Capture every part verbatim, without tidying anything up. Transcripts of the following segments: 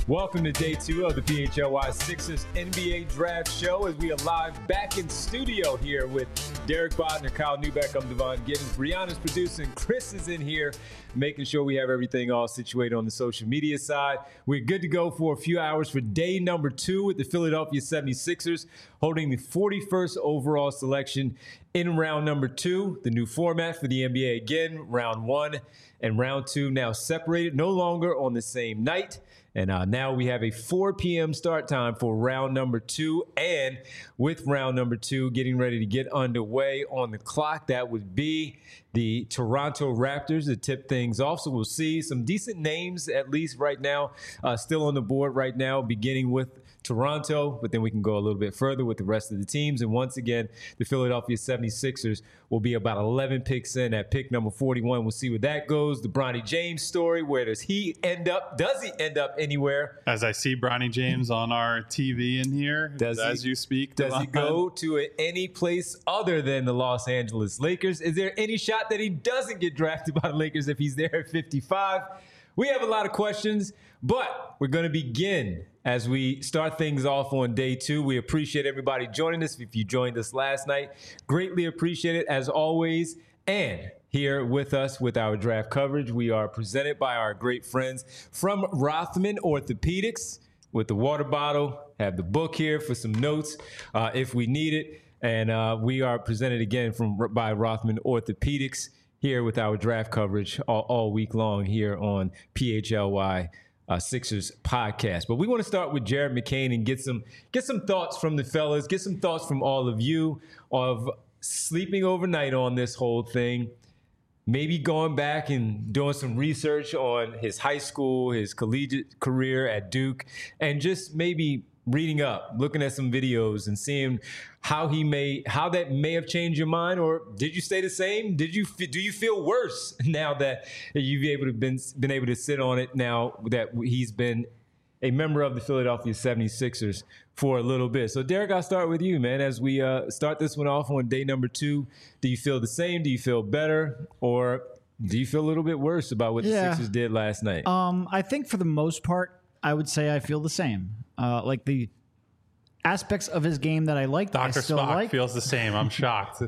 Welcome to day two of the P H L Y Sixers N B A Draft Show as we are live back in studio here with Derek Bodner, Kyle Neubeck. I'm Devon Giddens. Brianna's producing. Chris is in here making sure we have everything all situated on the social media side. We're good to go for a few hours for day number two with the Philadelphia seventy-sixers holding the forty-first overall selection in round number two. The new format for the N B A again, round one and round two now separated, no longer on the same night. And uh, now we have a four p.m. start time for round number two. And with round number two getting ready to get underway on the clock, that would be the Toronto Raptors to tip things off. So we'll see some decent names, at least right now, uh, still on the board right now, beginning with Toronto, but then we can go a little bit further with the rest of the teams. And once again, the Philadelphia seventy-sixers will be about eleven picks in at pick number forty-one. We'll see where that goes. The Bronny James story, where does he end up? Does he end up anywhere? As I see Bronny James on our T V in here, does as he, you speak. Does he go to any place other than the Los Angeles Lakers? Is there any shot that he doesn't get drafted by the Lakers if he's there at fifty-five? We have a lot of questions, but we're going to begin as we start things off on day two. We appreciate everybody joining us. If you joined us last night, greatly appreciate it as always. And here with us with our draft coverage, we are presented by our great friends from Rothman Orthopedics with the water bottle. Have the book here for some notes uh, if we need it. And uh, we are presented again from by Rothman Orthopedics here with our draft coverage all, all week long here on P H L Y uh, Sixers podcast. But we want to start with Jared McCain and get some get some thoughts from the fellas, get some thoughts from all of you of sleeping overnight on this whole thing, maybe going back and doing some research on his high school, his collegiate career at Duke, and just maybe reading up, looking at some videos and seeing how he may, how that may have changed your mind, or did you stay the same? Did you, do you feel worse now that you've able to been, been able to sit on it now that he's been a member of the Philadelphia seventy-sixers for a little bit? So Derek, I'll start with you, man. As we uh, start this one off on day number two, do you feel the same? Do you feel better? Or do you feel a little bit worse about what yeah. the Sixers did last night? Um, I think for the most part, I would say I feel the same. Uh, like the aspects of his game that I liked, Doctor I still Spock like. feels the same. I'm shocked.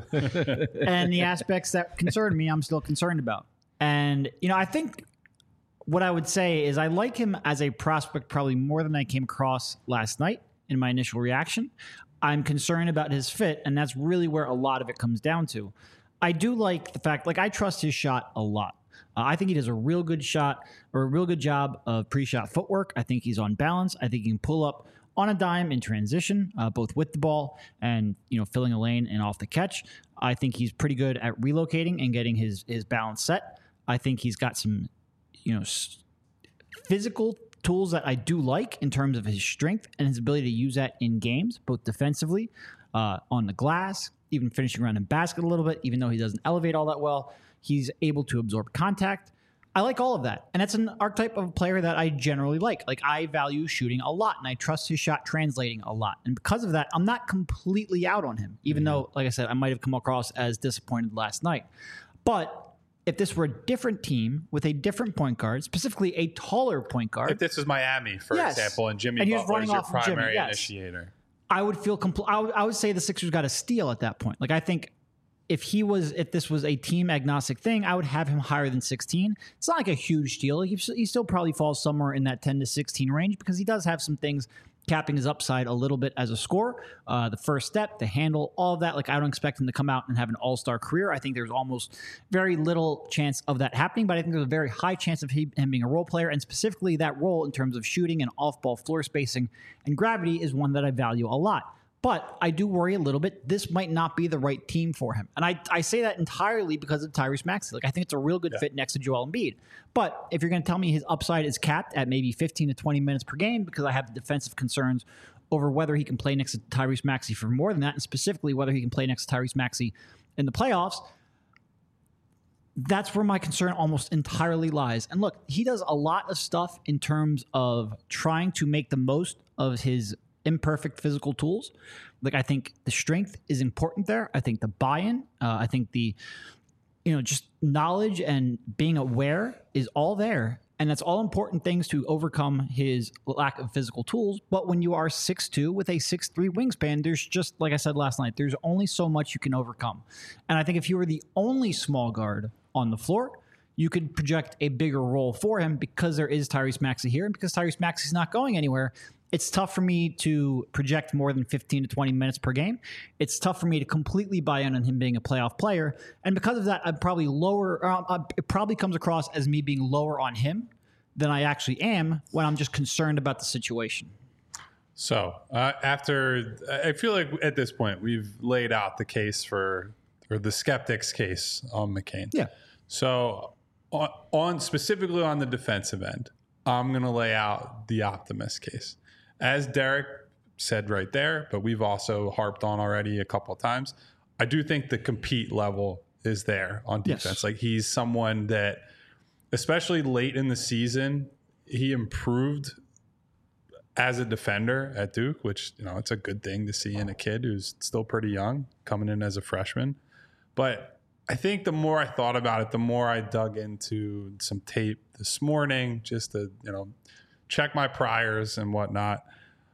And the aspects that concern me, I'm still concerned about. And, you know, I think what I would say is I like him as a prospect probably more than I came across last night in my initial reaction. I'm concerned about his fit, and that's really where a lot of it comes down to. I do like the fact, like, I trust his shot a lot. Uh, I think he does a real good shot or a real good job of pre-shot footwork. I think he's on balance. I think he can pull up on a dime in transition, uh, both with the ball and, you know, filling a lane and off the catch. I think he's pretty good at relocating and getting his his balance set. I think he's got some, you know, s- physical tools that I do like in terms of his strength and his ability to use that in games, both defensively, uh, on the glass, even finishing around the basket a little bit, even though he doesn't elevate all that well. He's able to absorb contact. I like all of that. And that's an archetype of a player that I generally like. Like, I value shooting a lot, and I trust his shot translating a lot. And because of that, I'm not completely out on him, even mm-hmm. though, like I said, I might have come across as disappointed last night. But if this were a different team with a different point guard, specifically a taller point guard. If this was Miami, for yes. example, and Jimmy and Butler is your off primary Jimmy, yes. initiator. I would feel compl- I, would, I would say the Sixers got a steal at that point. Like, I think if he was, if this was a team agnostic thing, I would have him higher than sixteen. It's not like a huge steal. He, he still probably falls somewhere in that ten to sixteen range because he does have some things capping his upside a little bit as a scorer. Uh, the first step, the handle, all of that. Like, I don't expect him to come out and have an all-star career. I think there's almost very little chance of that happening, but I think there's a very high chance of he, him being a role player, and specifically that role in terms of shooting and off-ball floor spacing and gravity is one that I value a lot. But I do worry a little bit. This might not be the right team for him. And I, I say that entirely because of Tyrese Maxey. Like, I think it's a real good yeah. fit next to Joel Embiid. But if you're going to tell me his upside is capped at maybe fifteen to twenty minutes per game because I have defensive concerns over whether he can play next to Tyrese Maxey for more than that, and specifically whether he can play next to Tyrese Maxey in the playoffs, that's where my concern almost entirely lies. And look, he does a lot of stuff in terms of trying to make the most of his imperfect physical tools. Like, I think the strength is important there. I think the buy-in, uh, I think the, you know, just knowledge and being aware is all there. And that's all important things to overcome his lack of physical tools. But when you are six two with a six three wingspan, there's just, like I said last night, there's only so much you can overcome. And I think if you were the only small guard on the floor, you could project a bigger role for him because there is Tyrese Maxey here. And because Tyrese Maxey's not going anywhere, it's tough for me to project more than fifteen to twenty minutes per game. It's tough for me to completely buy in on him being a playoff player. And because of that, I'm probably lower, or it probably comes across as me being lower on him than I actually am when I'm just concerned about the situation. So uh, after, I feel like at this point, we've laid out the case for, or the skeptics case on McCain. Yeah. So on, on specifically on the defensive end, I'm going to lay out the optimist case. As Derek said right there, but we've also harped on already a couple of times, I do think the compete level is there on defense. Yes. Like he's someone that, especially late in the season, he improved as a defender at Duke, which, you know, it's a good thing to see in a kid who's still pretty young coming in as a freshman. But I think the more I thought about it, the more I dug into some tape this morning just to, you know, check my priors and whatnot.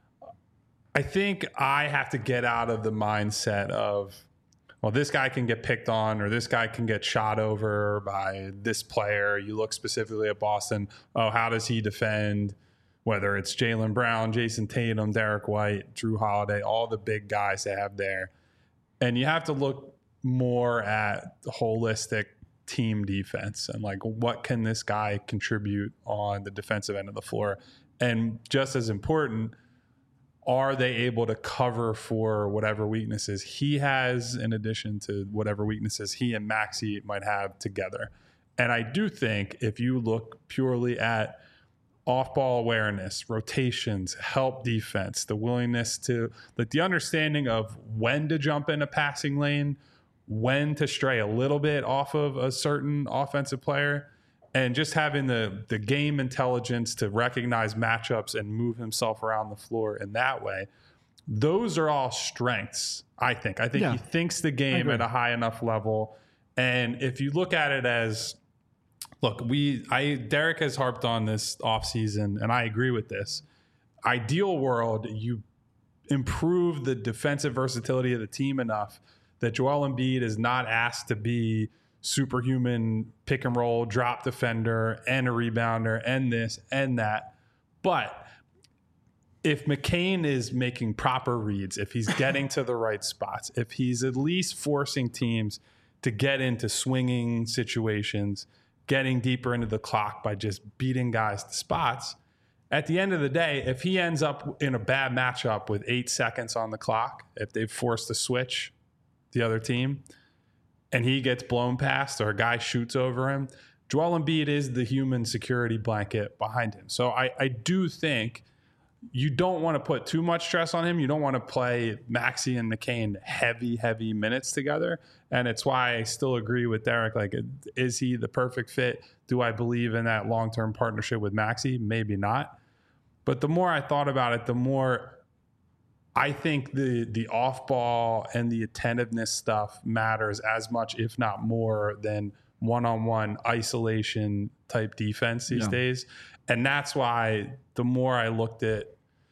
I think I have to get out of the mindset of, well, this guy can get picked on or this guy can get shot over by this player. You look specifically at Boston. Oh, how does he defend? Whether it's Jaylen Brown, Jason Tatum, Derek White, Drew Holiday, all the big guys they have there. And you have to look more at the holistic team defense and like what can this guy contribute on the defensive end of the floor, and just as important, are they able to cover for whatever weaknesses he has in addition to whatever weaknesses he and Maxey might have together. And I do think if you look purely at off-ball awareness, rotations, help defense, the willingness to, like the understanding of when to jump in a passing lane, when to stray a little bit off of a certain offensive player, and just having the the game intelligence to recognize matchups and move himself around the floor in that way. Those are all strengths, I think. I think yeah. he thinks the game at a high enough level. And if you look at it as, look, we I Derek has harped on this offseason, and I agree with this. Ideal world, you improve the defensive versatility of the team enough that Joel Embiid is not asked to be superhuman pick and roll, drop defender, and a rebounder, and this and that. But if McCain is making proper reads, if he's getting to the right spots, if he's at least forcing teams to get into swinging situations, getting deeper into the clock by just beating guys to spots, at the end of the day, if he ends up in a bad matchup with eight seconds on the clock, if they've forced a switch, the other team, and he gets blown past or a guy shoots over him, Joel Embiid is the human security blanket behind him. So I, I do think you don't want to put too much stress on him. You don't want to play Maxey and McCain heavy, heavy minutes together. And it's why I still agree with Derek. Like, is he the perfect fit? Do I believe in that long-term partnership with Maxey? Maybe not. But the more I thought about it, the more I think the the off-ball and the attentiveness stuff matters as much, if not more, than one-on-one isolation type defense these yeah. days. And that's why the more I looked at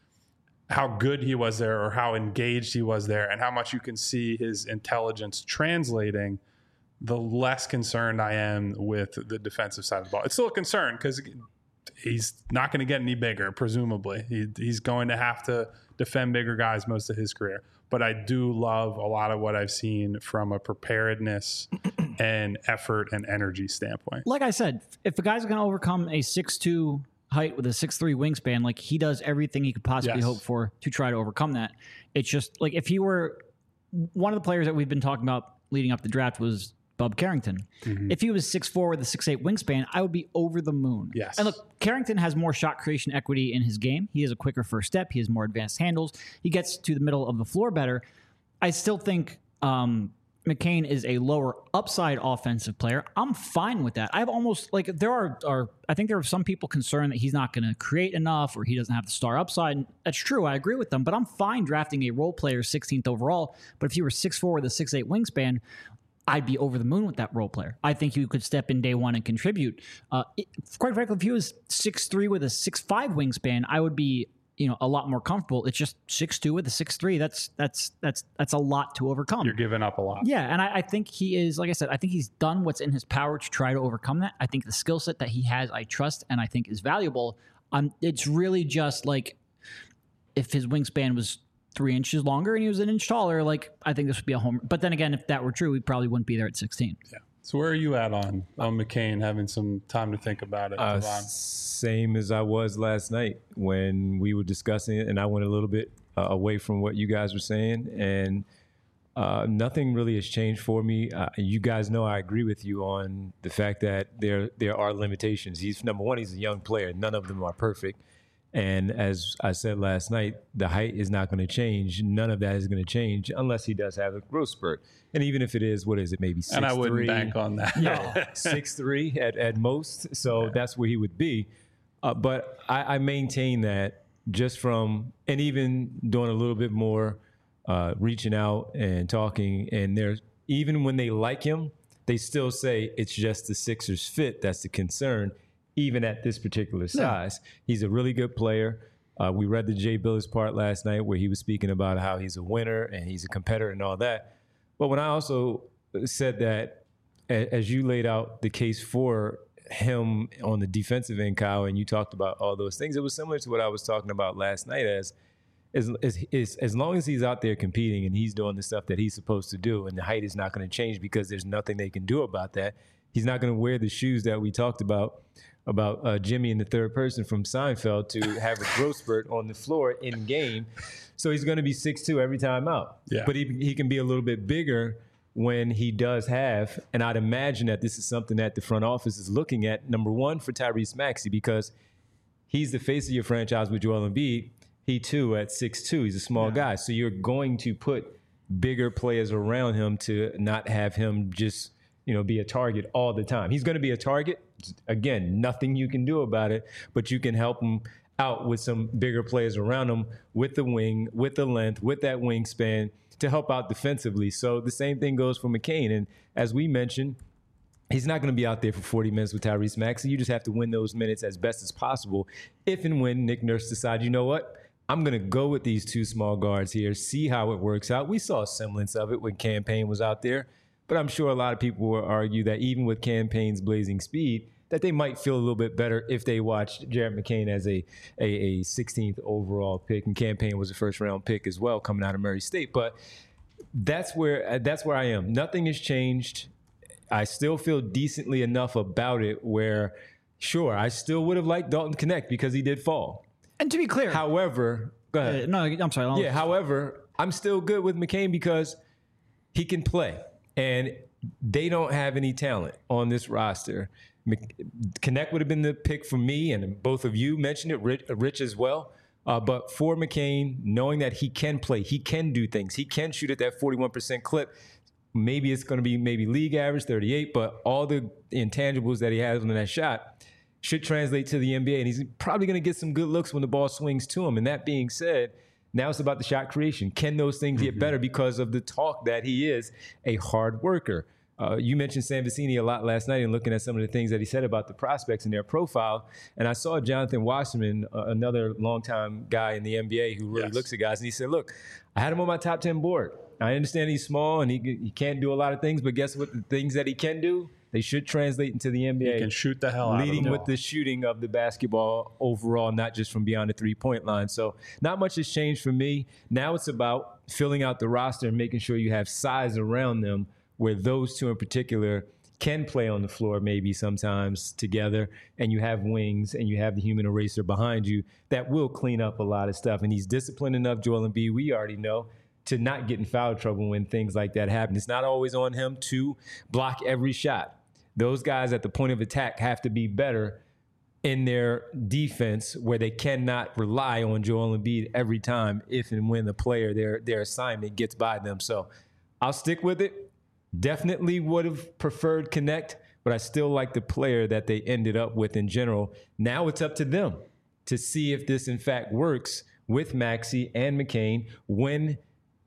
how good he was there or how engaged he was there and how much you can see his intelligence translating, the less concerned I am with the defensive side of the ball. It's still a concern because he's not going to get any bigger, presumably. He, he's going to have to defend bigger guys most of his career. But I do love a lot of what I've seen from a preparedness and effort and energy standpoint. Like I said, if a guy's going to overcome a six two height with a six three wingspan, like he does everything he could possibly yes. hope for to try to overcome that. It's just like if he were one of the players that we've been talking about leading up the draft was Bub Carrington. Mm-hmm. If he was six four with a six eight wingspan, I would be over the moon. Yes. And look, Carrington has more shot creation equity in his game. He has a quicker first step. He has more advanced handles. He gets to the middle of the floor better. I still think um, McCain is a lower upside offensive player. I'm fine with that. I've almost like there are, are I think there are some people concerned that he's not going to create enough or he doesn't have the star upside. And that's true. I agree with them, but I'm fine drafting a role player sixteenth overall. But if you were six four with a six eight wingspan, I'd be over the moon with that role player. I think he could step in day one and contribute. Uh, it, quite frankly, if he was six three with a six five wingspan, I would be, you know, a lot more comfortable. It's just six two with a six three. That's that's that's that's a lot to overcome. You're giving up a lot. Yeah, and I, I think he is, like I said, I think he's done what's in his power to try to overcome that. I think the skill set that he has, I trust, and I think is valuable. Um, it's really just like if his wingspan was three inches longer and he was an inch taller, like I think this would be a home. But then again, if that were true, we probably wouldn't be there at sixteen. Yeah. So where are you at on on McCain having some time to think about it? Uh, same as I was last night when we were discussing it, and I went a little bit uh, away from what you guys were saying, and uh, nothing really has changed for me. Uh, you guys know I agree with you on the fact that there there are limitations. He's number one. He's a young player. None of them are perfect. And as I said last night, the height is not going to change. None of that is going to change unless he does have a growth spurt. And even if it is, what is it, maybe six And I three, wouldn't bank on that. No, six three at, at most. So yeah. That's where he would be. Uh, but I, I maintain that just from, and even doing a little bit more uh, reaching out and talking, and there's, even when they like him, they still say it's just the Sixers fit that's the concern. Even at this particular size. Yeah. He's a really good player. Uh, we read the Jay Billis part last night where he was speaking about how he's a winner and he's a competitor and all that. But when I also said that, as you laid out the case for him on the defensive end, Kyle, and you talked about all those things, it was similar to what I was talking about last night as as, as, as long as he's out there competing and he's doing the stuff that he's supposed to do, and the height is not going to change because there's nothing they can do about that. He's not going to wear the shoes that we talked about about uh, Jimmy in the third person from Seinfeld to have a growth spurt on the floor in game. So he's going to be six two every time out. Yeah. But he, he can be a little bit bigger when he does have, and I'd imagine that this is something that the front office is looking at, number one, for Tyrese Maxey, because he's the face of your franchise with Joel Embiid. He, too, at six two, he's a small yeah. guy. So you're going to put bigger players around him to not have him just, you know, be a target all the time. He's going to be a target. Again, nothing you can do about it, but you can help him out with some bigger players around him with the wing, with the length, with that wingspan to help out defensively. So the same thing goes for McCain. And as we mentioned, he's not going to be out there for forty minutes with Tyrese Maxey. You just have to win those minutes as best as possible if and when Nick Nurse decides, you know what, I'm going to go with these two small guards here, see how it works out. We saw a semblance of it when Cam Payne was out there. But I'm sure a lot of people will argue that even with Cam Payne's blazing speed, that they might feel a little bit better if they watched Jared McCain as a, a, a sixteenth overall pick, and Cam Payne was a first round pick as well coming out of Murray State. But that's where that's where I am. Nothing has changed. I still feel decently enough about it where, sure, I still would have liked Dalton Knecht because he did fall. And to be clear, however, go ahead. Uh, no, I'm sorry. I'll yeah, however, I'm still good with McCain because he can play. And they don't have any talent on this roster. Knecht would have been the pick for me, and both of you mentioned it, Rich, Rich as well. Uh, but for McCain, knowing that he can play, he can do things, he can shoot at that forty-one percent clip. Maybe it's going to be maybe league average, thirty-eight, but all the intangibles that he has on that shot should translate to the N B A, and he's probably going to get some good looks when the ball swings to him. And that being said, now it's about the shot creation. Can those things get better because of the talk that he is a hard worker? Uh, you mentioned Sam Vecini a lot last night and looking at some of the things that he said about the prospects in their profile. And I saw Jonathan Wasserman, uh, another longtime guy in the N B A who really yes. looks at guys, and he said, look, I had him on my top ten board. I understand he's small and he, he can't do a lot of things, but guess what? The things that he can do, they should translate into the N B A. He can shoot the hell out of them. Leading with the shooting of the basketball overall, not just from beyond the three-point line. So not much has changed for me. Now it's about filling out the roster and making sure you have size around them where those two in particular can play on the floor maybe sometimes together, and you have wings and you have the human eraser behind you that will clean up a lot of stuff. And he's disciplined enough, Joel Embiid, we already know, to not get in foul trouble when things like that happen. It's not always on him to block every shot. Those guys at the point of attack have to be better in their defense where they cannot rely on Joel Embiid every time if and when the player, their their assignment gets by them. So I'll stick with it. Definitely would have preferred Knecht, but I still like the player that they ended up with in general. Now it's up to them to see if this in fact works with Maxey and McCain when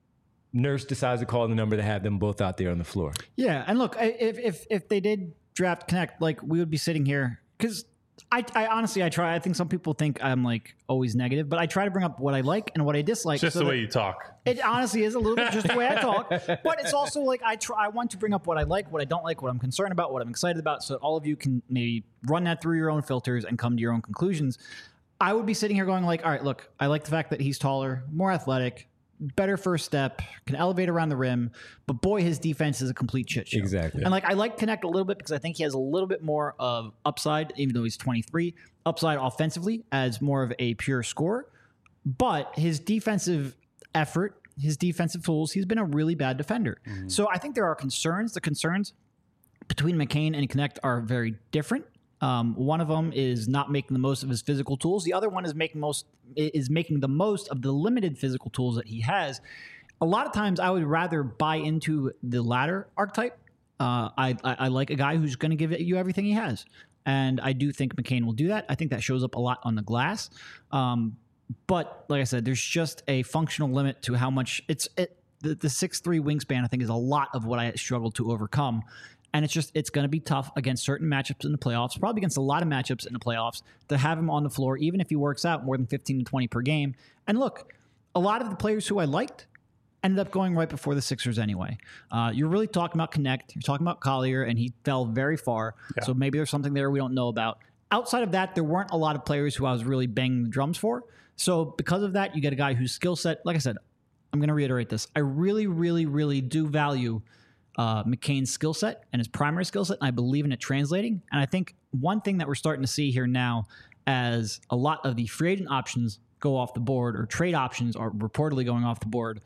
Nurse decides to call the number to have them both out there on the floor. Yeah, and look, I- if if if they did draft Connect, like we would be sitting here because I, I honestly I try. I think some people think I'm like always negative, but I try to bring up what I like and what I dislike. It's just so the that- way you talk. It honestly is a little bit just the way I talk, but it's also like I try. I want to bring up what I like, what I don't like, what I'm concerned about, what I'm excited about, so that all of you can maybe run that through your own filters and come to your own conclusions. I would be sitting here going like, all right, look, I like the fact that he's taller, more athletic, better first step, can elevate around the rim, but boy, his defense is a complete shit show. Exactly. And like I like Connect a little bit because I think he has a little bit more of upside, even though he's twenty-three, upside offensively as more of a pure scorer. But his defensive effort, his defensive tools, he's been a really bad defender. Mm-hmm. So I think there are concerns. The concerns between McCain and Connect are very different. Um, one of them is not making the most of his physical tools. The other one is making most is making the most of the limited physical tools that he has. A lot of times, I would rather buy into the latter archetype. Uh, I, I I like a guy who's going to give you everything he has, and I do think McCain will do that. I think that shows up a lot on the glass. Um, but like I said, there's just a functional limit to how much it's it, the the six three wingspan. I think is a lot of what I struggle to overcome. And it's just, it's going to be tough against certain matchups in the playoffs, probably against a lot of matchups in the playoffs, to have him on the floor, even if he works out more than fifteen to twenty per game. And look, a lot of the players who I liked ended up going right before the Sixers anyway. Uh, you're really talking about Connect. You're talking about Collier, and he fell very far. Yeah. So maybe there's something there we don't know about. Outside of that, there weren't a lot of players who I was really banging the drums for. So because of that, you get a guy whose skill set, like I said, I'm going to reiterate this. I really, really, really do value Uh, McCain's skill set and his primary skill set, and I believe in it translating. And I think one thing that we're starting to see here now, as a lot of the free agent options go off the board, or trade options are reportedly going off the board,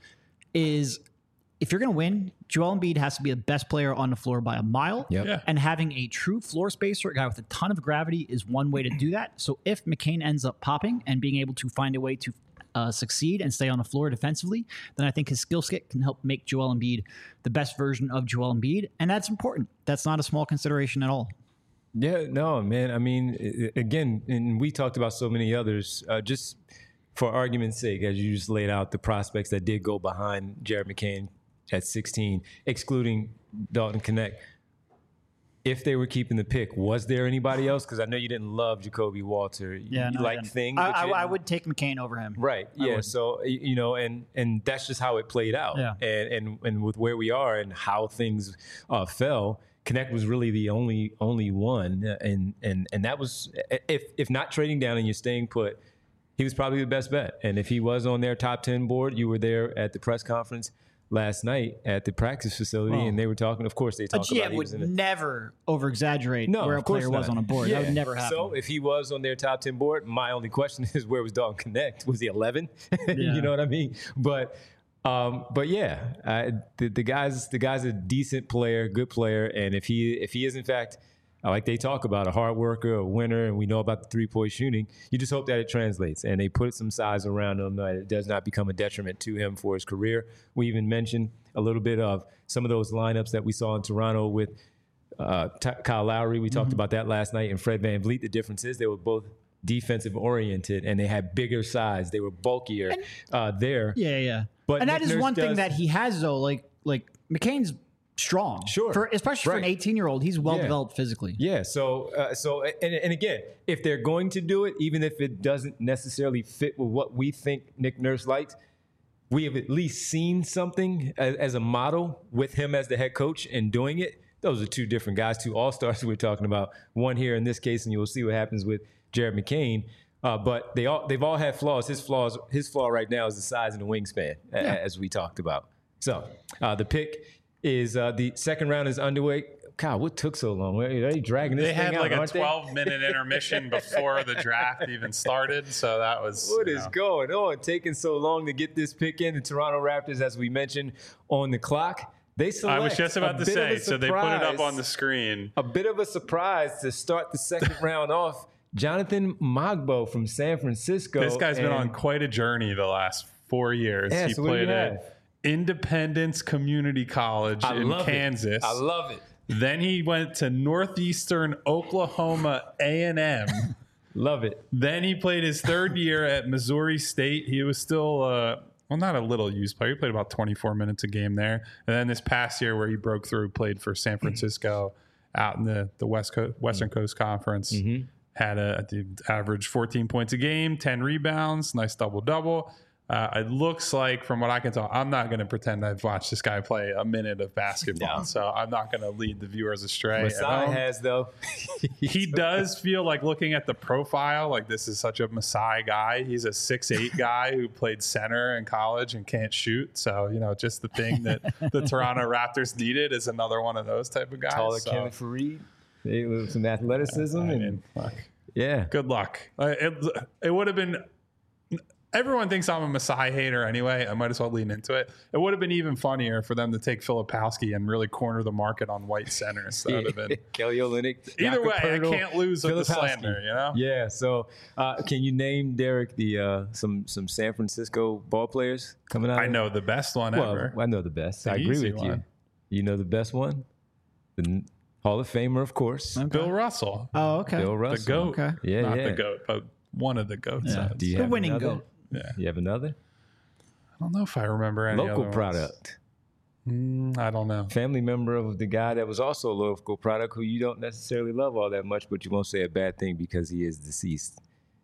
is if you're going to win, Joel Embiid has to be the best player on the floor by a mile. Yep. Yeah. And having a true floor spacer, a guy with a ton of gravity, is one way to do that. So if McCain ends up popping and being able to find a way to Uh, succeed and stay on the floor defensively, then I think his skill set can help make Joel Embiid the best version of Joel Embiid. And that's important. That's not a small consideration at all. Yeah, no, man. I mean, i- again, and we talked about so many others, uh, just for argument's sake, as you just laid out the prospects that did go behind Jared McCain at sixteen, excluding Dalton Connect. If they were keeping the pick, was there anybody else? Because I know you didn't love Jacoby Walter. You, Yeah, you no, like I, things. I, but you I, I didn't- would take McCain over him. Right. I Yeah. would. So y- you know, and and that's just how it played out. Yeah. And and and with where we are and how things uh, fell, Connect was really the only only one, and and and that was if if not trading down and you're staying put, he was probably the best bet. And if he was on their top ten board, you were there at the press conference last night at the practice facility, Well, and they were talking. Of course, they A talked G about M he would was in the never over exaggerate no, where a of course player was not. on a board. Yeah. That would never happen. So if he was on their top ten board, my only question is where was Dalton Connect? Was he eleven? Yeah. You know what I mean? But um, but yeah, I, the, the guy's the guy's a decent player, good player, and if he if he is in fact, like they talk about, a hard worker, a winner, and we know about the three-point shooting, you just hope that it translates and they put some size around him that it does not become a detriment to him for his career. We even mentioned a little bit of some of those lineups that we saw in Toronto with uh, T- Kyle Lowry. We talked Mm-hmm. about that last night, and Fred VanVleet. The difference is they were both defensive oriented and they had bigger size. They were bulkier uh, there. Yeah, yeah. But and that Nick is Nurse one thing does- that he has, though. Like like McCain's strong. Sure. For, especially for an Right. eighteen-year-old. He's well-developed physically. Yeah. So, uh, so, and, and again, if they're going to do it, even if it doesn't necessarily fit with what we think Nick Nurse likes, we have at least seen something as, as a model with him as the head coach and doing it. Those are two different guys, two all-stars we're talking about. One here in this case, and you'll see what happens with Jared McCain. Uh, but they all they've all had flaws. His flaws, his flaw right now is the size and the wingspan, a- Yeah. as we talked about. So uh, the pick is uh, the second round is underway. God, what took so long? Are they dragging this They thing had out, like a aren't they? twelve minute intermission before the draft even started, so that was What you is know. going on? Taking so long to get this pick in. The Toronto Raptors, as we mentioned, on the clock. They select I was just about a to bit of say, a so they put it up surprise- on the screen. A bit of a surprise to start the second round off. Jonathan Magbo from San Francisco. This guy's been and- on quite a journey the last four years. Yeah, he so what do you played have? at Independence Community College I in love Kansas. It. I love it. Then he went to Northeastern Oklahoma A and M. Love it. Then he played his third year at Missouri State. He was still uh, well, not a little used player. He played about twenty-four minutes a game there. And then this past year where he broke through, played for San Francisco out in the, the West Coast, Western Coast Conference. Mm-hmm. Had a, a average fourteen points a game, ten rebounds, nice double-double. Uh, it looks like, from what I can tell, I'm not going to pretend I've watched this guy play a minute of basketball, no. so I'm not going to lead the viewers astray. Masai has, though. He does feel like, looking at the profile, like this is such a Masai guy. He's a six eight guy who played center in college and can't shoot. So, you know, just the thing that the Toronto Raptors needed is another one of those type of guys. Taller so. Kevin Fareed. They with some athleticism. I and mean, look, yeah. Good luck. Uh, it it would have been... Everyone thinks I'm a Masai hater anyway. I might as well lean into it. It would have been even funnier for them to take Filipowski and really corner the market on white centers. That would have been Kelly Olynyk. Either way, I can't lose with the slander. You know? Yeah. So, uh, can you name, Derek, the uh, some some San Francisco ball players coming out? I know the best one well, ever. I know the best. The I agree with one. you. You know the best one. The Hall of Famer, of course. Okay. Bill Russell. Oh, okay. Bill Russell. The GOAT. Okay. Yeah, Not yeah. the GOAT, but one of the GOATs. Yeah. Do you The have winning another? GOAT. Yeah. You have another? I don't know if I remember any Local other ones. product. Mm, I don't know. Family member of the guy that was also a local product who you don't necessarily love all that much, but you won't say a bad thing because he is deceased.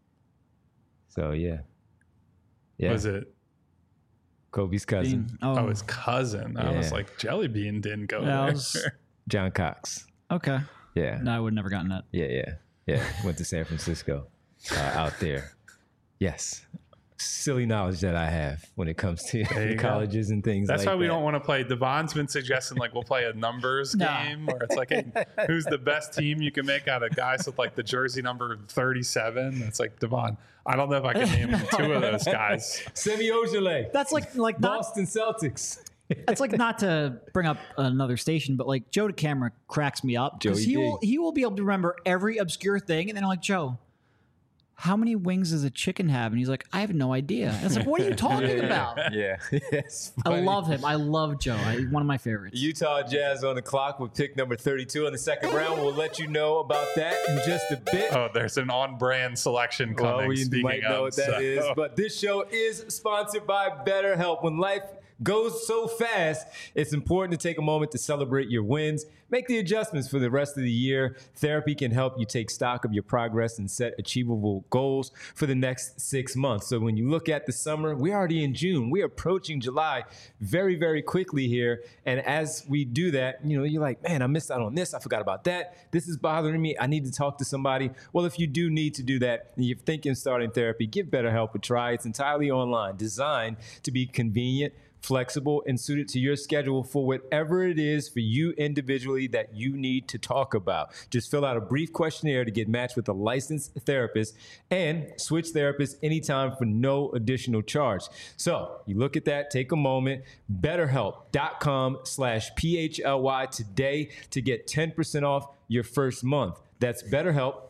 So, yeah. Yeah. Was it? Kobe's cousin, Bean. Oh, Oh, his cousin. I was Yeah. like, Jelly Bean didn't go Yeah, there. I was- John Cox. okay. Yeah. No, I would have never gotten that. Yeah, yeah. Yeah. Went to San Francisco uh, out there. Yes. Silly knowledge that I have when it comes to There you go. colleges and things That's like why we that. don't want to play. Devon's been suggesting like we'll play a numbers No. game where it's like, hey, who's the best team you can make out of guys with like the jersey number thirty-seven? It's like, Devon, I don't know if I can name two of those guys. Semi Ojeleye, That's like like not Boston Celtics. it's like not to bring up another station, but like Joe DeCamera cracks me up because Joey he D. will he will be able to remember every obscure thing, and then I'm like, Joe, how many wings does a chicken have? And he's like, I have no idea. And it's like, what are you talking about? Yeah. Yes. I love him. I love Joe. I, one of my favorites. Utah Jazz on the clock with pick number thirty-two in the second round. We'll let you know about that in just a bit. Oh, there's an on-brand selection coming. Well, we speaking might know of, what that so. is, but this show is sponsored by BetterHelp. When life goes so fast, it's important to take a moment to celebrate your wins. Make the adjustments for the rest of the year. Therapy can help you take stock of your progress and set achievable goals for the next six months. So when you look at the summer, we're already in June. We're approaching July very, very quickly here. And as we do that, you know, you're like, man, I missed out on this. I forgot about that. This is bothering me. I need to talk to somebody. Well, if you do need to do that and you're thinking starting therapy, give BetterHelp a try. It's entirely online, designed to be convenient, flexible, and suited to your schedule for whatever it is for you individually that you need to talk about. Just fill out a brief questionnaire to get matched with a licensed therapist and switch therapists anytime for no additional charge. So you look at that, take a moment, betterhelp.com slash P-H-L-Y today to get ten percent off your first month. That's BetterHelp,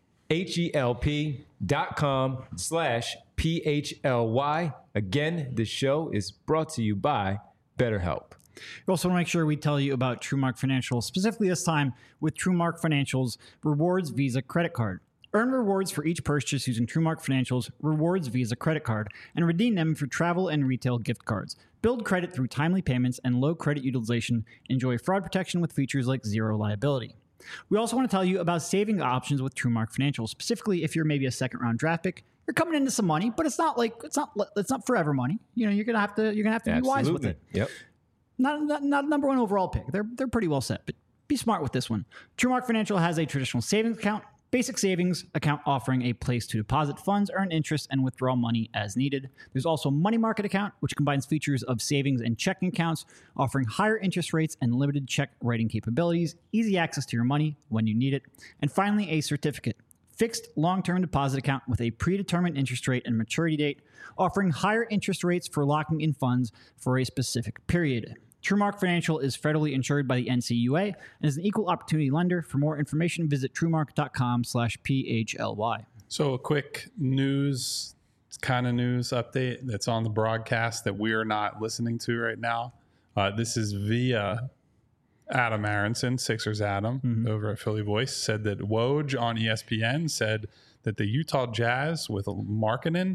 H-E-L-P dot com slash P-H-L-Y. Again, this show is brought to you by BetterHelp. We also want to make sure we tell you about TrueMark Financial, specifically this time with TrueMark Financial's Rewards Visa Credit Card. Earn rewards for each purchase using TrueMark Financial's Rewards Visa Credit Card and redeem them for travel and retail gift cards. Build credit through timely payments and low credit utilization. Enjoy fraud protection with features like zero liability. We also want to tell you about saving options with TrueMark Financial, specifically if you're maybe a second round draft pick. You're coming into some money, but it's not like it's not it's not forever money. You know, you're gonna have to you're gonna have to be wise with it. Yep. Not, not not number one overall pick. They're they're pretty well set, but be smart with this one. TrueMark Financial has a traditional savings account, basic savings account offering a place to deposit funds, earn interest, and withdraw money as needed. There's also a money market account, which combines features of savings and checking accounts, offering higher interest rates and limited check writing capabilities, easy access to your money when you need it, and finally a certificate. Fixed long-term deposit account with a predetermined interest rate and maturity date, offering higher interest rates for locking in funds for a specific period. TrueMark Financial is federally insured by the N C U A and is an equal opportunity lender. For more information, visit truemark.com slash P-H-L-Y. So a quick news, kind of news update that's on the broadcast that we are not listening to right now. Uh, this is via Adam Aronson, Sixers Adam, mm-hmm. over at Philly Voice, said that Woj on E S P N said that the Utah Jazz with Markkanen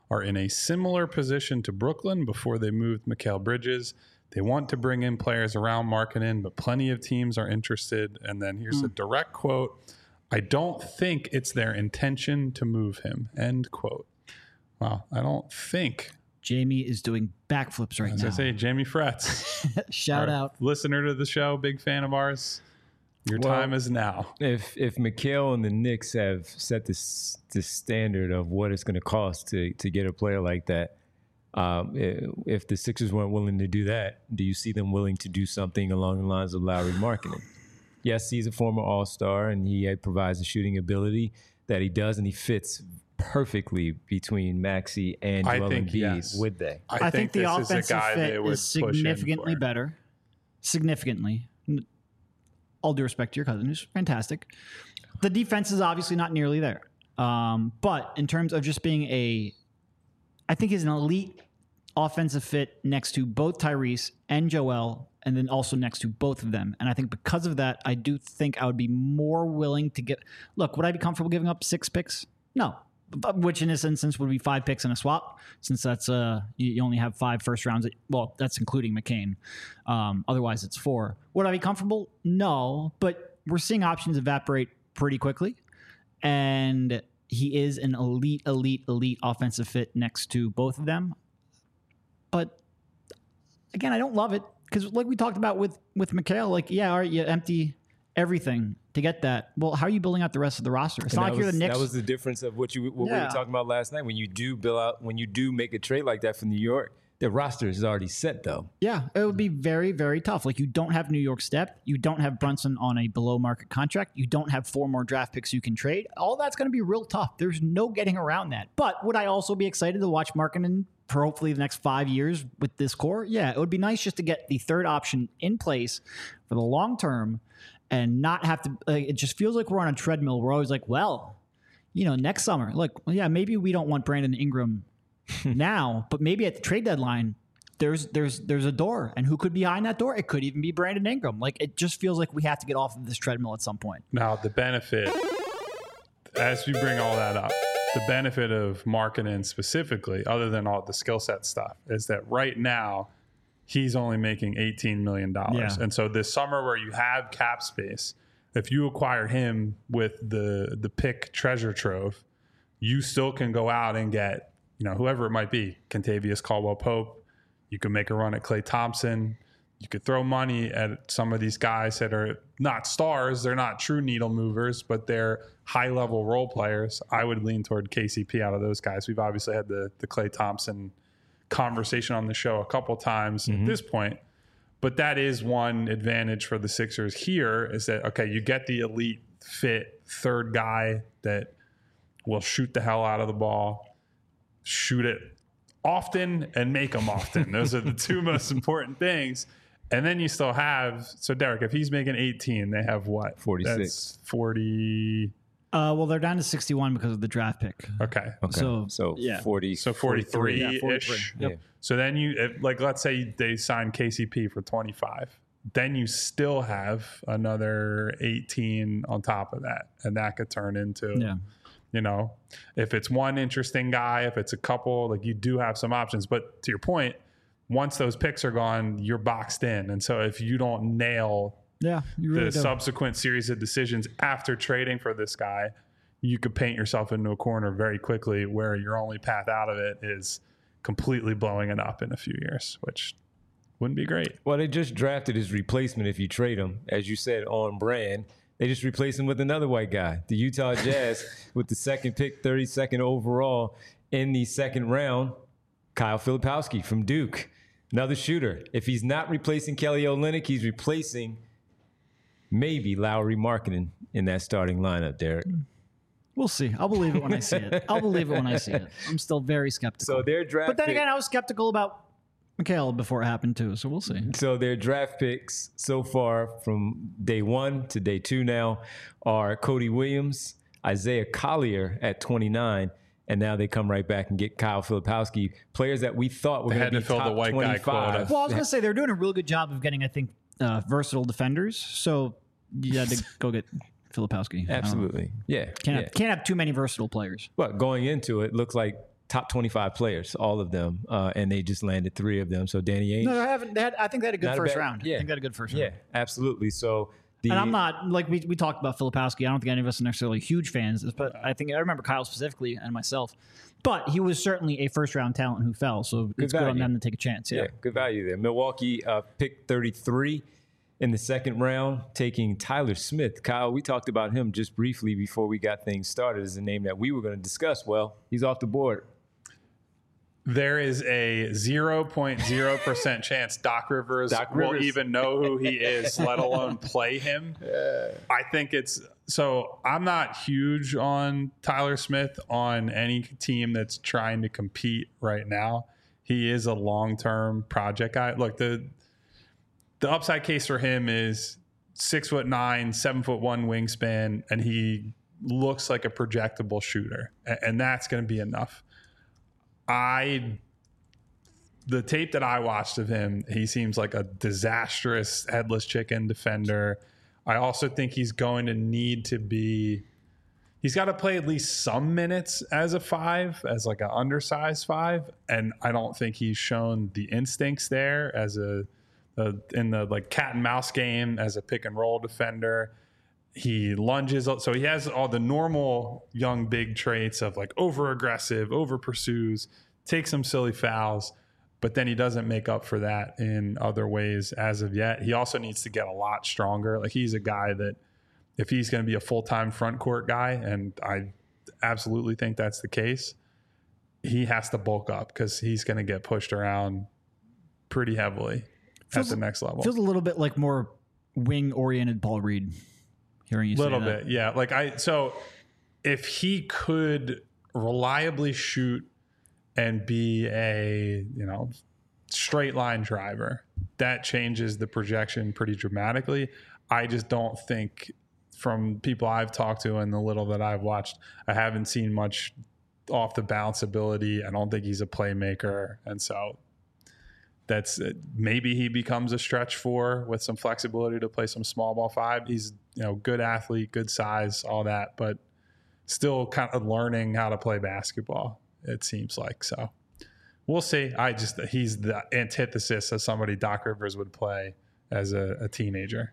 are in a similar position to Brooklyn before they moved Mikal Bridges. They want to bring in players around Markkanen, but plenty of teams are interested. And then here's mm. a direct quote. I don't think it's their intention to move him. End quote. Wow. I don't think. Jamie is doing backflips right As now. I say, Jamie Fretz. Shout out. Listener to the show, big fan of ours. Your well, time is now. If if Mikal and the Knicks have set this the standard of what it's going to cost to to get a player like that, um, if the Sixers weren't willing to do that, do you see them willing to do something along the lines of Lauri Markkanen? Yes, he's a former All-Star and he provides a shooting ability that he does, and he fits perfectly between Maxey and Joel Embiid. Yes. Would they? I, I think, think the offensive fit is significantly better. Significantly. All due respect to your cousin, who's fantastic. The defense is obviously not nearly there. Um, but in terms of just being a, I think he's an elite offensive fit next to both Tyrese and Joel, and then also next to both of them. And I think because of that, I do think I would be more willing to get, look, would I be comfortable giving up six picks? No. Which in this instance would be five picks and a swap, since that's uh you, you only have five first rounds. Well, that's including McCain. Um, otherwise, it's four. Would I be comfortable? No, but we're seeing options evaporate pretty quickly, and he is an elite, elite, elite offensive fit next to both of them. But again, I don't love it because, like we talked about with with Mikal, like yeah, all right, you empty everything to get that. Well, how are you building out the rest of the roster? It's and not like was, you're the Knicks. That was the difference of what you what yeah. we were talking about last night. When you do build out, when you do make a trade like that from New York, the roster is already set, though. Yeah, it would be very, very tough. Like, you don't have New York step. You don't have Brunson on a below market contract. You don't have four more draft picks you can trade. All that's going to be real tough. There's no getting around that. But would I also be excited to watch Markkanen for hopefully the next five years with this core? Yeah, it would be nice just to get the third option in place for the long term and not have to, uh, it just feels like we're on a treadmill. We're always like, well, you know, next summer, look, well, yeah, maybe we don't want Brandon Ingram now, but maybe at the trade deadline, there's there's there's a door, and who could be behind that door? It could even be Brandon Ingram. Like, it just feels like we have to get off of this treadmill at some point. Now, the benefit, as we bring all that up, the benefit of Markkanen specifically, other than all the skill set stuff, is that right now, he's only making eighteen million dollars. Yeah. And so this summer where you have cap space, if you acquire him with the the pick treasure trove, you still can go out and get, you know, whoever it might be, Kentavious Caldwell-Pope. You could make a run at Klay Thompson. You could throw money at some of these guys that are not stars. They're not true needle movers, but they're high-level role players. I would lean toward K C P out of those guys. We've obviously had the the Klay Thompson conversation on the show a couple times mm-hmm. at this point, but that is one advantage for the Sixers here is that, okay, you get the elite fit third guy that will shoot the hell out of the ball, shoot it often and make them often. Those are the two most important things. And then you still have, so Derek, if he's making eighteen, they have what? forty-six. That's forty. Uh, well, they're down to sixty-one because of the draft pick. Okay. Okay. So, so yeah. forty. So forty-three-ish. Yeah, forty-three. Yep. Yeah. So then you, if, like, let's say they sign K C P for twenty-five. Then you still have another eighteen on top of that. And that could turn into, yeah. you know, if it's one interesting guy, if it's a couple, like, you do have some options. But to your point, once those picks are gone, you're boxed in. And so if you don't nail yeah, you really the do. subsequent series of decisions after trading for this guy, you could paint yourself into a corner very quickly where your only path out of it is completely blowing it up in a few years, which wouldn't be great. Well, they just drafted his replacement if you trade him. As you said, on brand. They just replaced him with another white guy, the Utah Jazz, with the second pick, thirty-second overall in the second round, Kyle Filipowski from Duke. Another shooter. If he's not replacing Kelly Olynyk, he's replacing maybe Lauri Markkanen in that starting lineup, Derek. We'll see. I'll believe it when I see it. I'll believe it when I see it. I'm still very skeptical. So their draft But then pick, again, I was skeptical about Mikal before it happened too, so we'll see. So their draft picks so far from day one to day two now are Cody Williams, Isaiah Collier at twenty-nine, and now they come right back and get Kyle Filipowski, players that we thought were going to be fill top the white guy twenty-five. quota. Well, I was going to say they're doing a really good job of getting, I think, uh, versatile defenders. So you had to go get Filipowski. Absolutely, yeah. Can't yeah. have, can't have too many versatile players. But going into it, looks like top twenty-five players, all of them, uh, and they just landed three of them. So Danny Ainge. No, I haven't. They had, I think they had a good Not a first bad- round. yeah. I think they had a good first Yeah, round. absolutely. So the And I'm not like we, we talked about Filipowski. I don't think any of us are necessarily huge fans, but I think I remember Kyle specifically and myself. But he was certainly a first round talent who fell, so it's good on value. them to take a chance. Yeah, Yeah, good value there. Milwaukee uh, picked thirty-three in the second round, taking Tyler Smith. Kyle, we talked about him just briefly before we got things started as a name that we were going to discuss. Well, he's off the board. There is a zero point zero percent chance Doc Rivers Doc will Rivers. even know who he is, let alone play him. I think it's so. I'm not huge on Tyler Smith on any team that's trying to compete right now. He is a long-term project guy. Look, the the upside case for him is six foot nine, seven foot one wingspan, and he looks like a projectable shooter, A- and that's going to be enough. I, the tape that I watched of him, he seems like a disastrous headless chicken defender. I also think he's going to need to be, he's got to play at least some minutes as a five, as like an undersized five. And I don't think he's shown the instincts there as a, a in the like cat and mouse game as a pick and roll defender. He lunges, so he has all the normal young big traits of like over aggressive, over pursues, takes some silly fouls, but then he doesn't make up for that in other ways as of yet. He also needs to get a lot stronger. Like he's a guy that if he's going to be a full-time front court guy, and I absolutely think that's the case, he has to bulk up because he's going to get pushed around pretty heavily Feels- at the next level. feels a little bit like more wing oriented Paul Reed. Hearing you say little that. bit, yeah. Like I, so if he could reliably shoot and be a you know straight line driver, that changes the projection pretty dramatically. I just don't think, from people I've talked to and the little that I've watched, I haven't seen much off the bounce ability. I don't think he's a playmaker, and so that's maybe he becomes a stretch four with some flexibility to play some small ball five. He's you know good athlete, good size, all that, but still kind of learning how to play basketball, it seems like. So we'll see. I just he's the antithesis of somebody Doc Rivers would play as a, a teenager.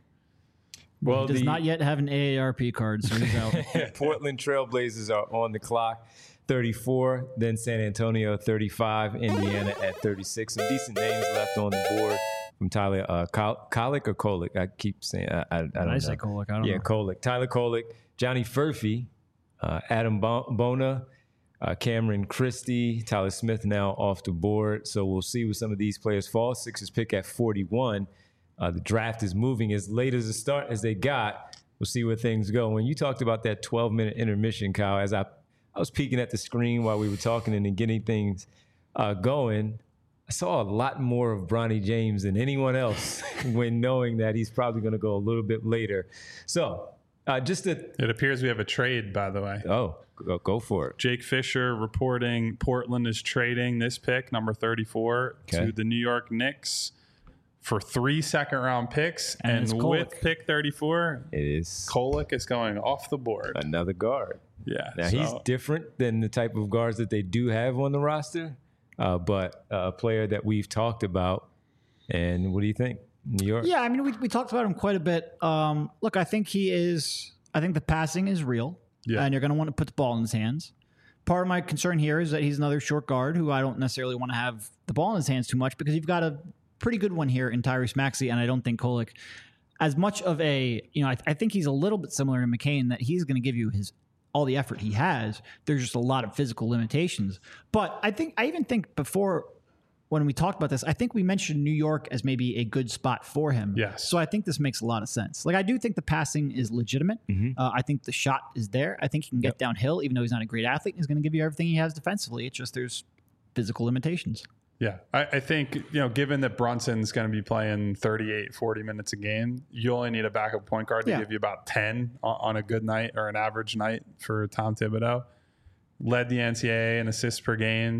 Well, He does the not yet have an A A R P card, so he's out. Portland Trailblazers are on the clock. thirty-four, then San Antonio thirty-five, Indiana at thirty-six. Some decent names left on the board from Tyler uh, Kol- Kolick or Kolick. I keep saying I, I, I don't I know. say Kolick. I don't yeah, know. Kolick. Tyler Kolick, Johnny Furphy, uh, Adam Bo- Bona, uh, Cameron Christie, Tyler Smith now off the board. So we'll see where some of these players fall. Sixers pick at forty-one. Uh, the draft is moving as late as the start as they got. We'll see where things go. When you talked about that twelve-minute intermission, Kyle, as I I was peeking at the screen while we were talking and then getting things uh, going, I saw a lot more of Bronny James than anyone else when knowing that he's probably going to go a little bit later. So uh, just to, It appears we have a trade, by the way. oh, go, go for it. Jake Fisher reporting Portland is trading this pick, number thirty-four, Okay. to the New York Knicks for three second round picks. And And, it's with Kolick. pick thirty-four, It is Kolick is going off the board. another guard. Yeah. Now, so- he's different than the type of guards that they do have on the roster, uh, but uh, a player that we've talked about. And what do you think? New York? Yeah, I mean, we, we talked about him quite a bit. Um, look, I think he is, I think the passing is real, Yeah. and you're going to want to put the ball in his hands. Part of my concern here is that he's another short guard who I don't necessarily want to have the ball in his hands too much because you've got a pretty good one here in Tyrese Maxey, and I don't think Kolick, as much of a, you know, I, I think he's a little bit similar to McCain that he's going to give you his all the effort he has. There's just a lot of physical limitations. But I think, I even think before when we talked about this, I think we mentioned New York as maybe a good spot for him. Yes. So I think this makes a lot of sense. Like, I do think the passing is legitimate. Uh, I think the shot is there. I think he can get Yep. downhill, even though he's not a great athlete. He's going to give you everything he has defensively. It's just there's physical limitations. Yeah, I, I think, you know, given that Brunson's going to be playing thirty-eight, forty minutes a game, you only need a backup point guard to Yeah. give you about ten on, on a good night or an average night for Tom Thibodeau. Led the N C double A in assists per game.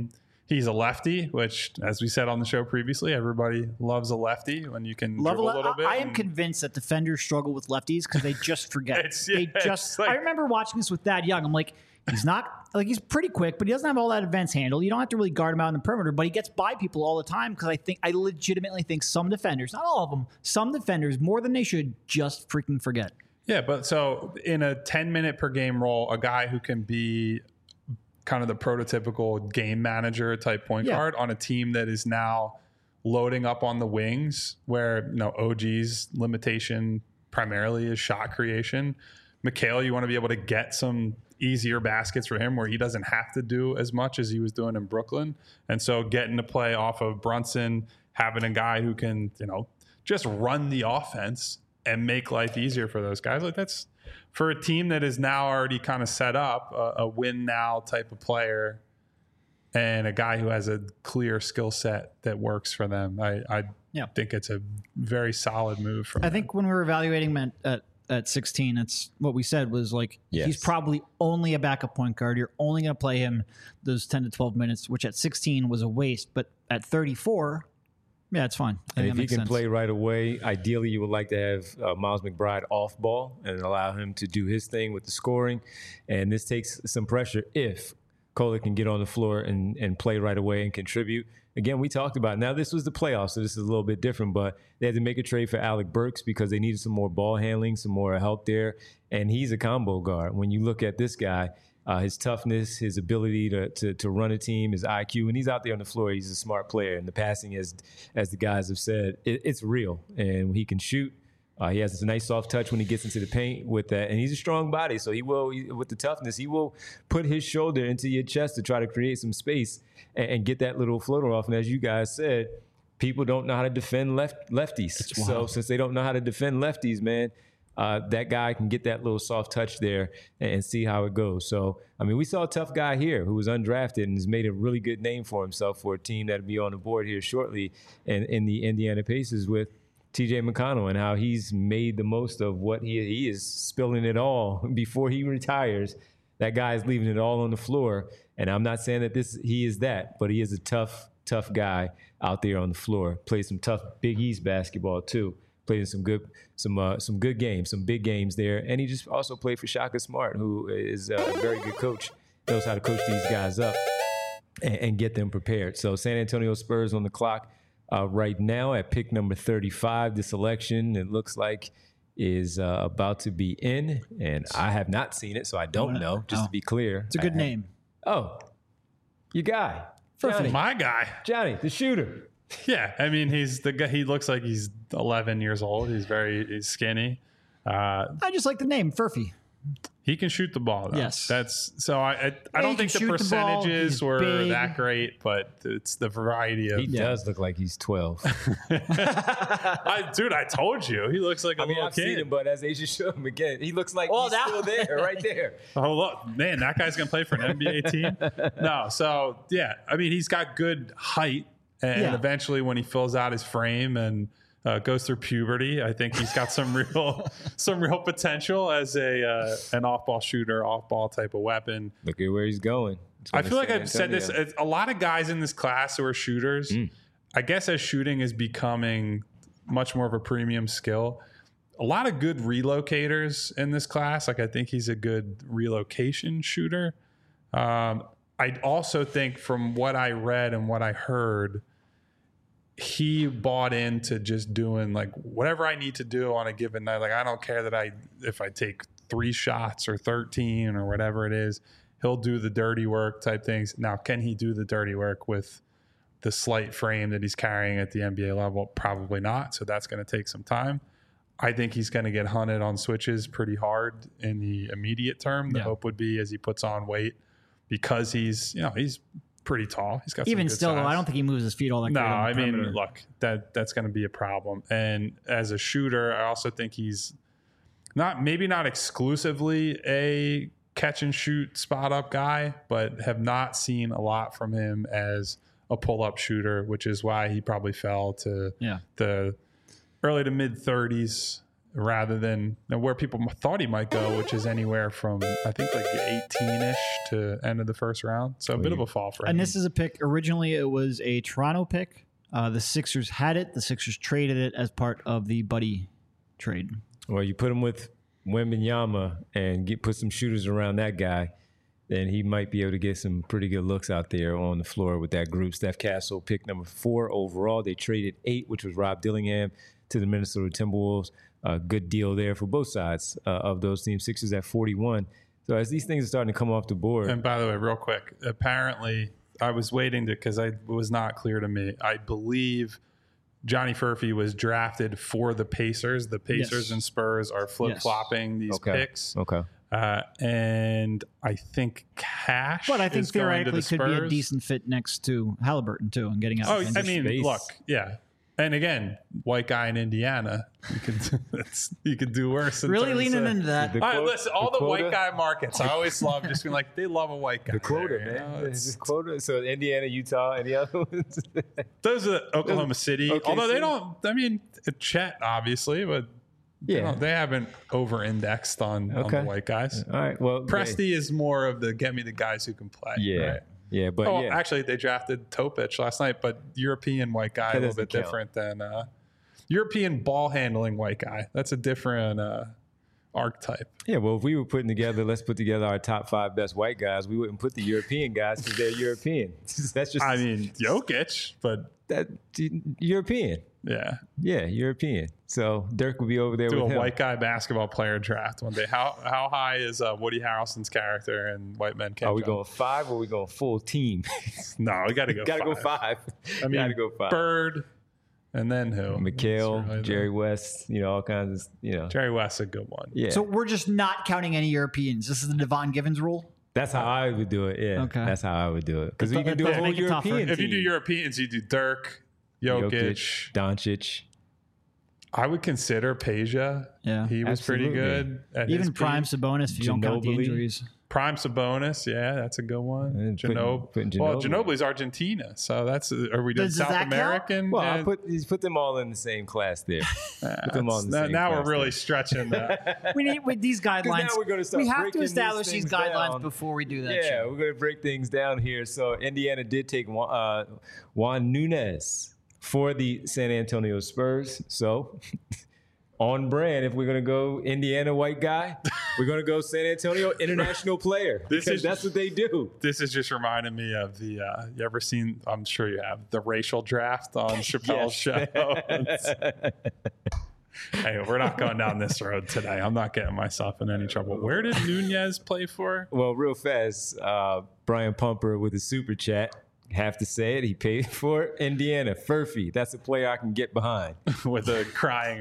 He's a lefty, which, as we said on the show previously, everybody loves a lefty when you can Love dribble a a little I, bit. I am and- convinced that defenders struggle with lefties because they just forget. It's- yeah, they just. it's like- I remember watching this with Thad Young. I'm like, he's not like he's pretty quick, but he doesn't have all that advanced handle. You don't have to really guard him out in the perimeter, but he gets by people all the time because I think I legitimately think some defenders, not all of them, some defenders more than they should, just freaking forget. Yeah, but so in a ten minute per game role, a guy who can be kind of the prototypical game manager type point Yeah. guard on a team that is now loading up on the wings, where you know O G's limitation primarily is shot creation. Mikal, you want to be able to get some easier baskets for him where he doesn't have to do as much as he was doing in Brooklyn. And so getting to play off of Brunson, having a guy who can, you know, just run the offense and make life easier for those guys. Like that's for a team that is now already kind of set up, a, a win now type of player and a guy who has a clear skill set that works for them. I, I Yeah. think it's a very solid move from I them. think when we were evaluating him at, at, at sixteen, that's what we said was like, Yes. he's probably only a backup point guard. You're only going to play him those ten to twelve minutes, which at sixteen was a waste. But at thirty-four, yeah, it's fine. I And think if that he makes can sense. play right away, ideally you would like to have uh, Miles McBride off ball and allow him to do his thing with the scoring. And this takes some pressure if Kohler can get on the floor and, and play right away and contribute. Again, we talked about it. Now this was the playoffs, so this is a little bit different, but they had to make a trade for Alec Burks because they needed some more ball handling, some more help there. And he's a combo guard. When you look at this guy, Uh, his toughness, his ability to, to to run a team, his I Q, and he's out there on the floor. He's a smart player, and the passing, as as the guys have said, it, it's real. And he can shoot. Uh, he has a nice soft touch when he gets into the paint with that, and he's a strong body. So he will, he, with the toughness, he will put his shoulder into your chest to try to create some space and, and get that little floater off. And as you guys said, people don't know how to defend left lefties. So since they don't know how to defend lefties, man. Uh, that guy can get that little soft touch there and, and see how it goes. So, I mean, we saw a tough guy here who was undrafted and has made a really good name for himself for a team that'll be on the board here shortly in, in the Indiana Pacers with T J McConnell and how he's made the most of what he, he is spilling it all before he retires. That guy is leaving it all on the floor. And I'm not saying that this he is that, but he is a tough, tough guy out there on the floor. Plays some tough Big East basketball too. Played in some good, some uh, some good games, some big games there, and he just also played for Shaka Smart, who is a very good coach, knows how to coach these guys up and, and get them prepared. So San Antonio Spurs on the clock uh, right now at pick number thirty-five. This selection, it looks like, is uh, about to be in, and I have not seen it, so I don't know. Just to be clear, It's a good I- name. Oh, your guy, Johnny, my guy. Johnny, the shooter. Yeah, I mean, he's the guy. He looks like he's eleven years old. He's very he's skinny. Uh, I just like the name, Furphy. he can shoot the ball. Though. Yes. that's so. I I, I he don't can think the shoot the ball. percentages He's were big. that great, but it's the variety of. He does look like he's twelve. I, dude, I told you, he looks like a I mean, little I've kid. seen him, but as Asia showed him again, he looks like Oh, he's that- still there, right there. Oh, look, man, that guy's going to play for an N B A team? No. So, yeah, I mean, he's got good height. And Yeah. eventually, when he fills out his frame and uh, goes through puberty, I think he's got some real some real potential as a uh, an off-ball shooter, off-ball type of weapon. Look at where he's going. He's I going feel to like San I've said this. Antonio. it's- A lot of guys in this class who are shooters, I guess as shooting is becoming much more of a premium skill, a lot of good relocators in this class. Like I think he's a good relocation shooter. Um, I also think from what I read and what I heard, he bought into just doing like whatever I need to do on a given night. Like I don't care that I if I take three shots or thirteen or whatever it is, he'll do the dirty work type things. Now, can he do the dirty work with the slight frame that he's carrying at the N B A level? Probably not. So that's going to take some time. I think he's going to get hunted on switches pretty hard in the immediate term. The Yeah. hope would be as he puts on weight, because he's, you know, he's pretty tall. He's got some Even good still, though, size. I don't think he moves his feet all that No, great on the I mean, perimeter. look, that that's going to be a problem. And as a shooter, I also think he's not maybe not exclusively a catch and shoot spot up guy, but have not seen a lot from him as a pull up shooter, which is why he probably fell to Yeah. the early to mid thirties rather than where people thought he might go, which is anywhere from I think like eighteen-ish to end of the first round. So a bit of a fall for him. And this is a pick. Originally, it was a Toronto pick. Uh, the Sixers had it. The Sixers traded it as part of the Buddy trade. Well, you put him with Wembanyama and get put some shooters around that guy, then he might be able to get some pretty good looks out there on the floor with that group. Steph Castle picked number four overall. They traded eight, which was Rob Dillingham, to the Minnesota Timberwolves. A good deal there for both sides uh, of those teams. Sixers at forty-one. So as these things are starting to come off the board. And by the way, real quick, apparently I was waiting to, because I it was not clear to me. I believe Johnny Furphy was drafted for the Pacers. The Pacers Yes. and Spurs are flip-flopping these Okay. picks. Okay. Uh, and I think Cash But I think is going to theoretically the could be a Spurs. decent fit next to Halliburton, too, and getting out. Oh, of I transition. mean, space. look, yeah. And again, white guy in Indiana, you can it's, you can do worse. in Really terms leaning of- into that. The All right, quote- listen, all the the, white quota- guy markets, I always love just being like, they love a white guy. The quota, there, you man. know? It's- The quota. So Indiana, Utah, and the other ones. Those are Oklahoma City. Okay, Although so- they don't, I mean, Chet, obviously, but they, Yeah. don't- they haven't over-indexed on, on Okay. the white guys. All right. Well, Presti is more of the get me the guys who can play. Yeah. Right? Yeah. But Oh, yeah. actually, they drafted Topic last night, but European white guy, That a little doesn't bit count. different than uh, European ball handling white guy. That's a different uh, archetype. Yeah, well, if we were putting together, let's put together our top five best white guys, we wouldn't put the European guys because they're European. That's just I mean, Jokic, but that European. yeah, Yeah, European. So Dirk would be over there do a with him. white guy basketball player draft one day. How how high is uh, Woody Harrelson's character in White Men Can't Are we Jump? going five or are we going full team? No, we got to go. Gotta five. go five. I mean, Gotta go five. Bird, and then who? McHale, It's really the- Jerry West, you know, all kinds of, you know. Jerry West's a good one. Yeah. So we're just not counting any Europeans. This is the Devon Givens rule. that's how I would do it. Yeah. Okay. That's how I would do it. Because you That- can do that a does whole make it tougher. European If you do team. Europeans, you do Dirk, Jokic. Jokic, Doncic. I would consider Peja. Yeah. He was pretty Absolutely. good. At Even his prime peak. Sabonis if you don't count the Ginobili. injuries. Prime Sabonis, yeah, that's a good one. And putting- Ginob- putting well, Ginobili. Ginobili's Argentina, so that's are we doing Does South that count? American? Well, I Uh, put he's put them all in the same class there. Put them all in the now same now class we're really there. stretching that. We need with these guidelines. now we're gonna start we have breaking to these establish these things guidelines down. before we do that. Yeah, shit. we're going to break things down here. So Indiana did take Juan, uh, Juan Nunez for the San Antonio Spurs. So on brand, if we're going to go Indiana white guy, we're going to go San Antonio international player. This because is- that's what they do. This is just reminding me of the. Uh, you ever seen? I'm sure you have the racial draft on Chappelle's show. It's- hey, we're not going down this road today. I'm not getting myself in any trouble. Where did Nunez play for? Well, real fast, uh, Brian Pumper with a super chat. Have to say it. He paid for it. Indiana, Furphy. That's a player I can get behind. With a crying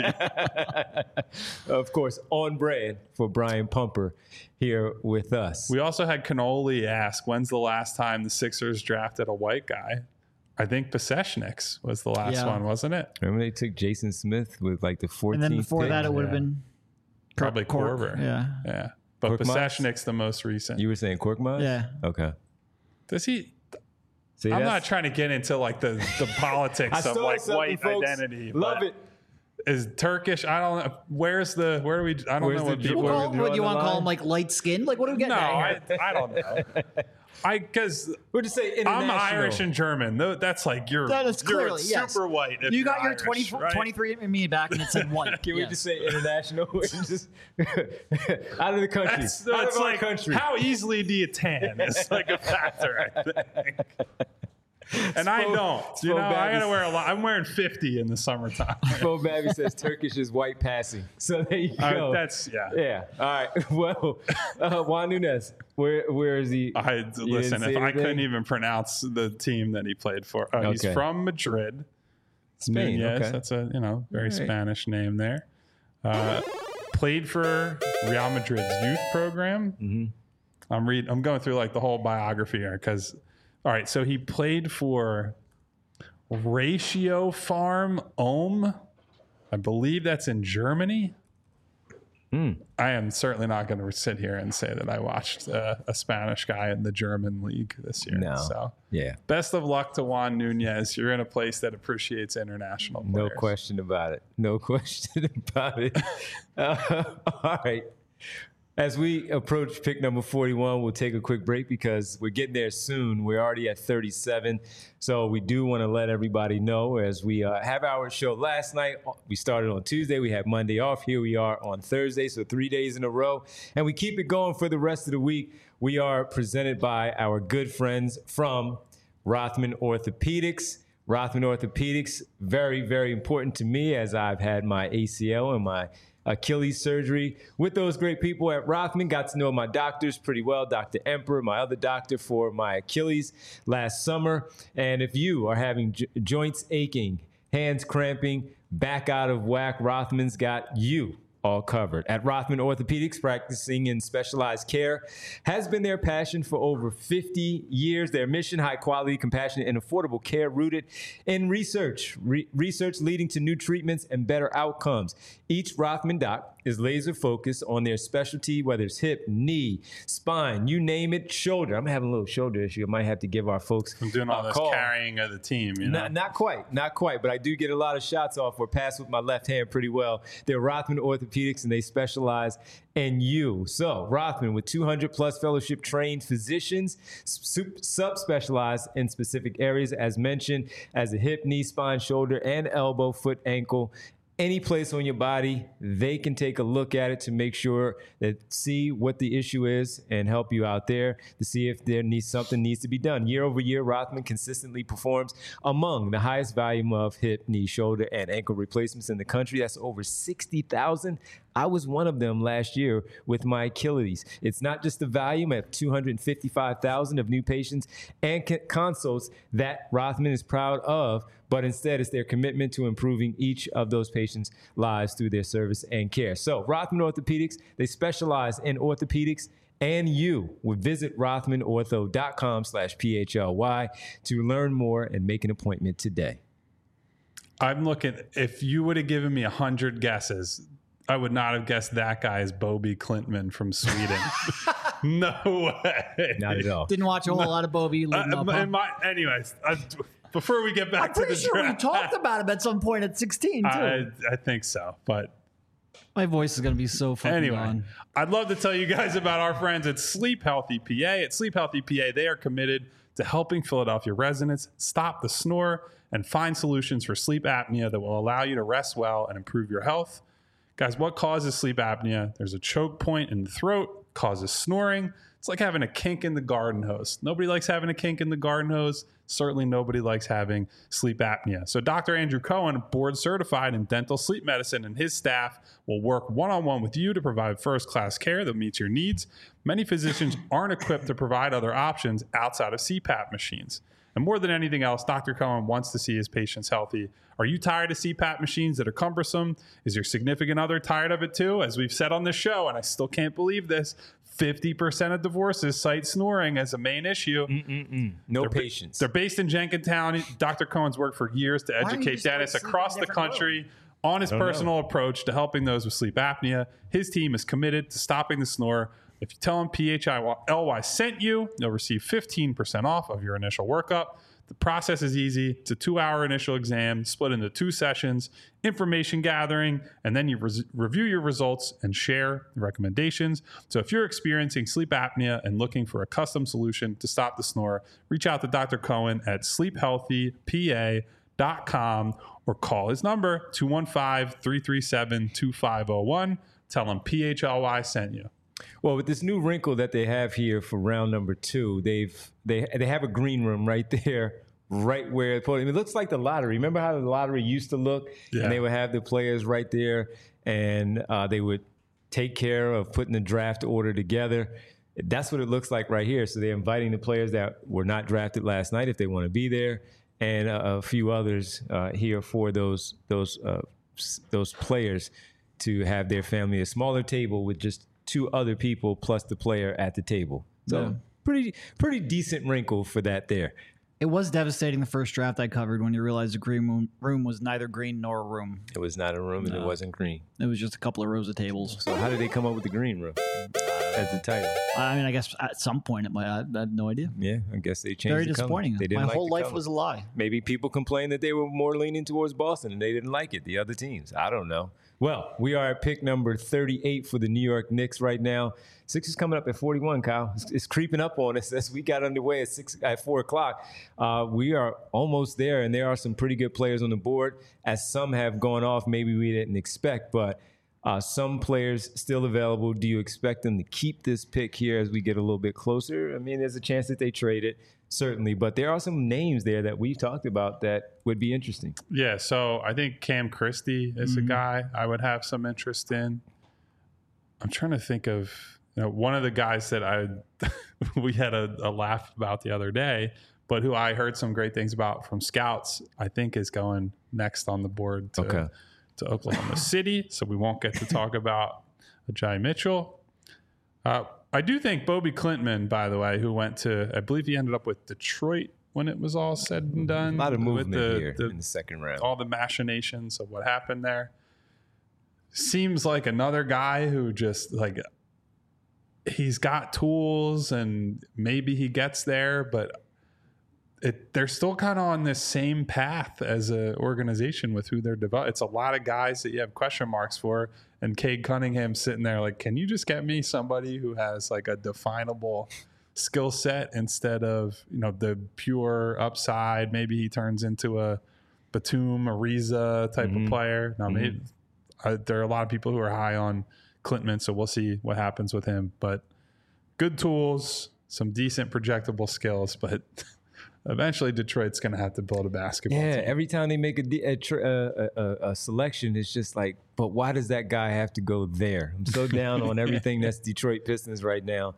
emoji. Of course, on brand for Brian Pumper here with us. We also had Cannoli ask, when's the last time the Sixers drafted a white guy? I think Pasechniks was the last Yeah. one, wasn't it? Remember they took Jason Smith with like the fourteenth And then before pick? that, it would have Yeah. been Probably Cork. Korver. Yeah. Yeah. But Korkmaz? Pasechnik's the most recent. You were saying Korkmaz? Yeah. Okay. Does he? See, I'm that's- not trying to get into like the, the I politics of started like something, white folks. identity. Love but it. Is Turkish? I don't know. Where's the? Where do we? I don't Where's know the what Jew- people. We'll Where call, we what draw do you the want to call line? them? Like light skinned? Like what are we No, getting at I, here? I don't know. I because We'll just say international. I'm Irish and German. Tho- That's like you're. That is you're clearly, yes. super white. if You got you're your twenty, Irish, right? twenty-three and me back, and it said white. Can we Yes. just say international? just out of the country. That's, out that's of our like country. how easily do you tan? It's like a factor, I think. And I Spo- don't. You Spo know, I gotta Babbies- wear a lot. I'm wearing fifty in the summertime. Bo Babby says Turkish is white passing. So there you Uh, go. that's yeah. yeah. All right. Well, uh, Juan Nunez, where where is he? I didn't listen. say If I anything? couldn't even pronounce the team that he played for, uh, he's Okay. from Madrid, Spain. Yes, okay. that's a you know very All right. Spanish name there. Uh, played for Real Madrid's youth program. Mm-hmm. I'm read. I'm going through like the whole biography here because, all right. So he played for Ratio Farm Ohm. I believe that's in Germany. Mm. I am certainly not going to sit here and say that I watched uh, a Spanish guy in the German league this year. No. So Yeah. best of luck to Juan Nunez. You're in a place that appreciates international No players. question about it. No question about it. Uh, all right. As we approach pick number forty-one, we'll take a quick break because we're getting there soon. We're already at thirty-seven. So we do want to let everybody know as we uh, have our show last night. We started on Tuesday. We had Monday off. Here we are on Thursday. So three days in a row. And we keep it going for the rest of the week. We are presented by our good friends from Rothman Orthopedics. Rothman Orthopedics, very, very important to me as I've had my A C L and my Achilles surgery with those great people at Rothman. Got to know my doctors pretty well, Doctor Emperor, my other doctor for my Achilles last summer. And if you are having jo- joints aching, hands cramping, back out of whack, Rothman's got you all covered. At Rothman Orthopedics, practicing in specialized care has been their passion for over fifty years. Their mission, high quality, compassionate, and affordable care rooted in research. Re- research leading to new treatments and better outcomes. Each Rothman doc is laser focused on their specialty, whether it's hip, knee, spine, you name it, shoulder. I'm having a little shoulder issue. I might have to give our folks I'm doing all a this call. carrying of the team. You know? Not, not quite, not quite, but I do get a lot of shots off or pass with my left hand pretty well. They're Rothman Orthopedics, and they specialize in you. So Rothman, with two hundred plus fellowship trained physicians, sub-specialized in specific areas, as mentioned, as a hip, knee, spine, shoulder, and elbow, foot, ankle, any place on your body, they can take a look at it to make sure that see what the issue is and help you out there to see if there needs something needs to be done. Year over year, Rothman consistently performs among the highest volume of hip, knee, shoulder, and ankle replacements in the country. That's over sixty thousand. I was one of them last year with my Achilles. It's not just the volume of two hundred fifty-five thousand of new patients and consults that Rothman is proud of, but instead it's their commitment to improving each of those patients' lives through their service and care. So Rothman Orthopedics, they specialize in orthopedics, and you would visit rothmanortho.com slash PHLY to learn more and make an appointment today. I'm looking, if you would have given me a hundred guesses, I would not have guessed that guy is Bobby Klintman from Sweden. No way. Not at all. Didn't watch a whole lot of Bobby leading Uh, up. Huh? and my, anyways, I, before we get back I'm to pretty the sure we draft, talked about him at some point at sixteen, too. I, I think so. But My voice is going to be so fucking anyway, gone. I'd love to tell you guys about our friends at Sleep Healthy P A. At Sleep Healthy P A, they are committed to helping Philadelphia residents stop the snore and find solutions for sleep apnea that will allow you to rest well and improve your health. Guys, what causes sleep apnea? There's a choke point in the throat, causes snoring. It's like having a kink in the garden hose. Nobody likes having a kink in the garden hose. Certainly nobody likes having sleep apnea. So Doctor Andrew Cohen, board certified in dental sleep medicine, and his staff will work one-on-one with you to provide first-class care that meets your needs. Many physicians aren't equipped to provide other options outside of C PAP machines. And more than anything else, Doctor Cohen wants to see his patients healthy. Are you tired of C PAP machines that are cumbersome? Is your significant other tired of it too? As we've said on this show, and I still can't believe this, fifty percent of divorces cite snoring as a main issue. Mm-mm-mm. No They're, patience. They're based in Jenkintown. Doctor Cohen's worked for years to are you educate just, like, dentists sleeping across in the different country on his I don't personal approach to helping those with sleep apnea. His team is committed to stopping the snore. If you tell him P H I L Y sent you, you'll receive fifteen percent off of your initial workup. The process is easy. It's a two-hour initial exam split into two sessions, information gathering, and then you res- review your results and share recommendations. So if you're experiencing sleep apnea and looking for a custom solution to stop the snore, reach out to Doctor Cohen at sleep healthy p a dot com or call his number, two one five, three three seven, two five zero one. Tell him P H L Y sent you. Well, with this new wrinkle that they have here for round number two, they've they they have a green room right there, right where the podium. It looks like the lottery. Remember how the lottery used to look? Yeah. And they would have the players right there, and uh, they would take care of putting the draft order together. That's what it looks like right here. So they're inviting the players that were not drafted last night if they want to be there, and uh, a few others uh, here for those those uh, those players to have their family a smaller table with just two other people plus the player at the table. So Yeah. pretty pretty decent wrinkle for that there. It was devastating the first draft I covered when you realized the green room, room was neither green nor a room. It was not a room and No. it wasn't green. It was just a couple of rows of tables. So how did they come up with the green room as the title? I mean, I guess at some point it might. I had no idea. Yeah, I guess they changed Very the color. disappointing. They didn't My like whole the life color. was a lie. Maybe people complained that they were more leaning towards Boston and they didn't like it, the other teams. I don't know. Well, we are at pick number thirty-eight for the New York Knicks right now. Six is coming up at forty-one, Kyle. It's, it's creeping up on us as we got underway at six at four o'clock. Uh, we are almost there, and there are some pretty good players on the board, as some have gone off maybe we didn't expect, but uh, some players still available. Do you expect them to keep this pick here as we get a little bit closer? I mean, there's a chance that they trade it. Certainly, but there are some names there that we've talked about that would be interesting. Yeah, so I think Cam Christie is Mm-hmm. a guy I would have some interest in. I'm trying to think of you know, one of the guys that I we had a, a laugh about the other day, but who I heard some great things about from scouts. I think is going next on the board to, Okay. to Oklahoma City, so we won't get to talk about Ajay Mitchell. Uh, I do think Bobby Clintman, by the way, who went to, I believe he ended up with Detroit when it was all said and done. A lot of with movement the, here the, in the second round. all the machinations of what happened there. Seems like another guy who just like he's got tools and maybe he gets there, but it, they're still kind of on this same path as an organization with who they're developing. It's a lot of guys that you have question marks for. And Cade Cunningham sitting there like, can you just get me somebody who has like a definable skill set instead of, you know, the pure upside? Maybe he turns into a Batum, Ariza type Mhm. of player. Now, Mhm. maybe uh, there are a lot of people who are high on Clintman, so we'll see what happens with him. But good tools, some decent projectable skills, but eventually Detroit's going to have to build a basketball Yeah, team. every time they make a, de- a, tr- a, a, a selection, it's just like, but why does that guy have to go there? I'm so down on everything that's Detroit Pistons right now.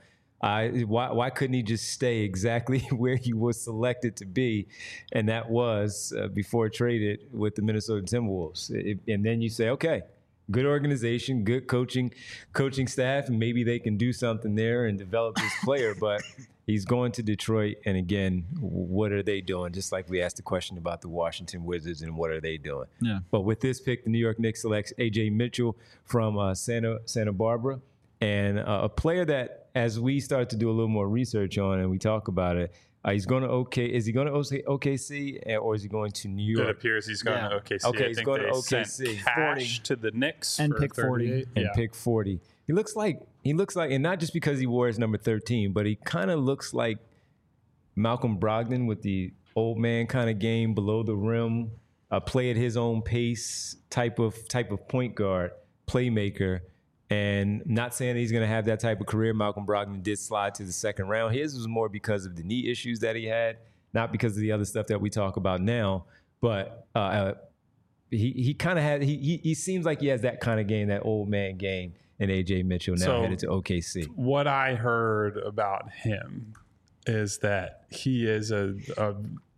I why why couldn't he just stay exactly where he was selected to be, and that was uh, before traded with the Minnesota Timberwolves. It, and then you say, okay, good organization, good coaching, coaching staff, and maybe they can do something there and develop this player, but. He's going to Detroit, and again, what are they doing? Just like we asked the question about the Washington Wizards, and what are they doing? Yeah. But with this pick, the New York Knicks selects A J Mitchell from uh, Santa Santa Barbara, and uh, a player that, as we start to do a little more research on, and we talk about it, uh, he's going to OK. Is he going to O K C, or is he going to New It York? appears he's going Yeah. to O K C. Okay, I he's think going to they O K sent C. cash forty. to the Knicks And for pick forty. thirty-eight. And Yeah. pick forty. He looks like he looks like, and not just because he wore his number thirteen, but he kind of looks like Malcolm Brogdon with the old man kind of game, below the rim, uh, play at his own pace type of type of point guard, playmaker. And not saying that he's going to have that type of career. Malcolm Brogdon did slide to the second round. His was more because of the knee issues that he had, not because of the other stuff that we talk about now. But uh, uh, he he kind of had he, he he seems like he has that kind of game, that old man game. And A J Mitchell now So- headed to O K C. What I heard about him is that he is a, a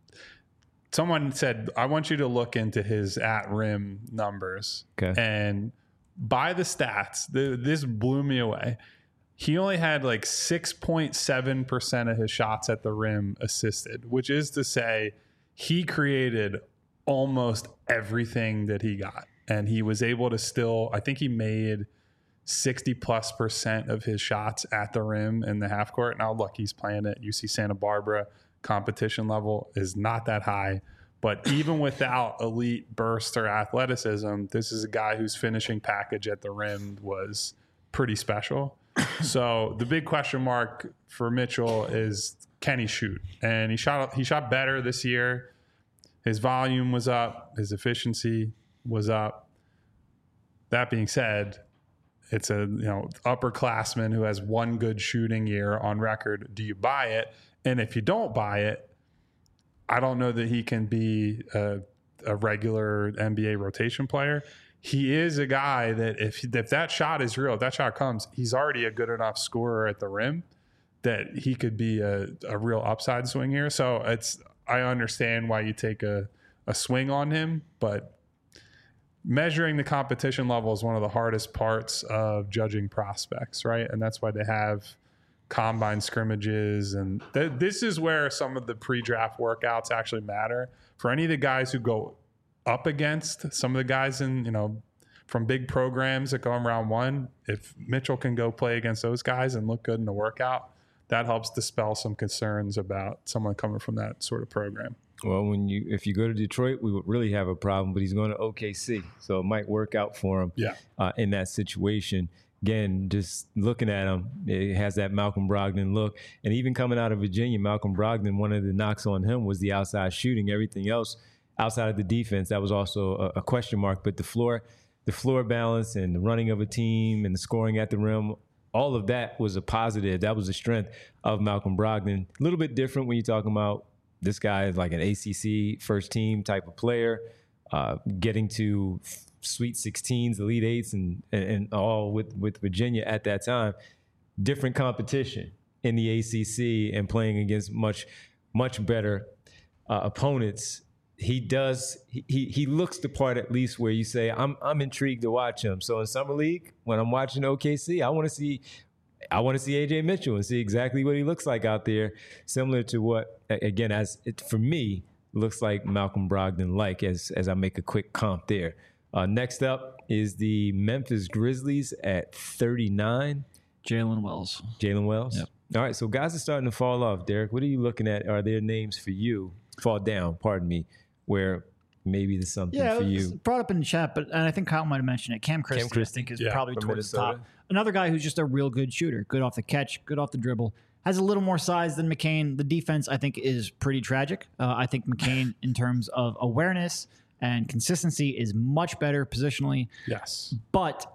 someone said, I want you to look into his at rim numbers. Okay. And by the stats, the, this blew me away. He only had like six point seven percent of his shots at the rim assisted, which is to say he created almost everything that he got. And he was able to still, I think he made sixty plus percent of his shots at the rim in the half court. Now, look, he's playing at U C Santa Barbara. Competition level is not that high. But even without elite burst or athleticism, this is a guy whose finishing package at the rim was pretty special. So the big question mark for Mitchell is, can he shoot? And he shot he shot better this year. His volume was up. His efficiency was up. That being said, it's a you know upperclassman who has one good shooting year on record. Do you buy it? And if you don't buy it, I don't know that he can be a, a regular N B A rotation player. He is a guy that if if that shot is real, if that shot comes, he's already a good enough scorer at the rim that he could be a, a real upside swing here. So it's I understand why you take a, a swing on him, but measuring the competition level is one of the hardest parts of judging prospects, right? And that's why they have combine scrimmages. And th- this is where some of the pre-draft workouts actually matter. For any of the guys who go up against some of the guys in, you know, from big programs that go in round one, if Mitchell can go play against those guys and look good in the workout, that helps dispel some concerns about someone coming from that sort of program. Well, when you if you go to Detroit, we would really have a problem, but he's going to O K C, so it might work out for him yeah. uh, in that situation. Again, just looking at him, it has that Malcolm Brogdon look. And even coming out of Virginia, Malcolm Brogdon, one of the knocks on him was the outside shooting. Everything else outside of the defense, that was also a, a question mark. But the floor, the floor balance and the running of a team and the scoring at the rim, all of that was a positive. That was the strength of Malcolm Brogdon. A little bit different when you're talking about this guy is like an A C C first team type of player, uh, getting to Sweet sixteens, Elite Eights, and, and and all with with Virginia at that time. Different competition in the A C C and playing against much much better uh, opponents. He does he he looks the part, at least, where you say I'm I'm intrigued to watch him. So in summer league, when I'm watching O K C, I want to see I want to see A J Mitchell and see exactly what he looks like out there, similar to what, again, as it, for me, looks like Malcolm Brogdon like as as I make a quick comp there. Uh, next up is the Memphis Grizzlies at thirty-nine. Jalen Wells. Jalen Wells. Yep. All right, so guys are starting to fall off. Derek, what are you looking at? Are there names for you? Fall down, pardon me, where maybe there's something yeah, for it was you. brought up in the chat, but and I think Kyle might have mentioned it. Cam Christie, Cam Christie. I think, is Yeah, probably from towards the Minnesota. top. Another guy who's just a real good shooter, good off the catch, good off the dribble. Has a little more size than McCain. The defense, I think, is pretty tragic. Uh, I think McCain, in terms of awareness and consistency, is much better positionally. Yes. But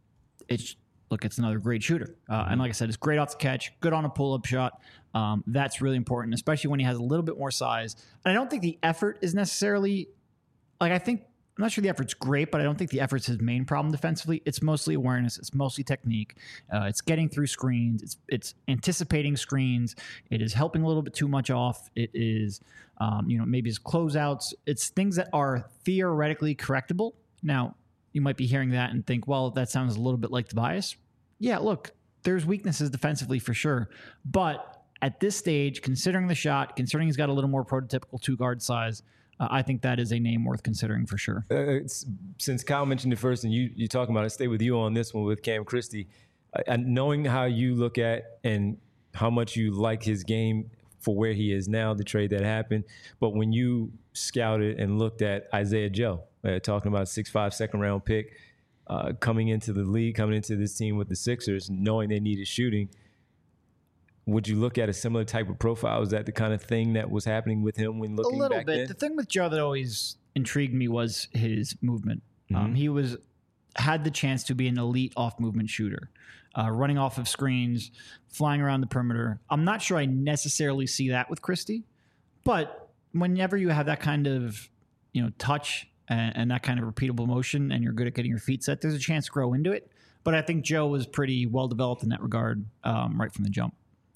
it's look, it's another great shooter. Uh, and like I said, it's great off the catch, good on a pull-up shot. Um, that's really important, especially when he has a little bit more size. And I don't think the effort is necessarily like I think I'm not sure the effort's great, but I don't think the effort's his main problem defensively. It's mostly awareness. It's mostly technique. Uh, it's getting through screens. It's it's anticipating screens. It is helping a little bit too much off. It is, um, you know, maybe his closeouts. It's things that are theoretically correctable. Now, you might be hearing that and think, well, that sounds a little bit like Tobias. Yeah, look, there's weaknesses defensively for sure. But at this stage, considering the shot, considering he's got a little more prototypical two-guard size, Uh, I think that is a name worth considering for sure. Uh, it's, since Kyle mentioned it first, and you you talking about it, stay with you on this one with Cam Christie. Uh, and knowing how you look at and how much you like his game for where he is now, the trade that happened. But when you scouted and looked at Isaiah Joe, uh, talking about six five second round pick, uh, coming into the league, coming into this team with the Sixers, knowing they needed shooting, would you look at a similar type of profile? Is that the kind of thing that was happening with him when looking a little back bit. then? The thing with Joe that always intrigued me was his movement. Mm-hmm. Um, he was had the chance to be an elite off-movement shooter, uh, running off of screens, flying around the perimeter. I'm not sure I necessarily see that with Christie, but whenever you have that kind of, you know, touch and, and that kind of repeatable motion, and you're good at getting your feet set, there's a chance to grow into it. But I think Joe was pretty well developed in that regard um, right from the jump.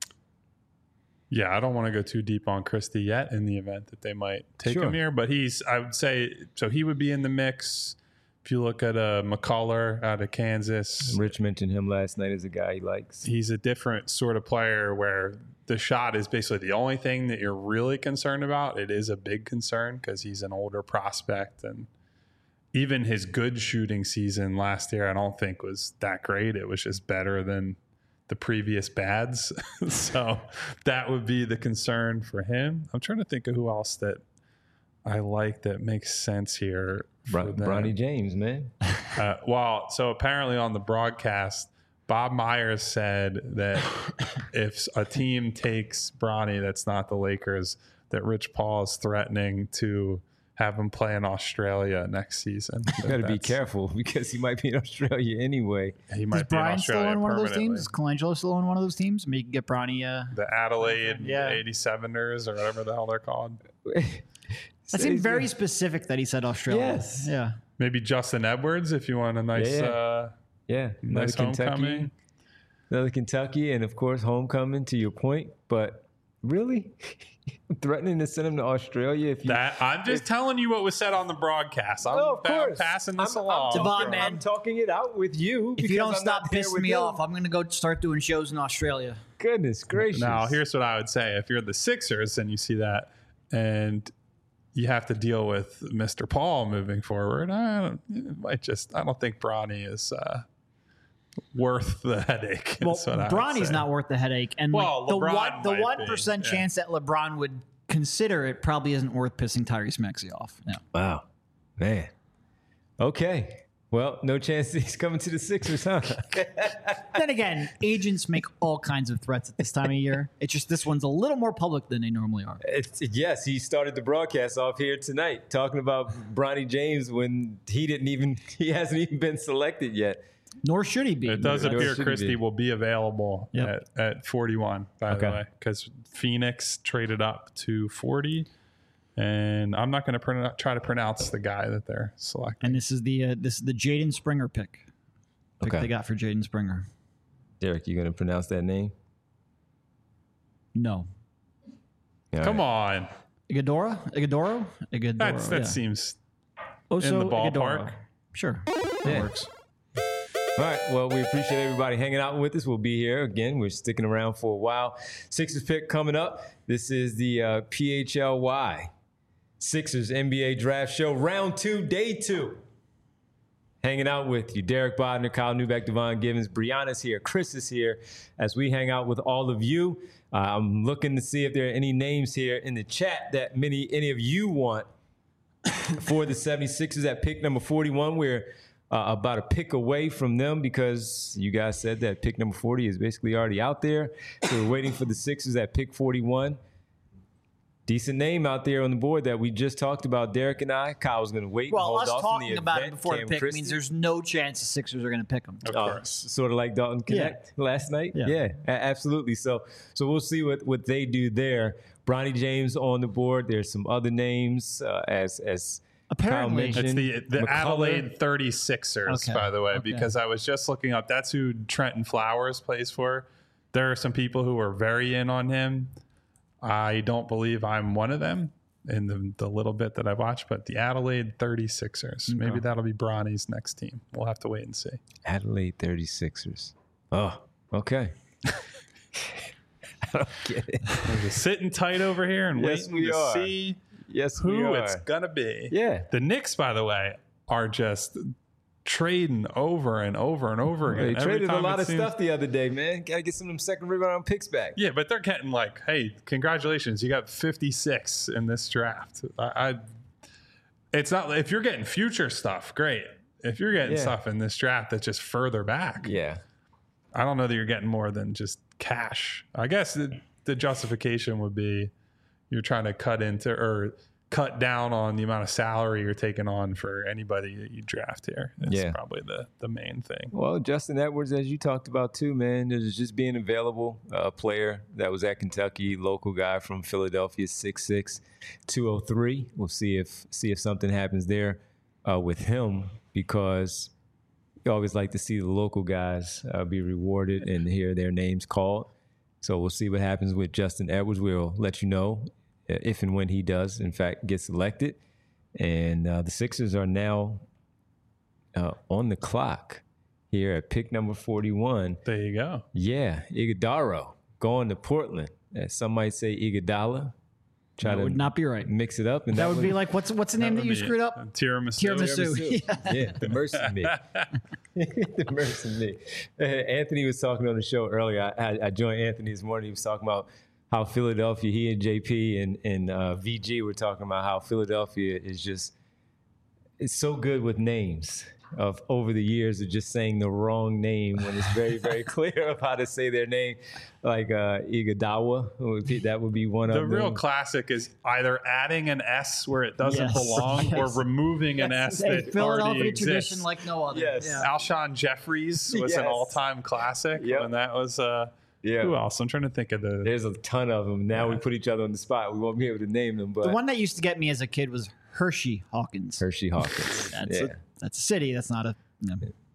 Yeah, I don't want to go too deep on Christie yet in the event that they might take Sure. him here, but he's, I would say, so he would be in the mix. If you look at uh, McCullough out of Kansas, Rich mentioned him last night as a guy he likes. he's a different sort of player where the shot is basically the only thing that you're really concerned about. It is a big concern because he's an older prospect, and even his good shooting season last year, I don't think was that great. It was just better than the previous bads. So that would be the concern for him. I'm trying to think of who else that I like that makes sense here. Bron- Bronny James, man. Uh, well, so apparently on the broadcast, Bob Myers said that if a team takes Bronny that's not the Lakers, that Rich Paul is threatening to have him play in Australia next season. You got to be careful because he might be in Australia anyway. He Is might be in Brian still Australia on one of those permanently. teams? Is Colangelo still on one of those teams? Maybe you can get Bronny. Uh, The Adelaide Yeah. eighty-seveners or whatever the hell they're called. that seemed very specific that he said Australia. Yes. Yeah. Maybe Justin Edwards if you want a nice, Yeah. uh, Yeah, another nice Kentucky, homecoming. another Kentucky, and of course homecoming. To your point, but Really? Threatening to send him to Australia if you. That I'm just telling you what was said on the broadcast. I'm, No, of I'm course. passing this I'm, along. I'm, Devon, talking, man. I'm talking it out with you. If you because don't I'm stop not there pissing with me him. off, I'm going to go start doing shows in Australia. Goodness gracious. Now, here's what I would say: if you're the Sixers and you see that, and you have to deal with Mister Paul moving forward, I don't, it might just. I don't think Bronny is uh, worth the headache. Well, is what I would Bronny's say. not worth the headache, and Well, like the LeBron one the might one be, percent yeah. chance that LeBron would consider it probably isn't worth pissing Tyrese Maxey off. No. Wow. Man. Okay. Well, no chance he's coming to the Sixers, huh? Then again, agents make all kinds of threats at this time of year. It's just this one's a little more public than they normally are. It's, yes, he started the broadcast off here tonight talking about Bronny James when he didn't even, he hasn't even been selected yet. Nor should he be. It does Nor appear should he Christie be. will be available Yep. at, at forty-one, by Okay. the way, because Phoenix traded up to forty. And I'm not going to pron- try to pronounce the guy that they're selecting. And this is the uh, this is the Jaden Springer pick. Pick Okay. they got for Jaden Springer. Derek, you going to pronounce that name? No. All Come right. on. Igadora? Igadoro? Igadoro. That's, that yeah. seems Oso in the ballpark. Igadoro. Sure. That Yeah. works. All right. Well, we appreciate everybody hanging out with us. We'll be here again. We're sticking around for a while. Sixers pick coming up. This is the uh, P H L Y Sixers N B A Draft Show, round two, day two. Hanging out with you, Derek Bodner, Kyle Newbeck, Devon Givens, Brianna's here, Chris is here, as we hang out with all of you. Uh, I'm looking to see if there are any names here in the chat that many any of you want for the 76ers at pick number forty-one. We're uh, about a pick away from them because you guys said that pick number forty is basically already out there. So we're waiting for the Sixers at pick forty-one. Decent name out there on the board that we just talked about, Derek and I. Kyle's going to wait and Well, hold us off on the talking about it event. before Cam the pick Christie. means there's no chance the Sixers are going to pick him. Of Uh, course. sort of like Dalton Connect last night. Yeah. Yeah, a- absolutely. So, so we'll see what, what they do there. Bronny James on the board. There's some other names uh, as as Apparently- Kyle It's mentioned. the the McCullough. Adelaide thirty-sixers, Okay. by the way, Okay. because I was just looking up. That's who Trenton Flowers plays for. There are some people who are very in on him. I don't believe I'm one of them in the, the little bit that I've watched, but the Adelaide thirty-sixers. Maybe that'll be Bronny's next team. We'll have to wait and see. Adelaide thirty-sixers. Oh, okay. I don't get it. We're just sitting tight over here and Yes, waiting we to are. see Yes, we who are. it's gonna be. Yeah. The Knicks, by the way, are just trading over and over and over again. They Every traded a time lot it of seems- stuff the other day, man. Got to get some of them second rebound picks back. Yeah, but they're getting like, hey, congratulations, you got fifty-six in this draft. I, I it's not if you're getting future stuff, great. If you're getting Yeah. stuff in this draft that's just further back, Yeah. I don't know that you're getting more than just cash. I guess the, the justification would be you're trying to cut into or cut down on the amount of salary you're taking on for anybody that you draft here. That's Yeah. probably the, the main thing. Well, Justin Edwards, as you talked about too, man, there's just being available. A uh, player that was at Kentucky, local guy from Philadelphia, six six, two oh three. We'll see if see if something happens there uh, with him because you always like to see the local guys uh, be rewarded and hear their names called. So we'll see what happens with Justin Edwards. We'll let you know if and when he does, in fact, get selected. And uh, the Sixers are now uh, on the clock here at pick number forty-one. There you go. Yeah, Iguodala going to Portland. As some might say Iguodala. Try That to would not be right. mix it up. And That would be like what's what's the name that, would you be screwed it. up? Tiramisu. Tiramisu. Yeah. Yeah, the mercy me. The mercy me. Uh, Anthony was talking on the show earlier. I, I, I joined Anthony this morning. He was talking about how Philadelphia, he and J P and, and uh, V G were talking about how Philadelphia is just, it's so good with names of over the years of just saying the wrong name when it's very, very clear of how to say their name. Like uh, Iguodala, would be- that would be one The of real them. classic is either adding an S where it doesn't Yes. belong or Yes. removing an S A that already Philadelphia exists. tradition like no other. Yes. Yeah. Alshon Jeffries was an Yes. all-time classic, Yep. and that was uh, Yeah. who else? I'm trying to think of the. There's a ton of them. Now we Yeah. put each other on the spot. We won't be able to name them, but The one that used to get me as a kid was Hershey Hawkins. Hershey Hawkins. That's yeah. a, that's a city. That's not a. No.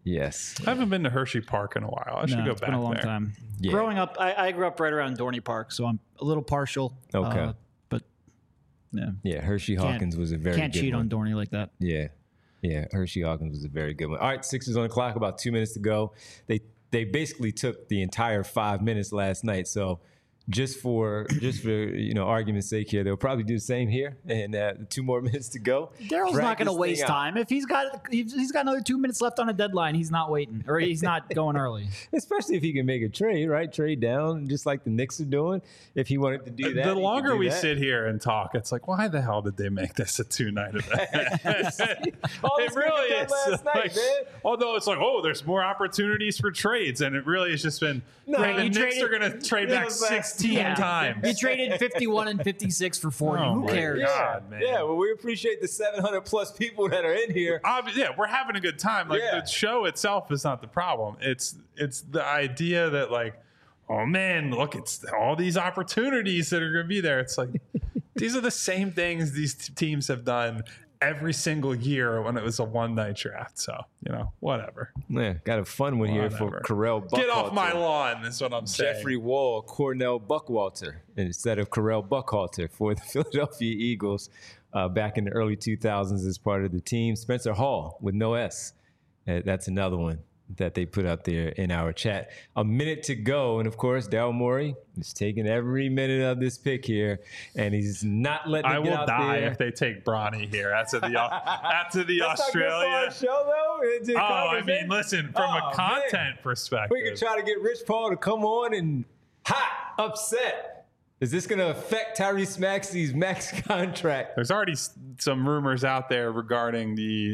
Yes. I haven't been to Hershey Park in a while. I should No, go it's back been a long there. time. Yeah. Growing up, I, I grew up right around Dorney Park, so I'm a little partial. Okay. Uh, but yeah, Yeah, Hershey Hawkins was a very can't good cheat one. on Dorney like that. Yeah. Yeah, Hershey Hawkins was a very good one. All right, Sixers on the clock, about two minutes to go. They they basically took the entire five minutes last night. So just for just for you know argument's sake here, they'll probably do the same here. And uh, two more minutes to go. Daryl's Drag not going to this thing waste out. time. If he's got he's he's got another two minutes left on a deadline, he's not waiting, or he's not going early. Especially if he can make a trade, right? Trade down, just like the Knicks are doing. If he wanted to do that, The he could longer do we that. sit here and talk, it's like, why the hell did they make this a two-night event? All It this really we did is. last night, Like, man. although it's like, oh, there's more opportunities for trades, and it really has just been. No, the you Knicks traded- are going to trade Yeah, back it was like- sixteen Yeah. times. You traded fifty-one and fifty-six for forty. Oh Who my cares? God. Yeah, man. yeah. Well, we appreciate the seven hundred plus people that are in here. Obvi- yeah, we're having a good time. Like Yeah. the show itself is not the problem. It's it's the idea that like, oh man, look, it's all these opportunities that are going to be there. It's like these are the same things these t- teams have done every single year when it was a one night draft. So you know, whatever. Yeah, got a fun one here for Whatever. Carell Buckwalter. Get off my lawn. Is what I'm saying. Jeffrey Wall, Cornell Buckwalter instead of Carell Buckwalter for the Philadelphia Eagles uh, back in the early two thousands as part of the team. Spencer Hall with no S. Uh, that's another one that they put up there in our chat. A minute to go. And of course, Daryl Morey is taking every minute of this pick here. And he's not letting it I get will out die there. if they take Bronny here. That's at the that's at the That's not good for Australia. our show, though. It's just Oh, I conversation. mean, listen, from Oh, a content man. perspective. We could try to get Rich Paul to come on and hot, upset. Is this going to affect Tyrese Maxey's max contract? There's already s- some rumors out there regarding the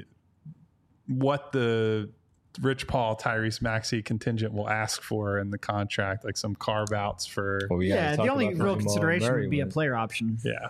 what the Rich Paul Tyrese Maxey contingent will ask for in the contract, like some carve outs for Well, we gotta Yeah, talk the only about real Jamal consideration Murray would be a one. player option. yeah.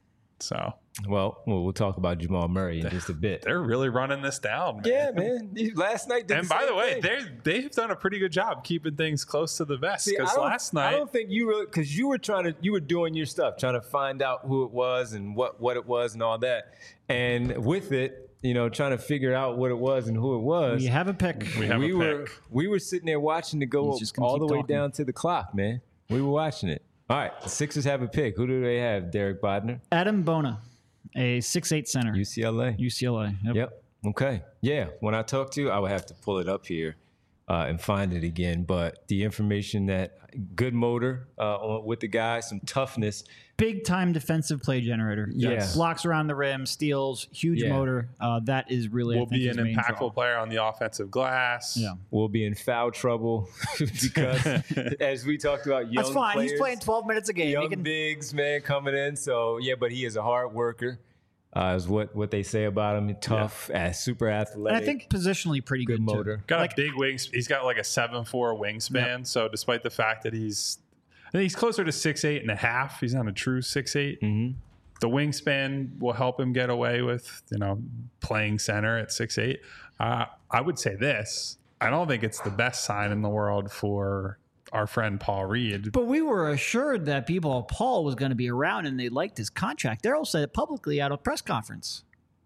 So Well, well, we'll talk about Jamal Murray in just a bit. they're really running this down, man. Yeah, man. He- Last night did And the by same the way, thing. they they've done a pretty good job keeping things close to the vest. See, I Because don't- last I night, don't think you really, because you were trying to, you were doing your stuff, trying to find out who it was and what what it was and all that. And with it, you know, trying to figure out what it was and who it was. You have a pick. we have we a were pick. we were sitting there watching it go He's just gonna all the keep way talking. down to the clock, man. We were watching it. All right, the Sixers have a pick. Who do they have? Derek Bodner, Adam Bona, a six eight center, U C L A. U C L A. Yep. Yep. Okay. Yeah. When I talk to you, I would have to pull it up here uh, and find it again. But the information that good motor uh, on, with the guy, some toughness. Big time defensive play generator. Yes. Blocks around the rim, steals, huge Yeah. motor. Uh, that is really will I think, be his an main draw. impactful player on the offensive glass. Yeah. Will be in foul trouble because, as we talked about, young That's fine. players, He's playing twelve minutes a game. He young can, bigs, man, coming in. So yeah, but he is a hard worker. Uh, is what what they say about him. Tough, uh, super athletic. and I think positionally pretty good good, too. motor. Got Like- a big wings. He's got like a seven four wingspan. So despite the fact that he's, I think he's closer to six eight and a half. He's not a true six eight. Mm-hmm. The wingspan will help him get away with you know playing center at six eight. Uh, I would say this. I don't think it's the best sign in the world for our friend Paul Reed. But we were assured that people, Paul was going to be around and they liked his contract. Daryl said it publicly at a press conference.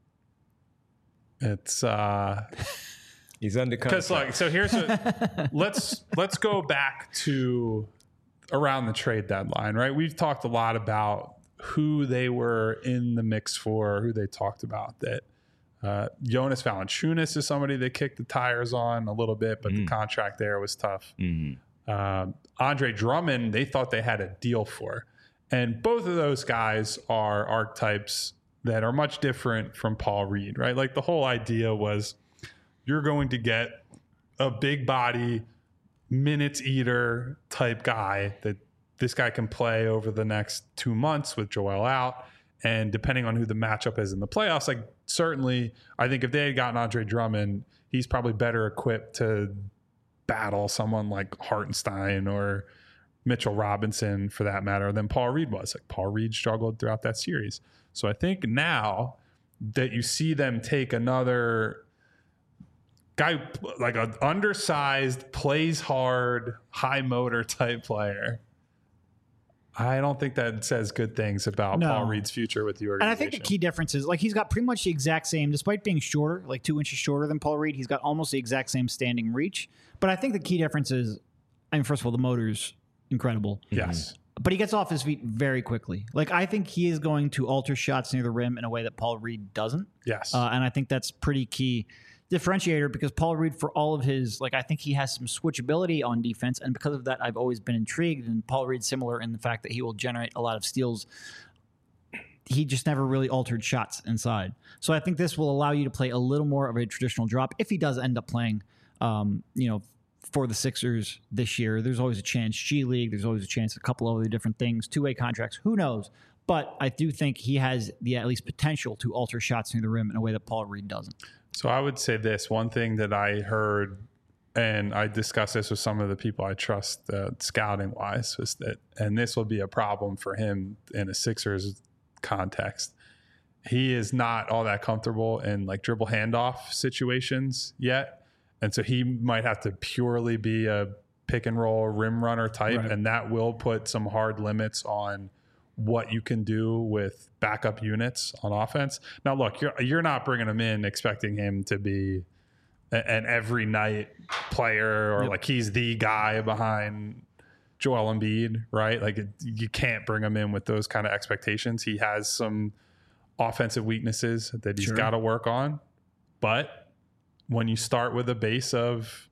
It's uh, He's under because contract. like so. Here's what let's let's go back to around the trade deadline, right? We've talked a lot about who they were in the mix for, who they talked about. That uh, Jonas Valanciunas is somebody they kicked the tires on a little bit, but the contract there was tough. Mhm. Uh, Andre Drummond, they thought they had a deal for, and both of those guys are archetypes that are much different from Paul Reed, right? Like the whole idea was you're going to get a big body, minutes eater type guy that this guy can play over the next two months with Joel out. And depending on who the matchup is in the playoffs, like certainly, I think if they had gotten Andre Drummond, he's probably better equipped to battle someone like Hartenstein or Mitchell Robinson for that matter than Paul Reed was. Like Paul Reed struggled throughout that series. So I think now that you see them take another guy, like an undersized, plays hard, high motor type player, I don't think that says good things about No. Paul Reed's future with the And organization. I think the key difference is, like, he's got pretty much the exact same, despite being shorter, like two inches shorter than Paul Reed, he's got almost the exact same standing reach. But I think the key difference is, I mean, first of all, the motor's incredible. Yes. But he gets off his feet very quickly. Like, I think he is going to alter shots near the rim in a way that Paul Reed doesn't. Yes. Uh, and I think that's pretty key differentiator because Paul Reed, for all of his, like, I think he has some switchability on defense. And because of that, I've always been intrigued. And Paul Reed's similar in the fact that he will generate a lot of steals. He just never really altered shots inside. So I think this will allow you to play a little more of a traditional drop if he does end up playing, um, you know, for the Sixers this year. There's always a chance. G League, there's always a chance. A couple of other different things. Two-way contracts. Who knows? But I do think he has the at least potential to alter shots near the rim in a way that Paul Reed doesn't. So I would say this one thing that I heard, and I discussed this with some of the people I trust uh, scouting wise, was that, and this will be a problem for him in a Sixers context. He is not all that comfortable in like dribble handoff situations yet. And so he might have to purely be a pick and roll rim runner type. Right. And that will put some hard limits on what you can do with backup units on offense. Now, look, you're you're not bringing him in expecting him to be a, an every night player or Yep. like he's the guy behind Joel Embiid, right? Like it, you can't bring him in with those kind of expectations. He has some offensive weaknesses that he's Sure. got to work on. But when you start with a base of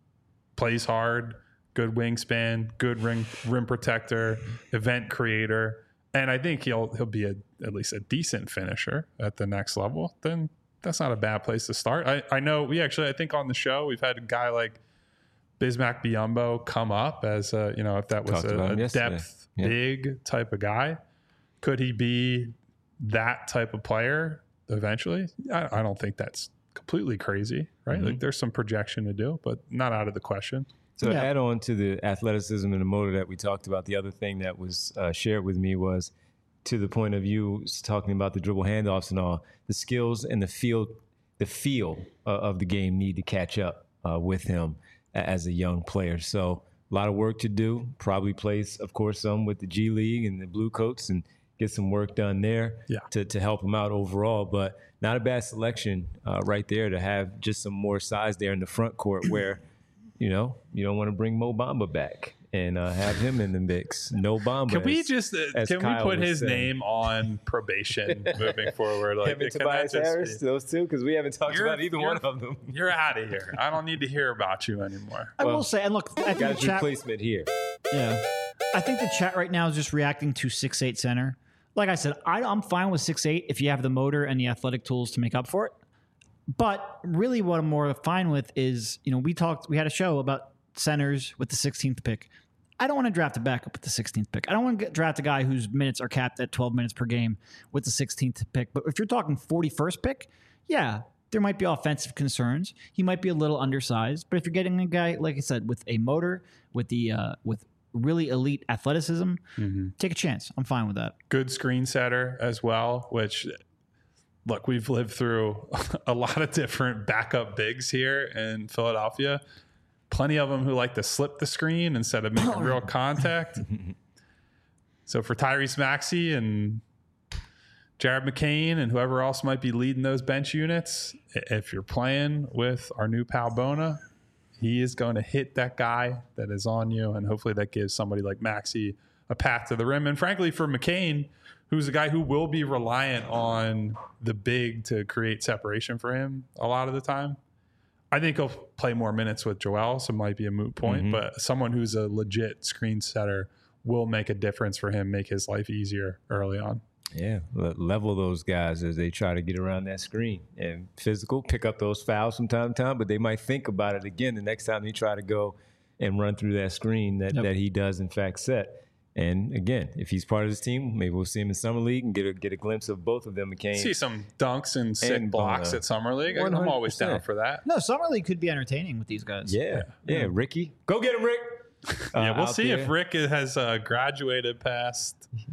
plays hard, good wingspan, good rim, rim protector, event creator, and I think he'll he'll be a, at least a decent finisher at the next level, then that's not a bad place to start. I, I know we actually, I think on the show, we've had a guy like Bismack Biyombo come up as a, you know, if that was Talked about a, him a yesterday. depth, Yeah. big type of guy. Could he be that type of player eventually? I, I don't think that's completely crazy, right? Mm-hmm. Like there's some projection to do, but not out of the question. So Yeah. add on to the athleticism and the motor that we talked about. The other thing that was uh, shared with me was to the point of you talking about the dribble handoffs and all. The skills and the field, the feel uh, of the game need to catch up uh, with him a- as a young player. So a lot of work to do. Probably plays, of course, some with the G League and the Blue Coats and get some work done there Yeah. to to help him out overall. But not a bad selection uh, right there to have just some more size there in the front court where. You know, you don't want to bring Mo Bamba back and uh, have him in the mix. No Bamba. Can we as- just uh, as can Kyle we put was his saying. name on probation moving forward? Like, him and can that Tobias just Harris, be- those two, because we haven't talked You're- about either you're- one of them. You're out of here. I don't need to hear about you anymore. I Well, will say, and look, I think the Got his chat, replacement here. yeah, I think the chat right now is just reacting to six eight center. Like I said, I, I'm fine with six eight if you have the motor and the athletic tools to make up for it. But really, what I'm more fine with is, you know, we talked, we had a show about centers with the sixteenth pick. I don't want to draft a backup with the sixteenth pick. I don't want to get, draft a guy whose minutes are capped at twelve minutes per game with the sixteenth pick. But if you're talking forty-first pick, yeah, there might be offensive concerns. He might be a little undersized. But if you're getting a guy, like I said, with a motor, with the uh, with really elite athleticism, take a chance. I'm fine with that. Good screen setter as well, which look, we've lived through a lot of different backup bigs here in Philadelphia. Plenty of them who like to slip the screen instead of making real contact. So for Tyrese Maxey and Jared McCain and whoever else might be leading those bench units, if you're playing with our new pal Bona, he is going to hit that guy that is on you, and hopefully that gives somebody like Maxey a path to the rim. And frankly, for McCain, who's a guy who will be reliant on the big to create separation for him a lot of the time, I think he'll play more minutes with Joel, so it might be a moot point. Mm-hmm. But someone who's a legit screen setter will make a difference for him, make his life easier early on. Yeah, le- level those guys as they try to get around that screen. And physical, pick up those fouls from time to time, but they might think about it again the next time they try to go and run through that screen that, Yep. that he does, in fact, set. And again, if he's part of this team, maybe we'll see him in Summer League and get a, get a glimpse of both of them. McCain. See some dunks and sick And blocks Bona. at Summer League. I'm one hundred always down percent. for that. No, Summer League could be entertaining with these guys. Yeah, yeah, Ricky. Go get him, Rick. Yeah, Uh, we'll out see there. if Rick has uh, graduated past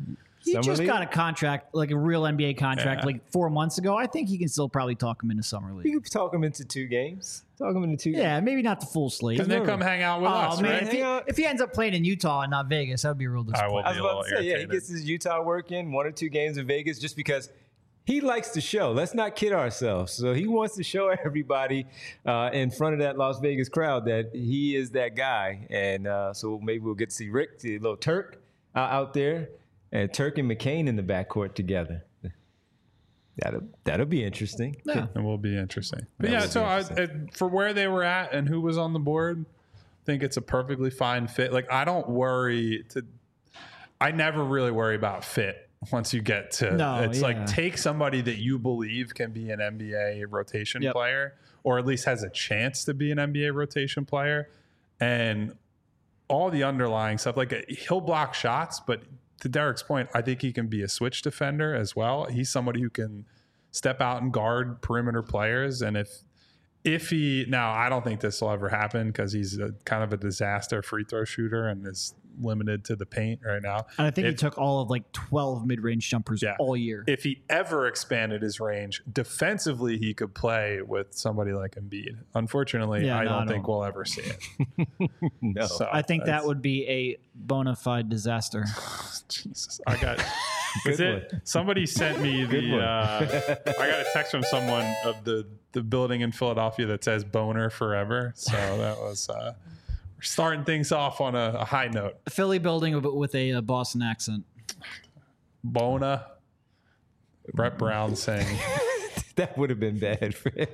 He Summer just League? got a contract, like a real N B A contract, Yeah. like four months ago. I think he can still probably talk him into summer league. You could talk him into two games. Talk him into two games. Yeah, maybe not the full slate. And then come hang out with Oh us, man, right? if he, Hang out. if he ends up playing in Utah and not Vegas, that would be a real I will disappointment. I was be a about little to say, yeah, he irritated. gets his Utah work in, one or two games in Vegas, just because he likes to show. Let's not kid ourselves. So he wants to show everybody uh, in front of that Las Vegas crowd that he is that guy. And uh, so maybe we'll get to see Rick, see a little Turk uh, out there, and Turk and McCain in the backcourt together. That'll that'll be interesting. Yeah. It will be interesting. But That yeah, will so be I, interesting. it, for where they were at and who was on the board, I think it's a perfectly fine fit. Like I don't worry to. I never really worry about fit once you get to. No, it's yeah. like take somebody that you believe can be an N B A rotation Yep. player, or at least has a chance to be an N B A rotation player, and all the underlying stuff. Like he'll block shots, but to Derek's point, I think he can be a switch defender as well. He's somebody who can step out and guard perimeter players. And if if he now, I don't think this will ever happen because he's a, kind of a disaster free throw shooter and is limited to the paint right now. And I think he If- took all of like twelve mid-range jumpers Yeah. all year. If he ever expanded his range defensively, he could play with somebody like Embiid. Unfortunately, Yeah, I no, don't I think don't. we'll ever see it. No. So I think that that's- would be a bona fide disaster. Jesus, I got. Is Good it? Somebody sent me Good the. one. Uh, I got a text from someone of the the building in Philadelphia that says "Boner Forever." So that was. Uh, we're starting things off on a, a high note. Philly building, but with a, uh Boston accent. Bona. Brett Brown saying. That would have been bad for him.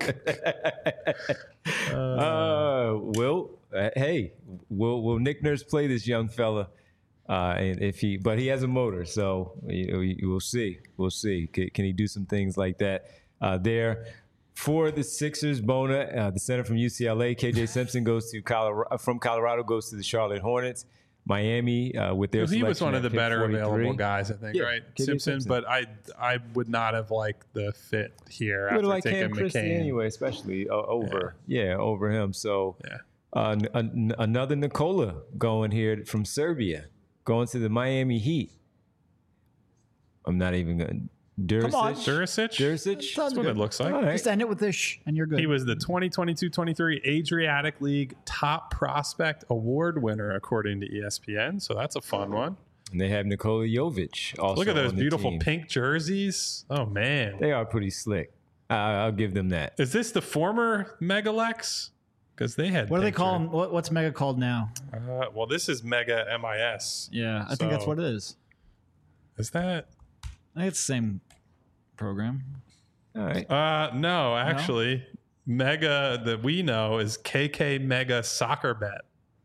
uh, Will, uh, hey, will will Nick Nurse play this young fella? Uh, and if he, but he has a motor, so you know, you- we'll see. We'll see. Can, can he do some things like that uh, there? For the Sixers, Bona, uh, the center from U C L A, K J Simpson goes to Colorado, from Colorado goes to the Charlotte Hornets. Miami uh, with their He was selection one at of the pick better forty-three. available guys, I think, Yeah, right? K J Simpson, Simpson. but I I would not have liked the fit here Would after like taking Cam Christie McCain. anyway, especially uh, over, yeah. over him. So Yeah. uh, n- an- another Nikola going here from Serbia, going to the Miami Heat. I'm not even going. Duricic. on. Duricic? Duricic. That's what it looks like. All right. Just end it with this, sh- and you're good. He was the twenty twenty-two twenty-three Adriatic League top prospect award winner, according to E S P N. So that's a fun one. And they have Nikola Jovic also. Look at those on the beautiful team. pink jerseys. Oh, man. They are pretty slick. Uh, I'll give them that. Is this the former Megalex? Because they had. what do they pink call jer- him? What, what's Mega called now? Uh, well, this is Mega M I S. Yeah, I think that's So- what it is. Is that? I think it's the same program. All right. Uh, no, actually, Mega that we know is K K Mega Soccer Bet.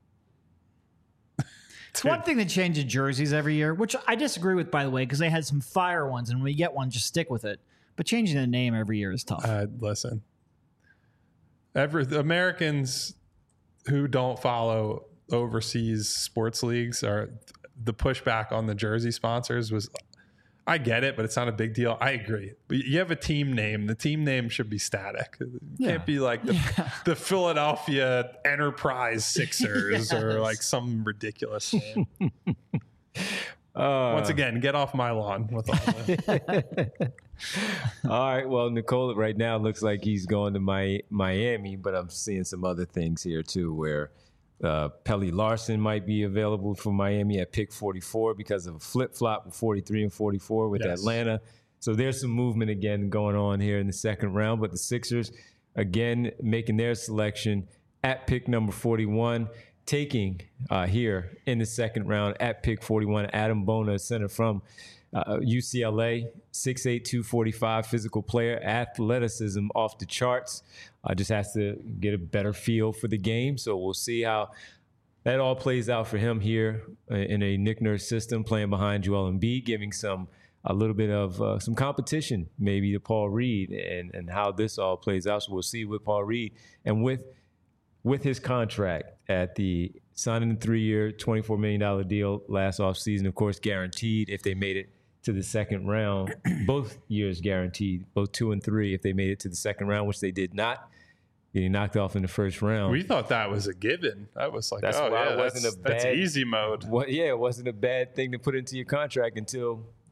It's one thing that changes jerseys every year, which I disagree with, by the way, because they had some fire ones, and when you get one, just stick with it. But changing the name every year is tough. Uh, listen, every Americans who don't follow overseas sports leagues are the pushback on the jersey sponsors was. I get it, but it's not a big deal. I agree. But you have a team name. The team name should be static. It Yeah. can't be like the, the Philadelphia Enterprise Sixers or Yes. like some ridiculous name. Uh, Once again, get off my lawn with all the. all right. Well, Nikola right now looks like he's going to my, Miami, but I'm seeing some other things here too, where uh, Pelly Larson might be available for Miami at pick forty-four because of a flip flop with forty-three and forty-four with Yes. Atlanta. So there's some movement again going on here in the second round. But the Sixers again making their selection at pick number forty-one. Taking uh, here in the second round at pick forty-one, Adam Bona, center from uh, U C L A, six eight, two forty-five, physical player, athleticism off the charts. Uh, just has to get a better feel for the game. So we'll see how that all plays out for him here uh, in a Nick Nurse system, playing behind Joel Embiid, giving some a little bit of uh, some competition maybe to Paul Reed and, and how this all plays out. So we'll see with Paul Reed and with with his contract at the signing the three-year, twenty-four million dollars deal last offseason, of course, guaranteed if they made it to the second round. Both years guaranteed, both two and three if they made it to the second round, which they did not. Getting knocked off in the first round. We thought that was a given. That was like, That's oh why yeah, it wasn't that's, a that's bad- easy mode. What, yeah, it wasn't a bad thing to put into your contract until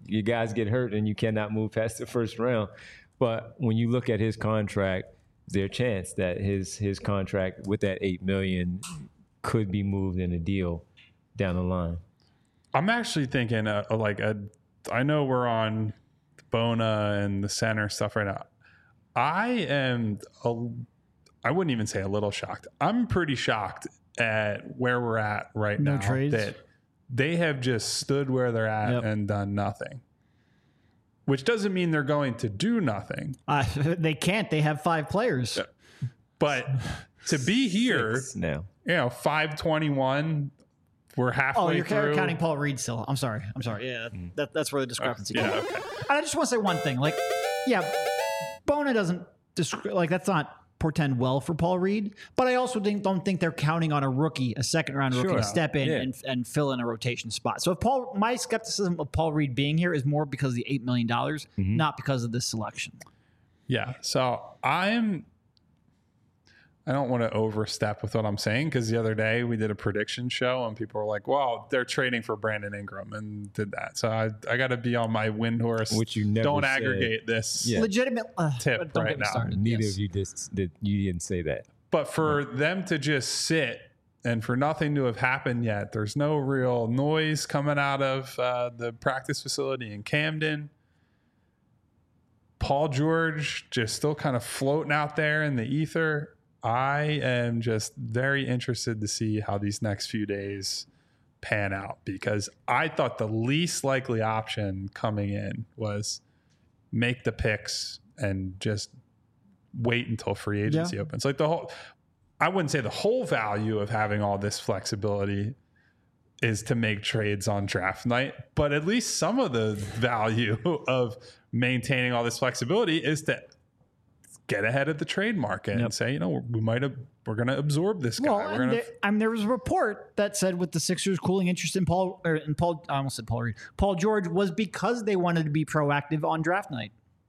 your guys get hurt and you cannot move past the first round. But when you look at his contract, is there a chance that his his contract with that eight million could be moved in a deal down the line? I'm actually thinking uh, like a, I know we're on Bona and the center stuff right now. I am a, I wouldn't even say a little shocked. I'm pretty shocked at where we're at right No now. trades? That they have just stood where they're at Yep. and done nothing. Which doesn't mean they're going to do nothing. Uh, they can't. They have five players. But to be here, Six now. you know, five twenty-one, we're halfway Oh, you're through. counting Paul Reed still. I'm sorry. I'm sorry. Yeah, that, that's where the discrepancy Yeah, comes. okay. I just want to say one thing. Like, yeah, Bona doesn't descri- like that's not portend well for Paul Reed, but I also think, don't think they're counting on a rookie, a second round rookie, Sure. to step in Yeah. and, and fill in a rotation spot. So if Paul, my skepticism of Paul Reed being here is more because of the eight million dollars, Mm-hmm. not because of this selection. Yeah. So I'm, I don't want to overstep with what I'm saying because the other day we did a prediction show and people were like, well, they're trading for Brandon Ingram and did that. So I, I got to be on my wind horse. Which you never Don't said. aggregate this. Yeah. Legitimate uh, Tip don't right get me now. started. Neither Yes. of you just did. You didn't say that. But for them to just sit and for nothing to have happened yet, there's no real noise coming out of uh, the practice facility in Camden. Paul George just still kind of floating out there in the ether. I am just very interested to see how these next few days pan out because I thought the least likely option coming in was make the picks and just wait until free agency Yeah. opens. Like the whole, I wouldn't say the whole value of having all this flexibility is to make trades on draft night, but at least some of the value of maintaining all this flexibility is to get ahead of the trade market Yep. and say, you know, we might have, we're going to absorb this guy. Well, we're and going there, to, I mean, there was a report that said with the Sixers cooling interest in Paul, or in Paul, I almost said Paul Reed, Paul George was because they wanted to be proactive on draft night.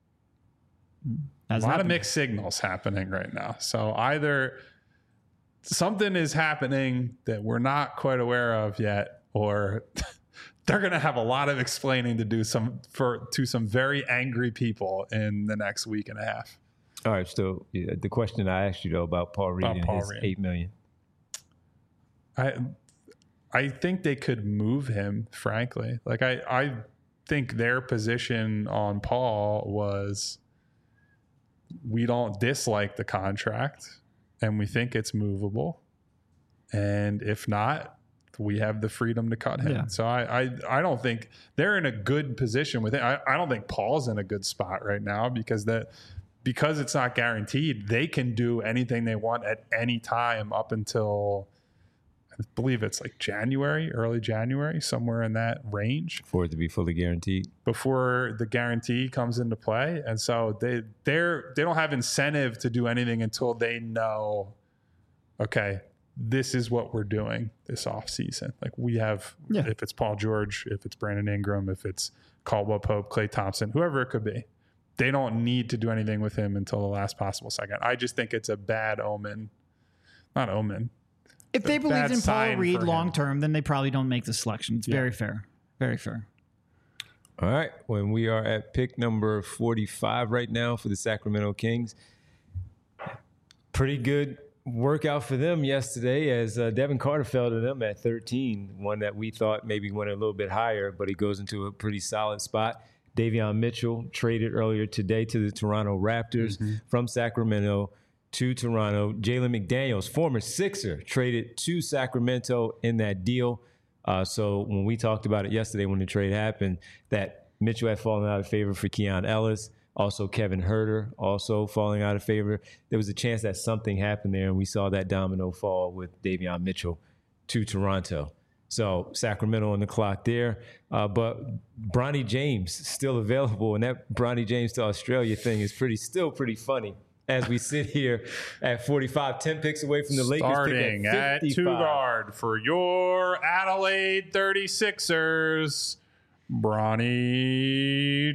a Hasn't lot of happened. mixed signals happening right now. So either something is happening that we're not quite aware of yet, or they're going to have a lot of explaining to do some for to some very angry people in the next week and a half. All right. So yeah, the question I asked you though about Paul Reed About and Paul his Reed. eight million. I I think they could move him, frankly. Like I, I think their position on Paul was we don't dislike the contract and we think it's movable. And if not, we have the freedom to cut him. Yeah. So I, I I don't think they're in a good position with it. I, I don't think Paul's in a good spot right now because that because it's not guaranteed, they can do anything they want at any time up until I believe it's like January, early January, somewhere in that range For it to be fully guaranteed. before the guarantee comes into play. And so they they're they don't have incentive to do anything until they know, okay, this is what we're doing this off season. Like we have, Yeah. if it's Paul George, if it's Brandon Ingram, if it's Caldwell Pope, Klay Thompson, whoever it could be, they don't need to do anything with him until the last possible second. I just think it's a bad omen, not omen. If they a believed bad in Paul sign Reed for him. long term, then they probably don't make the selection. It's Yeah. very fair. Very fair. All right. When we are at pick number forty-five right now for the Sacramento Kings, pretty good workout for them yesterday as uh, Devin Carter fell to them at thirteen, one that we thought maybe went a little bit higher, but he goes into a pretty solid spot. Davion Mitchell traded earlier today to the Toronto Raptors from Sacramento to Toronto. Jalen McDaniels, former Sixer, traded to Sacramento in that deal. Uh, so when we talked about it yesterday when the trade happened, that Mitchell had fallen out of favor for Keon Ellis, also Kevin Huerter also falling out of favor. There was a chance that something happened there, and we saw that domino fall with Davion Mitchell to Toronto. So Sacramento on the clock there. Uh, but Bronny James still available, and that Bronny James to Australia thing is pretty still pretty funny. As we sit here at forty-five, ten picks away from the Lakers Starting pick at at two fifty-five. guard for your Adelaide thirty-sixers, Bronny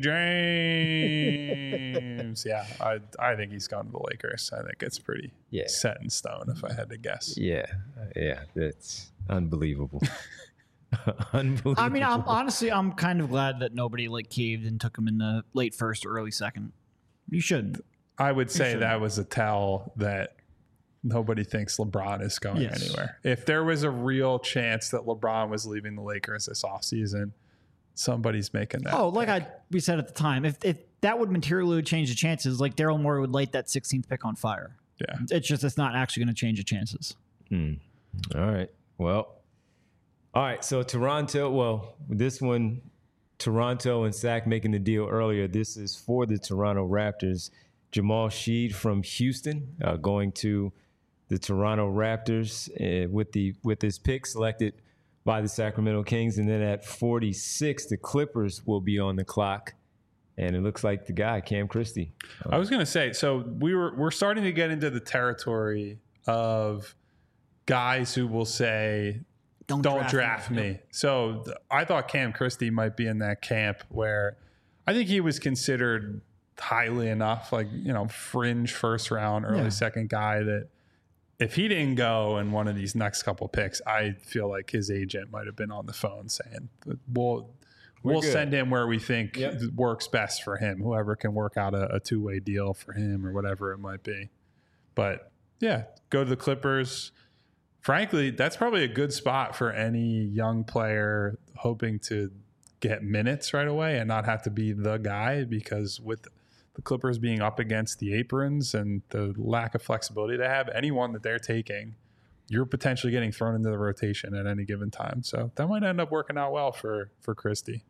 James. yeah, I I think he's gone to the Lakers. I think it's pretty Yeah. set in stone if I had to guess. Yeah, yeah, that's unbelievable. Unbelievable. I mean, I'm honestly, I'm kind of glad that nobody like caved and took him in the late first or early second. You should. I would say that was a tell that nobody thinks LeBron is going Yes. anywhere. If there was a real chance that LeBron was leaving the Lakers this offseason, somebody's making that. Oh, like pick. I we said at the time, if if that would materially change the chances, like Daryl Morey would light that sixteenth pick on fire. Yeah. It's just it's not actually going to change the chances. Hmm. All right. Well, all right. So Toronto, well, this one, Toronto and Zach making the deal earlier. This is for the Toronto Raptors. Jamal Sheed from Houston uh, going to the Toronto Raptors uh, with the with his pick selected by the Sacramento Kings. And then at forty-six, the Clippers will be on the clock. And it looks like the guy, Cam Christie. I was going to say, so we were we're starting to get into the territory of guys who will say, Don't, don't draft, draft me. So th- I thought Cam Christie might be in that camp where I think he was considered highly enough, like, you know, fringe first round, early Yeah. second guy, that if he didn't go in one of these next couple picks, I feel like his agent might have been on the phone saying, we'll, We're we'll good. send him where we think Yep. works best for him, whoever can work out a, a two-way deal for him or whatever it might be. But yeah, go to the Clippers. Frankly, that's probably a good spot for any young player hoping to get minutes right away and not have to be the guy, because with the Clippers being up against the aprons and the lack of flexibility they have, anyone that they're taking, you're potentially getting thrown into the rotation at any given time. So that might end up working out well for, for Christie.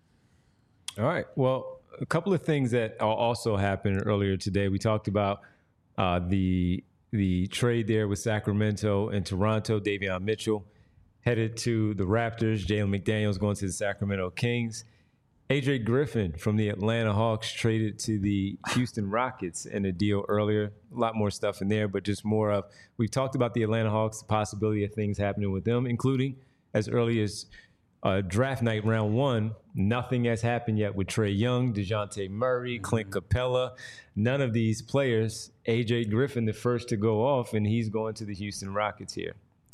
All right. Well, a couple of things that also happened earlier today. We talked about uh, the the trade there with Sacramento and Toronto. Davion Mitchell headed to the Raptors. Jalen McDaniels going to the Sacramento Kings. A J Griffin from the Atlanta Hawks traded to the Houston Rockets in a deal earlier. A lot more stuff in there, but just more of, we've talked about the Atlanta Hawks, the possibility of things happening with them, including as early as uh, draft night, round one. Nothing has happened yet with Trae Young, DeJounte Murray, Clint Capella. None of these players. A J Griffin, the first to go off, and he's going to the Houston Rockets here.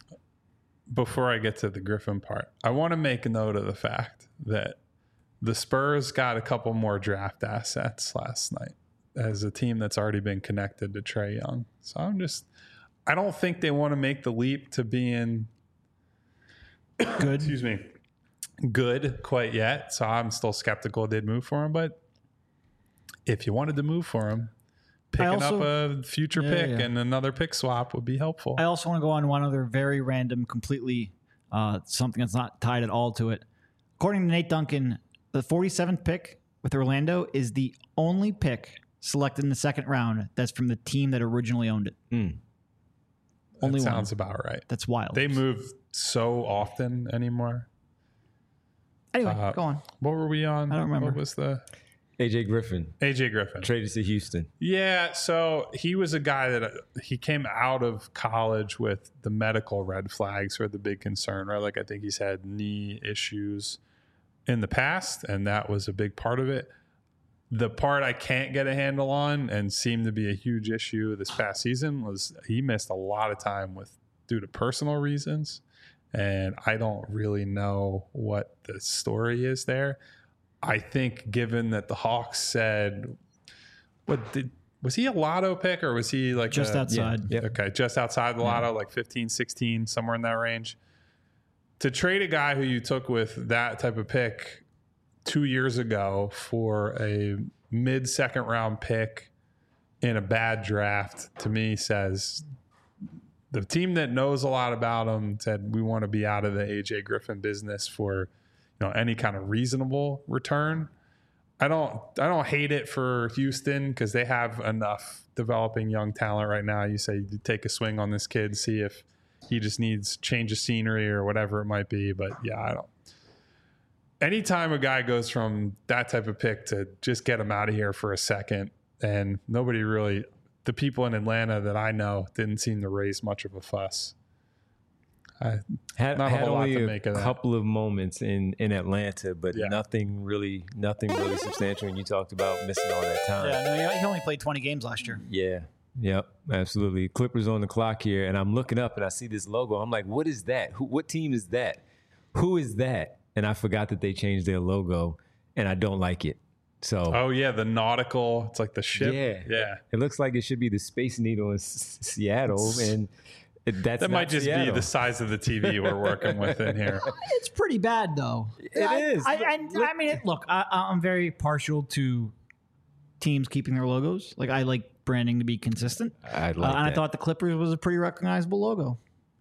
Before I get to the Griffin part, I want to make a note of the fact that the Spurs got a couple more draft assets last night as a team that's already been connected to Trae Young. So I'm just, I don't think they want to make the leap to being Good. excuse me, good quite yet. So I'm still skeptical they'd move for him. But if you wanted to move for him, picking also- up a future Yeah, pick yeah. and another pick swap would be helpful. I also want to go on one other very random, completely uh, something that's not tied at all to it. According to Nate Duncan, the forty-seventh pick with Orlando is the only pick selected in the second round that's from the team that originally owned it. Mm. That Only one. sounds about right. That's wild. They move so often anymore. anyway, uh, go on. What were we on? I don't remember. What was the A J Griffin A J Griffin? traded to Houston. Yeah, so he was a guy that uh, he came out of college with the medical red flags were the big concern, right? Like I think he's had knee issues in the past, and that was a big part of it. The part I can't get a handle on and seemed to be a huge issue this past season was he missed a lot of time with due to personal reasons, and I don't really know what the story is there. I think given that the Hawks said, what did, was he a lotto pick or was he like Just a, outside. Yeah. Okay, just outside the lotto, like fifteen, sixteen, somewhere in that range. To trade a guy who you took with that type of pick two years ago for a mid second round pick in a bad draft, to me says the team that knows a lot about him said we want to be out of the A J Griffin business for, you know, any kind of reasonable return. I don't I don't hate it for Houston because they have enough developing young talent right now. You say you take a swing on this kid, see if he just needs change of scenery or whatever it might be. But yeah, I don't. Anytime a guy goes from that type of pick to just get him out of here for a second, and nobody really, the people in Atlanta that I know didn't seem to raise much of a fuss. I, Had, Not a had whole lot only to a make of that. couple of moments in, in Atlanta, but Yeah. nothing really, nothing really substantial. And you talked about missing all that time. Yeah, no, he only played twenty games last year. Yeah. Yep. Absolutely. Clippers on the clock here, and I'm looking up and I see this logo. I'm like, what is that? Who, what team is that? who is that? And I forgot that they changed their logo, and I don't like it. So, Oh yeah, the nautical. It's like the ship. yeah, Yeah. it looks like it should be the Space Needle in S- Seattle, and it, that's That not might just Seattle. be the size of the T V we're working with in here. It's pretty bad, though. It I, is. I, I, I mean, it, look, I, I'm very partial to teams keeping their logos. Like, I like branding to be consistent. I like Uh, and I that. thought the Clippers was a pretty recognizable logo.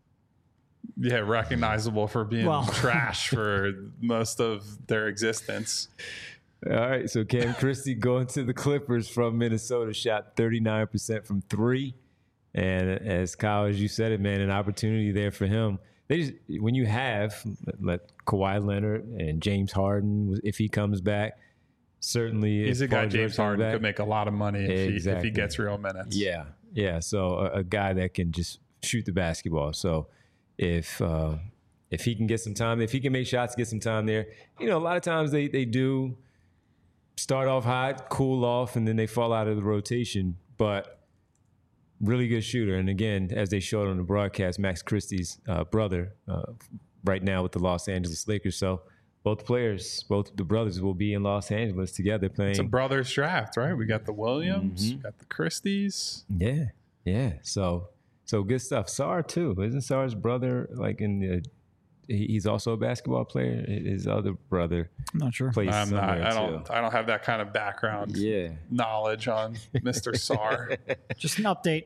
Yeah, recognizable for being Well. trash for most of their existence. All right, so Cam Christie going to the Clippers from Minnesota, shot thirty-nine percent from three. And as Kyle, as you said it, man, an opportunity there for him. They just, when you have let Kawhi Leonard and James Harden, if he comes back, certainly He's if a guy Paul George James comes Harden back, could make a lot of money if, he, if Exactly. he gets real minutes. Yeah, yeah. So a, a guy that can just shoot the basketball. So if uh, if he can get some time, if he can make shots, get some time there. You know, a lot of times they they do start off hot, cool off, and then they fall out of the rotation. But really good shooter. And again, as they showed on the broadcast, Max Christie's uh, brother uh, right now with the Los Angeles Lakers. So both players, both the brothers will be in Los Angeles together playing. It's a brothers draft, right? We got the Williams, Mm-hmm. we got the Christies. Yeah, yeah. So, so good stuff. Sar too. Isn't Sar's brother like in the? he- He's also a basketball player. His other brother I'm not sure. plays I'm not, somewhere I don't too. I don't have that kind of background Yeah. knowledge on Mister Sarr. Just an update.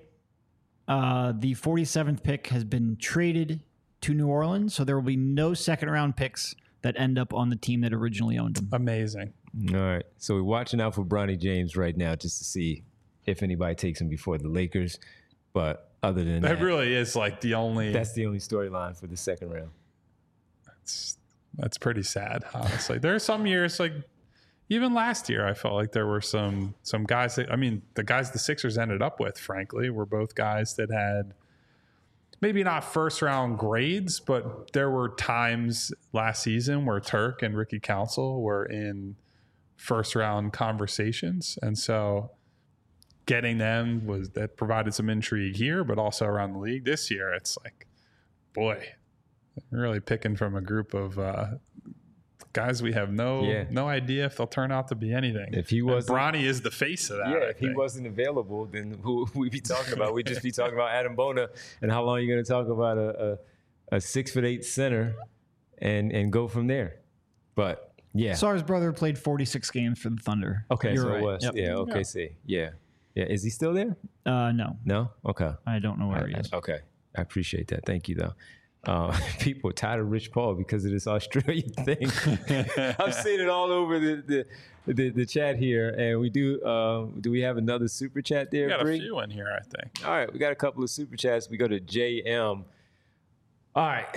Uh, the forty-seventh pick has been traded to New Orleans, so there will be no second round picks that end up on the team that originally owned him. Amazing. All right. So we're watching out for Bronny James right now just to see if anybody takes him before the Lakers. But other than That that, really is like the only that's the only storyline for the second round. That's, that's pretty sad, honestly. There are some years, like even last year, I felt like there were some some guys that I mean, the guys the Sixers ended up with, frankly, were both guys that had maybe not first round grades, but there were times last season where Turk and Ricky Council were in first round conversations, and so getting them was that provided some intrigue here, but also around the league. This year, it's like, boy, really picking from a group of uh, guys we have no Yeah. no idea if they'll turn out to be anything. If he And wasn't- Bronny is the face of that. Yeah, I if he think. wasn't available, then who would we be talking about? We'd just be talking about Adam Bona and how long you're going to talk about a, a, a six foot eight center and and go from there. But yeah, Sar's brother played forty-six games for the Thunder. okay, You're so right. it was Yep. yeah, okay, see, yeah, yeah. Is he still there? Uh, no, No, okay, I don't know where he is. okay. I appreciate that. Thank you, though. Uh, people are tired of Rich Paul because of this Australian thing. I've seen it all over the the, the, the chat here, and we do. Uh, do we have another super chat there? We got a Bree? few in here, I think. All right, we got a couple of super chats. We go to J M. All right.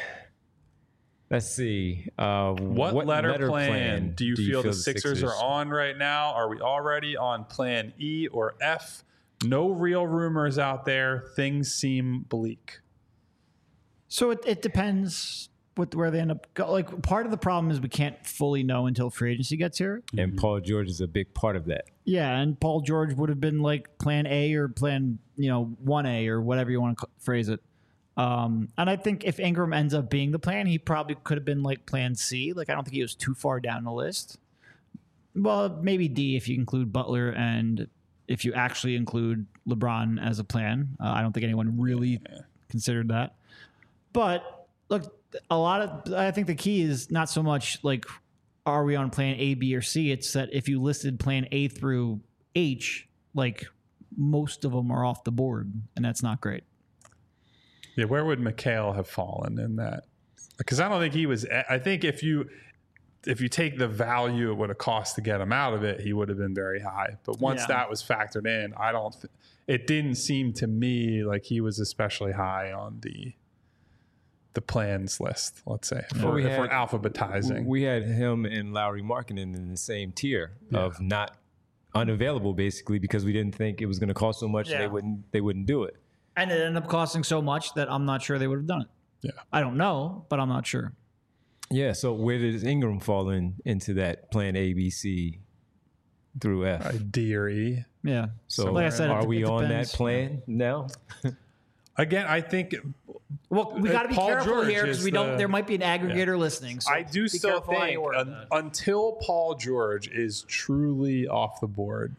Let's see. Uh, What, letter, plan, do you feel, the Sixers, are on right now? Are we already on plan E or F? No real rumors out there. Things seem bleak. So it, it depends what where they end up. Go. Like part of the problem is we can't fully know until free agency gets here. And Paul George is a big part of that. Yeah, and Paul George would have been like plan A or plan, you know, one A or whatever you want to phrase it. Um, and I think if Ingram ends up being the plan, he probably could have been like plan C. Like I don't think he was too far down the list. Well, maybe D if you include Butler and if you actually include LeBron as a plan. Uh, I don't think anyone really considered that. But look, a lot of I think the key is not so much like are we on plan A, B, or C? It's that if you listed plan A through H, like most of them are off the board, and that's not great. Yeah, where would McHale have fallen in that? Because I don't think he was. I think if you if you take the value it would have cost to get him out of it, he would have been very high. But once Yeah. that was factored in, I don't. Th- it didn't seem to me like he was especially high on the the plans list. Let's say if, Well, we're, we if we're had- alphabetizing. We had him and Lowry Markkinen in the same tier of not unavailable, basically, because we didn't think it was going to cost so much Yeah. they wouldn't they wouldn't do it. And it ended up costing so much that I'm not sure they would have done it. Yeah. I don't know, but I'm not sure. Yeah. So where does Ingram fall in into that plan A, B, C through F? uh, D or E. Yeah. So like I said, are it, we it on that depends. plan now? Again, I think Well, we uh, got to be Paul careful George here because is we don't. the- There might be an aggregator listening. So I do be still careful how you think word un- that. until Paul George is truly off the board,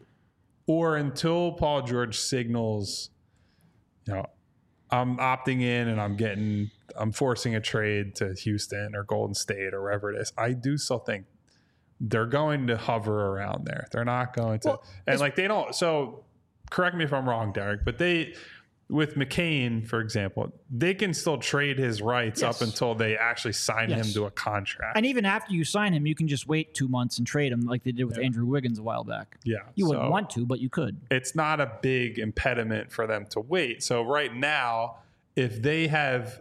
or until Paul George signals, you know, I'm opting in and I'm getting, I'm forcing a trade to Houston or Golden State or wherever it is. I do still think they're going to hover around there. They're not going to, Well, and like they don't. So correct me if I'm wrong, Derek, but they, with McCain, for example, they can still trade his rights Yes. up until they actually sign Yes. him to a contract. And even after you sign him, you can just wait two months and trade him like they did with Yeah. Andrew Wiggins a while back. yeah, You wouldn't so- want to, but you could. it's not a big impediment for them to wait. So right now, if they have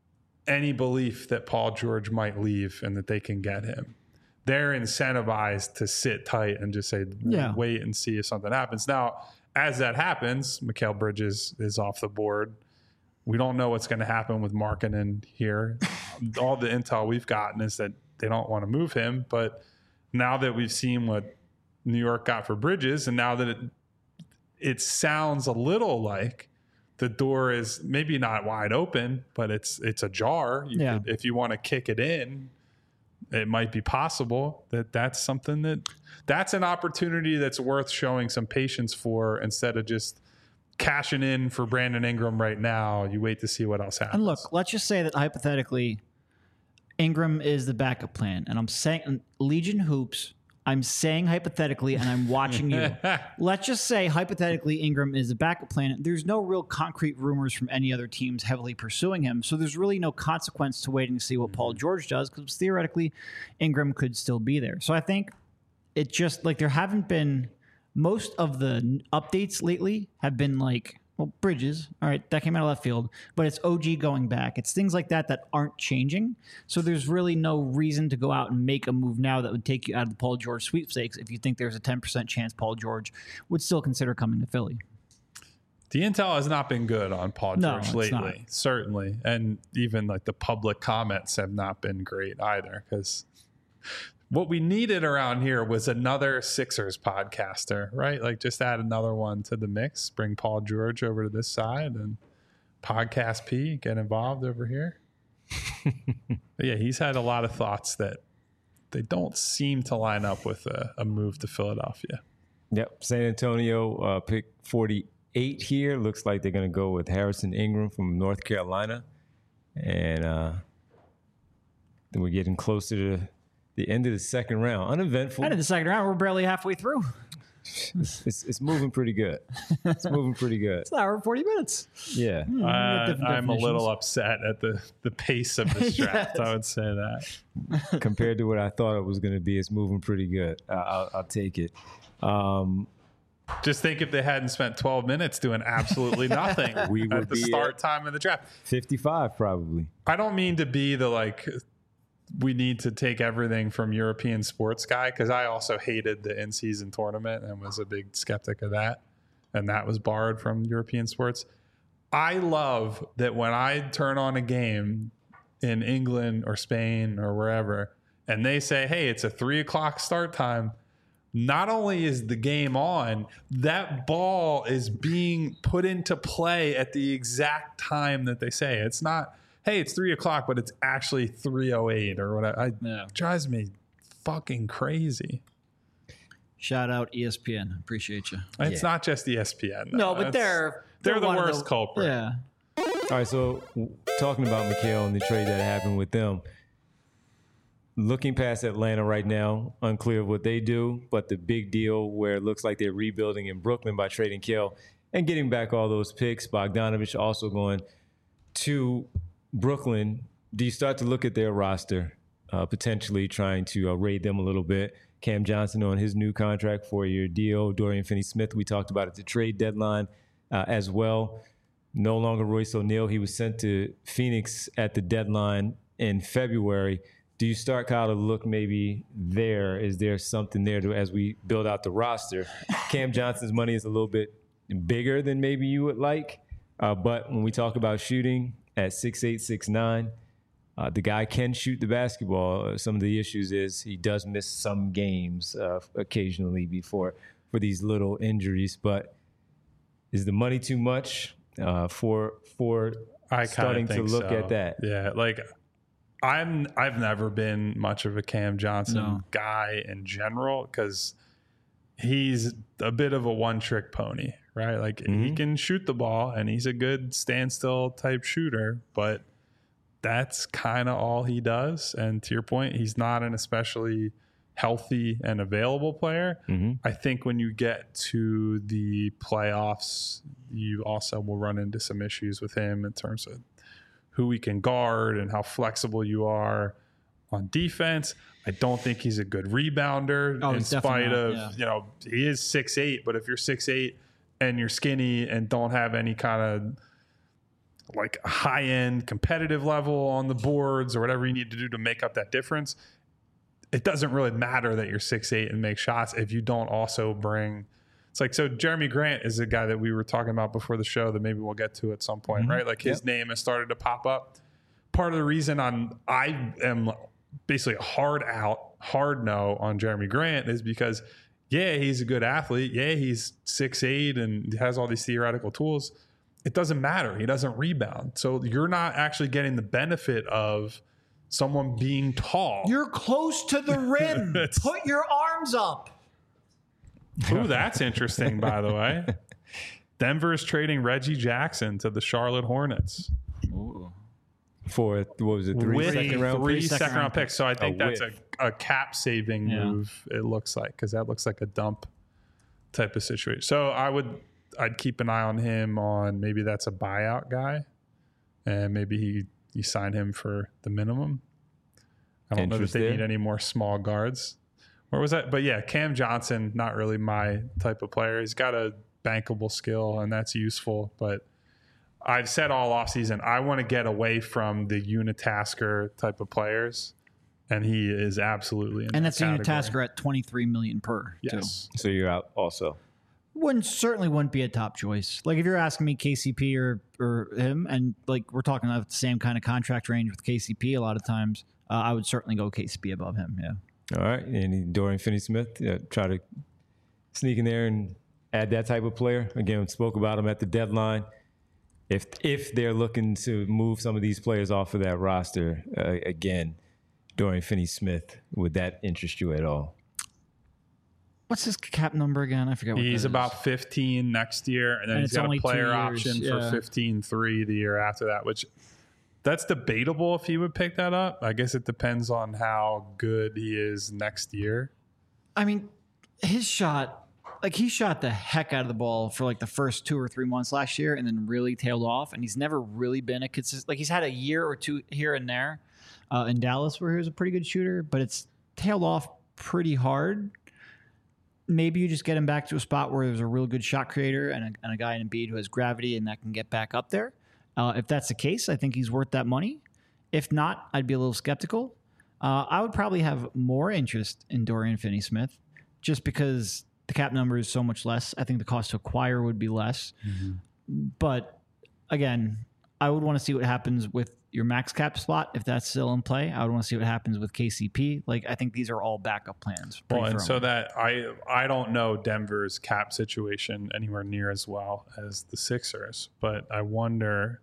any belief that Paul George might leave and that they can get him, they're incentivized to sit tight and just say, Yeah. wait and see if something happens. Now, as that happens, Mikal Bridges is off the board. We don't know what's going to happen with Markkanen here. All the intel we've gotten is that they don't want to move him. But now that we've seen what New York got for Bridges, and now that it, it sounds a little like the door is maybe not wide open, but it's it's ajar. You Yeah. could, if you want to kick it in, it might be possible that that's something that that's an opportunity that's worth showing some patience for instead of just cashing in for Brandon Ingram right now. You wait to see what else happens. And look, let's just say that hypothetically, Ingram is the backup plan, and I'm saying Legion Hoops. I'm saying hypothetically, and I'm watching you. Let's just say hypothetically, Ingram is the backup plan. There's no real concrete rumors from any other teams heavily pursuing him, so there's really no consequence to waiting to see what Paul George does because theoretically, Ingram could still be there. So I think it just like there haven't been most of the n- updates lately have been like. Well, Bridges, all right, that came out of left field, but it's O G going back. It's things like that that aren't changing. So there's really no reason to go out and make a move now that would take you out of the Paul George sweepstakes if you think there's a ten percent chance Paul George would still consider coming to Philly. The intel has not been good on Paul No, George it's lately, not. certainly. And even like the public comments have not been great either because what we needed around here was another Sixers podcaster, right? Like just add another one to the mix, bring Paul George over to this side and Podcast P, get involved over here. But yeah, he's had a lot of thoughts that they don't seem to line up with a, a move to Philadelphia. Yep. San Antonio uh, pick forty-eight here. Looks like they're going to go with Harrison Ingram from North Carolina. And uh, then we're getting closer to the end of the second round. Uneventful. And in the second round, we're barely halfway through. It's, it's, it's moving pretty good. It's moving pretty good. It's an hour and forty minutes. Yeah. Hmm, we got Uh, different I'm a little definitions. upset at the, the pace of this draft. Yes. I would say that. Compared to what I thought it was going to be, it's moving pretty good. Uh, I'll, I'll take it. Um, Just think if they hadn't spent twelve minutes doing absolutely nothing We at would the be start at- time of the draft. fifty-five probably. I don't mean to be the like we need to take everything from European sports guy because I also hated the in-season tournament and was a big skeptic of that, and that was borrowed from European sports. I love that when I turn on a game in England or Spain or wherever, and they say, "Hey, it's a three o'clock start time." Not only is the game on, that ball is being put into play at the exact time that they say. It's not, hey, it's three o'clock, but it's actually three oh eight or whatever. I, Yeah. drives me fucking crazy. Shout out E S P N. Appreciate you. It's not just E S P N. though. No, but That's- they're they're the one of worst culprit. Yeah. All right, so w- talking about McHale and the trade that happened with them, looking past Atlanta right now, unclear of what they do, but the big deal where it looks like they're rebuilding in Brooklyn by trading Kell and getting back all those picks. Bogdanovich also going to Brooklyn. Do you start to look at their roster, uh, potentially trying to uh, raid them a little bit? Cam Johnson on his new contract, four-year deal. Dorian Finney-Smith, we talked about at the trade deadline uh, as well. No longer Royce O'Neal. He was sent to Phoenix at the deadline in February. Do you start, Kyle, to look maybe there? Is there something there to, as we build out the roster? Cam Johnson's money is a little bit bigger than maybe you would like. Uh, but when we talk about shooting at six eight, six nine, uh, the guy can shoot the basketball. Uh, some of the issues is he does miss some games uh, occasionally before for these little injuries. But is the money too much uh, for for I kind starting of think to look so. at that. Yeah, like I'm. I've never been much of a Cam Johnson No. guy in general because he's a bit of a one-trick pony, right? Like he Mhm. can shoot the ball and he's a good standstill type shooter, but that's kind of all he does. And to your point, he's not an especially healthy and available player. Mhm. I think when you get to the playoffs, you also will run into some issues with him in terms of who he can guard and how flexible you are on defense. I don't think he's a good rebounder Oh, in he's definitely spite not, of, yeah. you know, he is six eight, but if you're six eight and you're skinny and don't have any kind of like high end competitive level on the boards or whatever you need to do to make up that difference, it doesn't really matter that you're six eight and make shots if you don't also bring. It's like, so Jeremy Grant is a guy that we were talking about before the show that maybe we'll get to at some point, Mm-hmm. right? Like his Yep. name has started to pop up. Part of the reason I'm I am basically a hard out, hard no on Jeremy Grant is because yeah, he's a good athlete. Yeah, he's six eight and has all these theoretical tools. It doesn't matter. He doesn't rebound. So you're not actually getting the benefit of someone being tall. You're close to the rim. It's- Put your arms up. Ooh, that's interesting, by the way. Denver's trading Reggie Jackson to the Charlotte Hornets For what was it, three with second round three picks? second round picks. So I think A that's a, whiff. a cap saving Yeah. move. It looks like because that looks like a dump type of situation. So I would I'd keep an eye on him on maybe that's a buyout guy, and maybe he you sign him for the minimum. I don't know that Interest they there? need any more small guards. Where was that? But yeah, Cam Johnson, not really my type of player. He's got a bankable skill, and that's useful. But I've said all offseason, I want to get away from the unitasker type of players, and he is absolutely in And that that's a category. Unitasker at twenty-three million per. Too. Yes. So you're out also. Wouldn't certainly wouldn't be a top choice. Like if you're asking me K C P or or him, and like we're talking about the same kind of contract range with K C P a lot of times, uh, I would certainly go K C P above him. Yeah. All right. And Dorian Finney-Smith, yeah, try to sneak in there and add that type of player. Again, we spoke about him at the deadline. If if they're looking to move some of these players off of that roster, uh, again, Dorian Finney-Smith, would that interest you at all? What's his cap number again? I forget what He's that is. about fifteen next year, and then And he's it's got only a two player years, option yeah. for fifteen three the year after that, which that's debatable if he would pick that up. I guess it depends on how good he is next year. I mean, his shot, like he shot the heck out of the ball for like the first two or three months last year, and then really tailed off. And he's never really been a consistent. Like he's had a year or two here and there uh, in Dallas where he was a pretty good shooter, but it's tailed off pretty hard. Maybe you just get him back to a spot where there's a real good shot creator and a, and a guy in Embiid who has gravity and that can get back up there. Uh, if that's the case, I think he's worth that money. If not, I'd be a little skeptical. Uh, I would probably have more interest in Dorian Finney-Smith just because the cap number is so much less. I think the cost to acquire would be less. But again, I would want to see what happens with your max cap spot if that's still in play. I would want to see what happens with K C P. Like I think these are all backup plans. pretty Well, and so firmly. that I I don't know Denver's cap situation anywhere near as well as the Sixers, but I wonder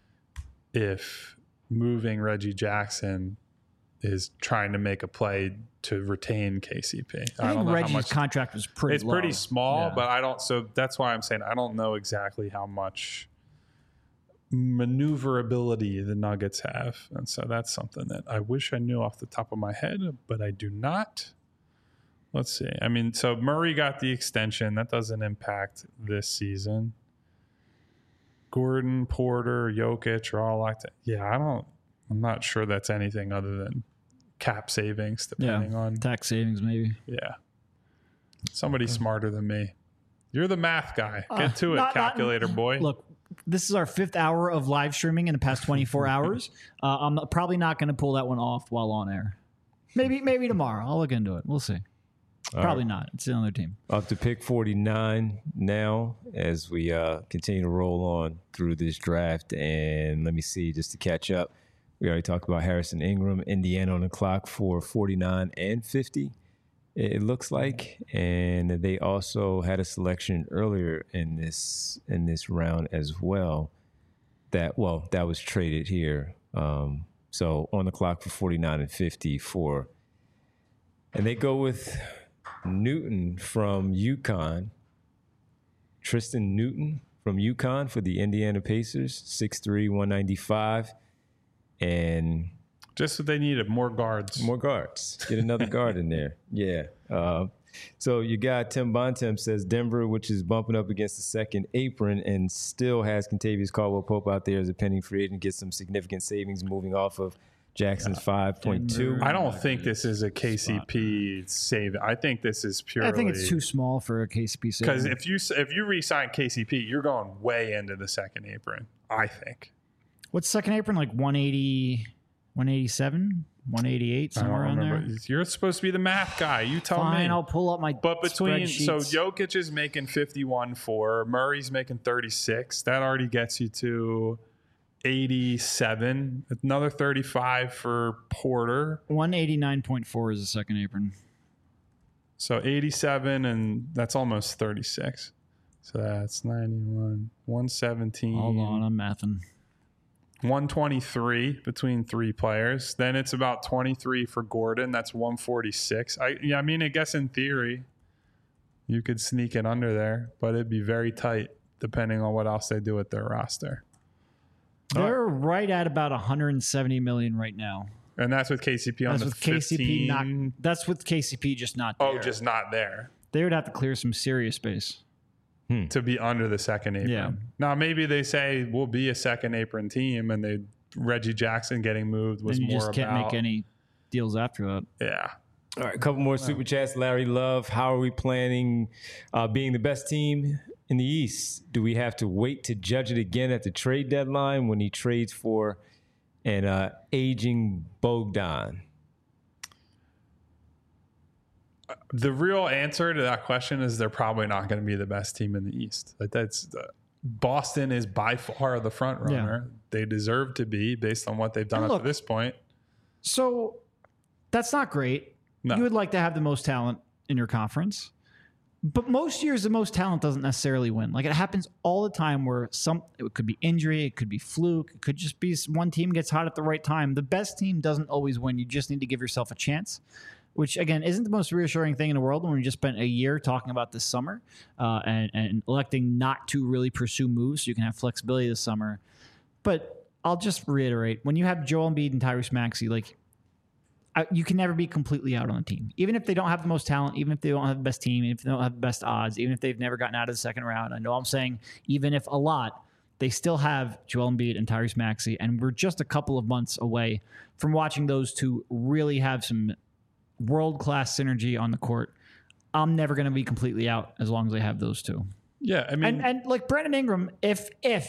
if moving Reggie Jackson is trying to make a play to retain K C P. I don't think know how Reggie's much contract was pretty. it's pretty low. small, Yeah. but I don't. So that's why I'm saying I don't know exactly how much maneuverability the Nuggets have, and so that's something that I wish I knew off the top of my head, but I do not. Let's see. I mean, so Murray got the extension. That doesn't impact this season. Gordon, Porter, Jokic are all like that. Yeah, I don't. I'm not sure that's anything other than cap savings, depending yeah. on tax savings, maybe. yeah. Somebody smarter than me. You're the math guy. Get Uh, to it, not- not- calculator boy. Look, this is our fifth hour of live streaming in the past twenty-four hours. Uh, I'm probably not going to pull that one off while on air. Maybe, maybe tomorrow. I'll look into it. We'll see. All Probably right. not. It's another team. Up to pick forty-nine now as we uh, continue to roll on through this draft. And let me see, just to catch up, we already talked about Harrison Ingram, Indiana on the clock for forty-nine and fifty, it looks like. And they also had a selection earlier in this in this round as well. that, well, that was traded here. Um, so on the clock for forty-nine and fifty-four. And they go with Newton from UConn. Tristan Newton from UConn for the Indiana Pacers, six three, one ninety-five. And just what they needed, more guards. More guards. Get another guard in there. Yeah. Uh, so you got Tim Bontemps says Denver, which is bumping up against the second apron and still has Kentavious Caldwell-Pope out there as a pending free agent, gets some significant savings moving off of Jackson's five point two. I don't think this is a K C P save. I think this is purely. I think it's too small for a K C P save. Because if you if you re-sign K C P, you're going way into the second apron. I think. What's second apron like? one eighty, one eighty-seven, one eighty-eight, somewhere around there. You're supposed to be the math guy. You tell Fine, me. Fine, I'll pull up my. But between so spreadsheets. Jokic is making fifty-one for Murray's making thirty-six. That already gets you to eighty-seven. Another thirty-five for Porter. one eighty-nine point four is the second apron. So eighty-seven, and that's almost thirty-six. So that's ninety-one, one seventeen. Hold on, I'm mathing. one twenty-three between three players. Then it's about twenty-three for Gordon. That's one forty-six. I yeah, I mean, I guess in theory, you could sneak it under there, but it'd be very tight depending on what else they do with their roster. They're right at about one hundred seventy million right now. And that's with K C P on That's the with K C P fifteen. not. That's with K C P just not there. Oh, just not there. They would have to clear some serious space to be under the second apron. Yeah. Now maybe they say we'll be a second apron team, and they Reggie Jackson getting moved was and you more just can't about make any deals after that. yeah. All right, a couple more super chats. Larry Love, how are we planning uh, being the best team in the East? Do we have to wait to judge it again at the trade deadline when he trades for an uh, aging Bogdan? The real answer to that question is they're probably not going to be the best team in the East. Like that's uh, Boston is by far the front runner. Yeah. They deserve to be based on what they've done and up look, to this point. So that's not great. No. You would like to have the most talent in your conference, but most years the most talent doesn't necessarily win. Like it happens all the time where some it could be injury, it could be fluke, it could just be one team gets hot at the right time. The best team doesn't always win. You just need to give yourself a chance. Which, again, isn't the most reassuring thing in the world when we just spent a year talking about this summer uh, and, and electing not to really pursue moves so you can have flexibility this summer. But I'll just reiterate, when you have Joel Embiid and Tyrese Maxey, like, I, you can never be completely out on the team. Even if they don't have the most talent, even if they don't have the best team, even if they don't have the best odds, even if they've never gotten out of the second round. I know I'm saying even if a lot, they still have Joel Embiid and Tyrese Maxey, and we're just a couple of months away from watching those two really have some world-class synergy on the court. I'm never going to be completely out as long as I have those two. Yeah, I mean... And, and like Brandon Ingram, if, if,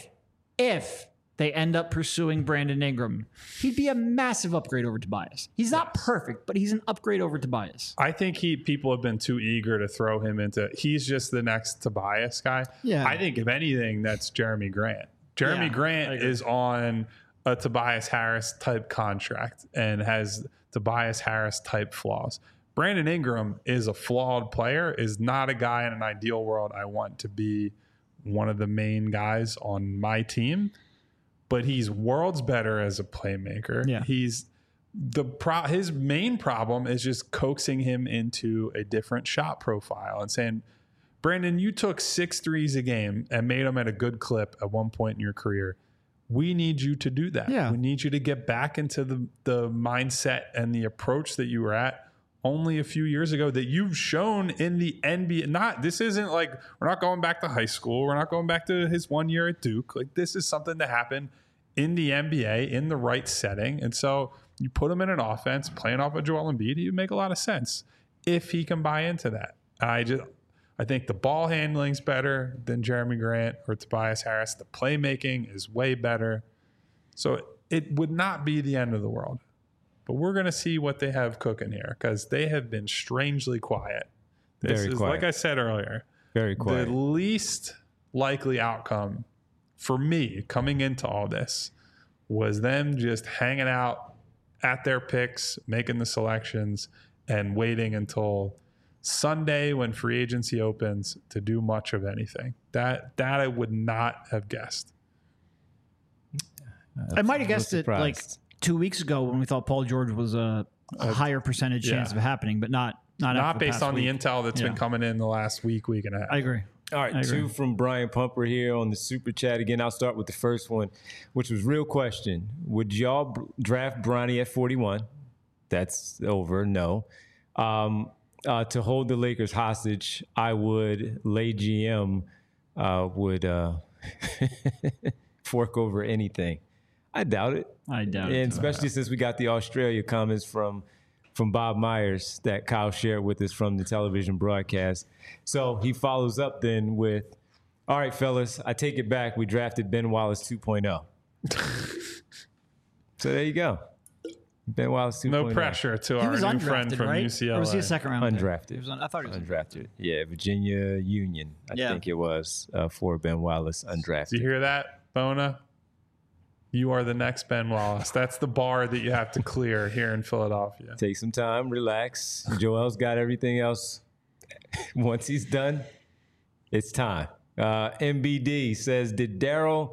if they end up pursuing Brandon Ingram, he'd be a massive upgrade over Tobias. He's not yes. perfect, but he's an upgrade over Tobias. I think he people have been too eager to throw him into... He's just the next Tobias guy. Yeah. I think, if anything, that's Jeremy Grant. Jeremy yeah, Grant is on a Tobias Harris type contract and has... Tobias Harris type flaws. Brandon Ingram is a flawed player, is not a guy in an ideal world I want to be one of the main guys on my team, but he's worlds better as a playmaker. Yeah. He's the pro his main problem is just coaxing him into a different shot profile and saying, Brandon, you took six threes a game and made them at a good clip at one point in your career. We need you to do that. Yeah. We need you to get back into the, the mindset and the approach that you were at only a few years ago that you've shown in the N B A. Not, this isn't like, we're not going back to high school. We're not going back to his one year at Duke. Like, this is something that happened in the N B A in the right setting. And so you put him in an offense, playing off of Joel Embiid, he would make a lot of sense if he can buy into that. I just... I think the ball handling's better than Jeremy Grant or Tobias Harris. The playmaking is way better. So it would not be the end of the world. But we're going to see what they have cooking here because they have been strangely quiet. This Very is, quiet. like I said earlier, Very quiet. The least likely outcome for me coming into all this was them just hanging out at their picks, making the selections, and waiting until Sunday when free agency opens to do much of anything. That that I would not have guessed. I might have guessed I'm it like surprised. two weeks ago when we thought Paul George was a, a higher percentage yeah. chance of happening, but not not, Not after the based past on week. the intel that's Yeah. been coming in the last week, week and a half. I agree. All right, I agree. two from Brian Pumper here on the super chat. Again, I'll start with the first one, which was real question. Would y'all b- draft Bronny at forty-one? That's over. No. Um, uh, to hold the Lakers hostage, I would. Lay G M uh, would uh, fork over anything. I doubt it. I doubt And it. especially since we got the Australia comments from from Bob Myers that Kyle shared with us from the television broadcast. So he follows up then with, all right, fellas, I take it back. We drafted Ben Wallace two point oh. So there you go. Ben Wallace two point oh. No pressure to He our was new friend undrafted, from right? U C L A. Or was he a second round? pick? Undrafted. He was un- I thought he was Undrafted. Yeah, Virginia Union, I Yeah. think it was, uh, for Ben Wallace, Do you undrafted. hear that, Bona? You are the next Ben Wallace. That's the bar that you have to clear here in Philadelphia. Take some time, relax. Joel's got everything else. Once he's done, it's time. Uh, M B D says, did Daryl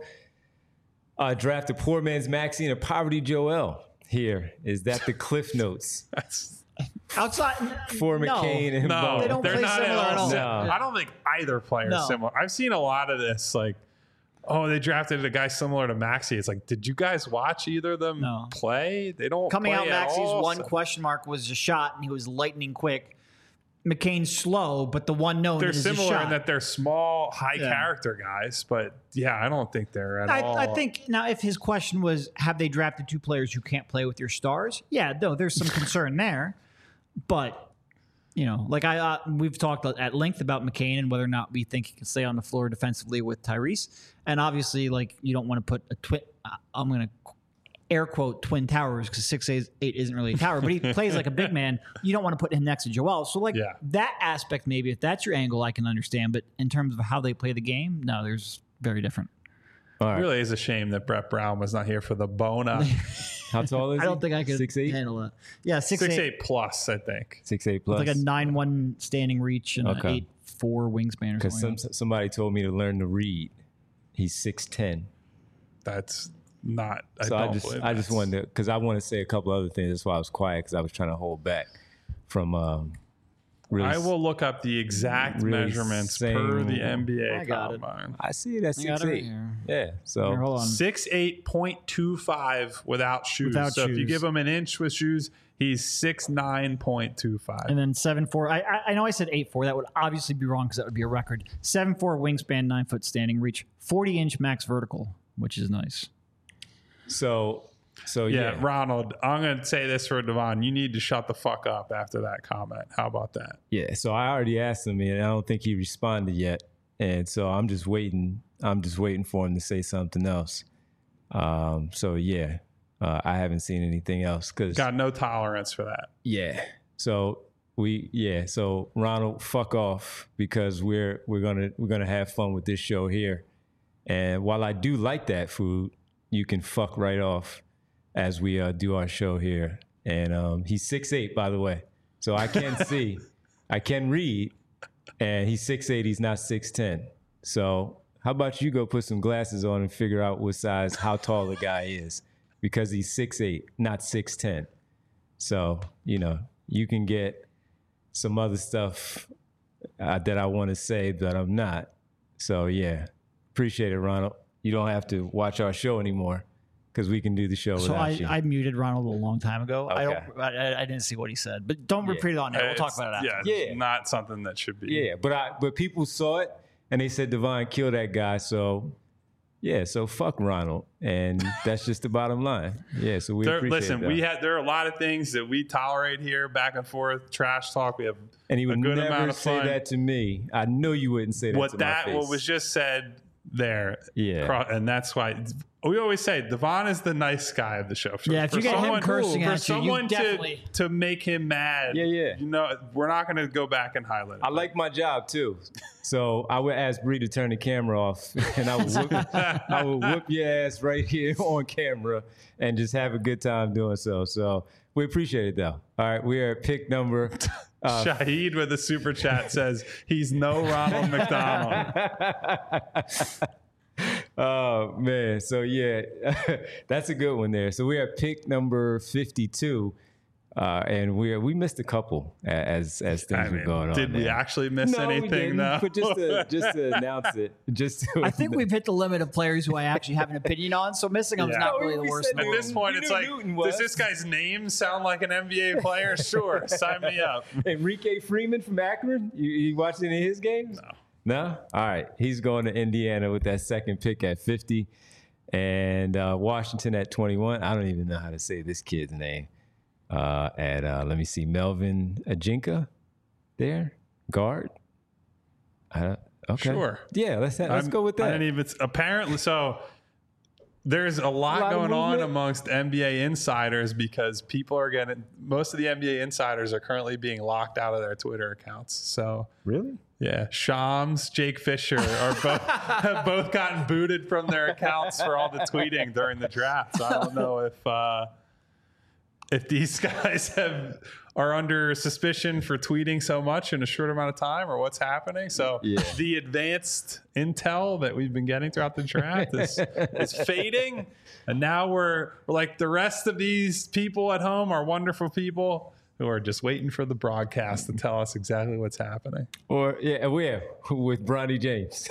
uh, draft a poor man's Maxine or Poverty Joel? Here, is that the Cliff Notes That's outside for no. McCain and no, Bowen? They don't they're play not similar at at all. all. sim- No. I don't think either player No. is similar. I've seen a lot of this, like, oh, they drafted a guy similar to Maxey. It's like, did you guys watch either of them No. play? They don't Coming play out, at Maxey's all, one so- question mark was a shot, and he was lightning quick. McCain's slow, but the one known They're is a similar shot. in that they're small, high Yeah. character guys, but yeah, I don't think they're at all. I, I think now, if his question was, have they drafted two players who can't play with your stars? Yeah, no, there's some concern there. But, you know, like I, uh, we've talked at length about McCain and whether or not we think he can stay on the floor defensively with Tyrese. And obviously, like, you don't want to put a twin, uh, I'm going to air quote twin towers because six eight isn't really a tower, but he plays like a big man. You don't want to put him next to Joel. So, like, Yeah. that aspect, maybe if that's your angle, I can understand. But in terms of how they play the game, no, there's very different. All It right. really is a shame that Brett Brown was not here for the Bona. How tall is he? I don't think I could Six eight? handle that. Yeah, six, Six eight, eight plus, I think. Six eight plus. with like a nine one standing reach and Okay. an eight four wingspan or Because something. some, like somebody told me to learn to read. He's six ten. That's not. I So I, don't just believe I just that's- wanted to, because I want to say a couple other things. That's why I was quiet, because I was trying to hold back from um, really. I will look up the exact really measurements per saying- the N B A I got it. combine. I see it at I got six it right eight. here. Yeah. So Here, hold on. Six eight point two five without shoes. Without so if you shoes. give him an inch with shoes, he's six nine point two five. And then seven four. I, I I know I said eight four. That would obviously be wrong because that would be a record. Seven four wingspan, nine foot standing reach, forty inch max vertical, which is nice. so so Yeah, yeah. Ronald, I'm going to say this for Devon. You need to shut the fuck up after that comment. How about that? Yeah. So I already asked him, and I don't think he responded yet. And so I'm just waiting. I'm just waiting for him to say something else. Um. So yeah, uh, I haven't seen anything else because Got no tolerance for that. yeah. So we yeah. So Ronald, fuck off, because we're we're gonna we're gonna have fun with this show here. And while I do like that food, you can fuck right off as we uh, do our show here. And um, he's six eight, by the way, so I can see, I can read, and he's six eight. He's not six ten. So how about you go put some glasses on and figure out what size, how tall the guy is, because he's six eight, not six ten. So you know you can get some other stuff uh, that I want to say, but I'm not. So yeah, appreciate it, Ronald. You don't have to watch our show anymore because we can do the show So without I, you. I muted Ronald a long time ago. I Okay. don't. I, I didn't see what he said, but don't Yeah. repeat it on air. We'll talk It's- about it after. Yeah, Yeah. it's not something that should be. yeah, but I but people saw it and they said Devon kill that guy. So yeah, so fuck Ronald, and that's just the bottom line. Yeah, so we There, appreciate listen, that. we had there are a lot of things that we tolerate here, back and forth, trash talk. We have and he would a good amount never of say fun. that to me. I know you wouldn't say that what to that my face. what was just said there. Yeah. Cro- and that's why we always say Devon is the nice guy of the show. For, Yeah, if for you get him someone, cursing for at you, you someone definitely- to to make him mad. Yeah, yeah. You know, we're not going to go back and highlight it. I like my job too, so I would ask Bree to turn the camera off, and I would whoop, I would whoop your ass right here on camera, and just have a good time doing so. So we appreciate it though. All right, we are at pick number. Uh, Shahid with the super chat says he's no Ronald McDonald. Oh man, so yeah, that's a good one there. So we're at pick number fifty-two, uh, and we we missed a couple as as things I were mean, going on. did we there. actually miss No, we anything didn't, though? but just to just to announce it, just to, I think we've hit the limit of players who I actually have an opinion on, so missing them is Yeah. not No, really we- the we worst. said in the At world. this point, You it's knew like, Newton does was. this guy's name sound like an N B A player? Sure, sign me up. Enrique Freeman from Akron. You, you watched any of his games? No. No? All right. He's going to Indiana with that second pick at fifty. And uh, Washington at twenty-one. I don't even know how to say this kid's name. Uh, at, uh, let me see, Melvin Ajinka there, guard. Uh, okay. Sure. Yeah, let's, let's I'm- go with I that. didn't even, apparently, so there's a lot, A lot of going on movement. amongst N B A insiders because people are getting, most of the N B A insiders are currently being locked out of their Twitter accounts. So, Really? yeah, Shams, Jake Fisher are both have both gotten booted from their accounts for all the tweeting during the draft. So I don't know if uh, if these guys have are under suspicion for tweeting so much in a short amount of time or what's happening. So Yeah. the advanced intel that we've been getting throughout the draft is, is fading. And now we're, we're like the rest of these people at home are wonderful people who are just waiting for the broadcast to tell us exactly what's happening. Or, yeah, where? With Bronny James.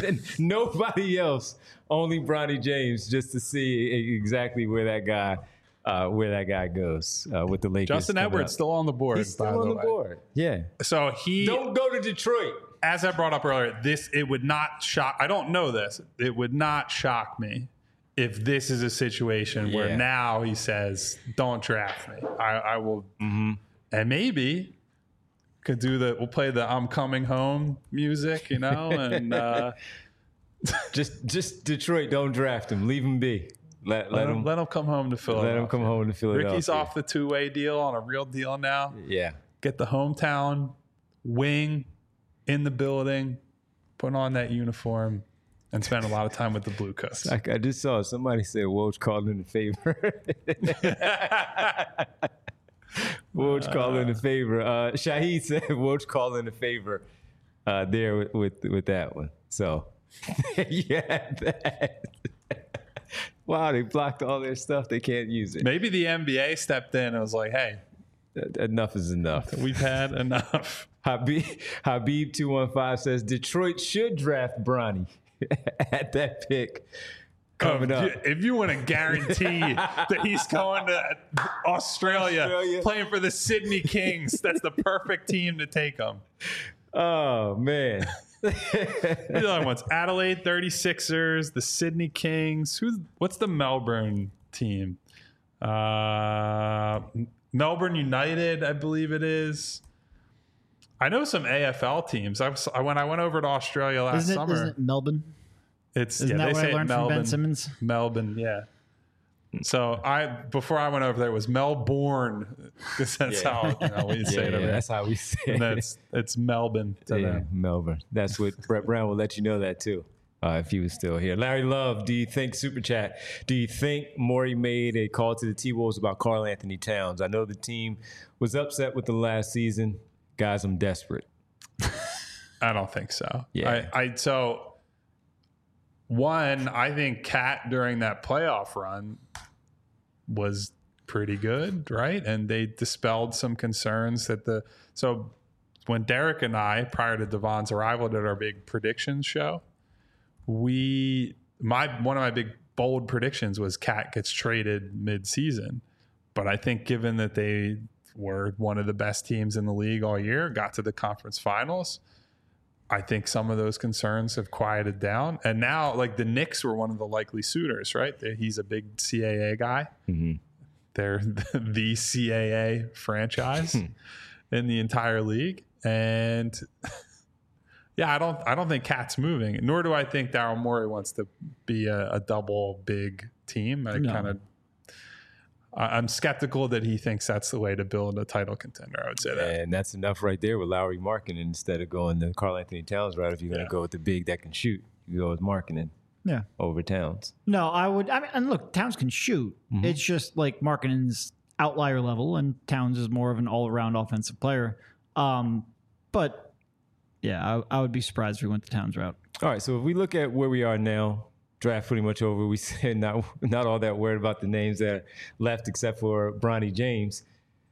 Nobody else, only Bronny James, just to see exactly where that guy uh, where that guy goes uh, with the Lakers. Justin coming Edwards up. still on the board. He's by still on the the way. board. Yeah. So he, Don't go to Detroit. as I brought up earlier, this it would not shock. I don't know this. It would not shock me if this is a situation where Yeah. now he says, "Don't draft me. I, I will," Mm-hmm. and maybe could do the. We'll play the "I'm coming home" music, you know, and uh, Just just Detroit, don't draft him. Leave him be. Let, let, let, him, him let him come home to Philadelphia. let him come home to Philadelphia. Ricky's off the two-way deal on a real deal now. Yeah. Get the hometown wing in the building, put on that uniform, and spend a lot of time with the Blue Coats. I, I just saw somebody say Woj called in a favor. Woj called in a favor. Uh, Shahid said Woj called in a favor uh, there with, with with that one. So yeah, that. Wow, they blocked all their stuff. They can't use it. Maybe the N B A stepped in and was like, "Hey, Enough is enough. we've had enough." Habib Habib two one five says Detroit should draft Bronny at that pick coming Um, up. If you want to guarantee that he's going to Australia, Australia. playing for the Sydney Kings, that's the perfect team to take him. Oh man. The other ones: Adelaide thirty-sixers, the Sydney Kings. Who's what's the Melbourne team? Uh, Melbourne United, I believe it is. I know some A F L teams. I was, when I went over to Australia last Isn't it, summer. isn't it Melbourne? It's Isn't yeah, that they what I say it learned from Melbourne. Ben Simmons? Melbourne, yeah. So I before I went over there it was Melbourne because that's Yeah. how you know, we Yeah, say it yeah, over there. that's how we say And it. that's it's Melbourne to Yeah, them. Melbourne. That's what Brett Brown will let you know that too, uh, if he was still here. Larry Love, do you think Super Chat? Do you think Morey made a call to the T Wolves about Karl Anthony Towns? I know the team was upset with the last season. Guys, I'm desperate. I don't think so. Yeah. I, I so one, I think Cat during that playoff run was pretty good, right? And they dispelled some concerns that the so when Derek and I, prior to Devon's arrival, did our big predictions show, we my one of my big bold predictions was Cat gets traded mid-season. But I think given that they were one of the best teams in the league all year, got to the conference finals, I think some of those concerns have quieted down. And now, like, the Knicks were one of the likely suitors, right? They- He's a big C A A guy. Mm-hmm. They're the C A A franchise in the entire league. And yeah, I don't I don't think Cat's moving, nor do I think Daryl Morey wants to be a, a double big team. I No. kind of I'm skeptical that he thinks that's the way to build a title contender. I would say that. And that's enough right there with Lowry Markkinen instead of going to Karl Anthony Towns, right? If you're going to Yeah. go with the big that can shoot, you go with Markkinen Yeah. over Towns. No, I would. I mean, and look, Towns can shoot. Mm-hmm. It's just like Markkinen's outlier level, and Towns is more of an all-around offensive player. Um, but yeah, I, I would be surprised if we went the Towns route. All right, so if we look at where we are now, draft pretty much over. We said not not all that worried about the names that are left except for Bronny James.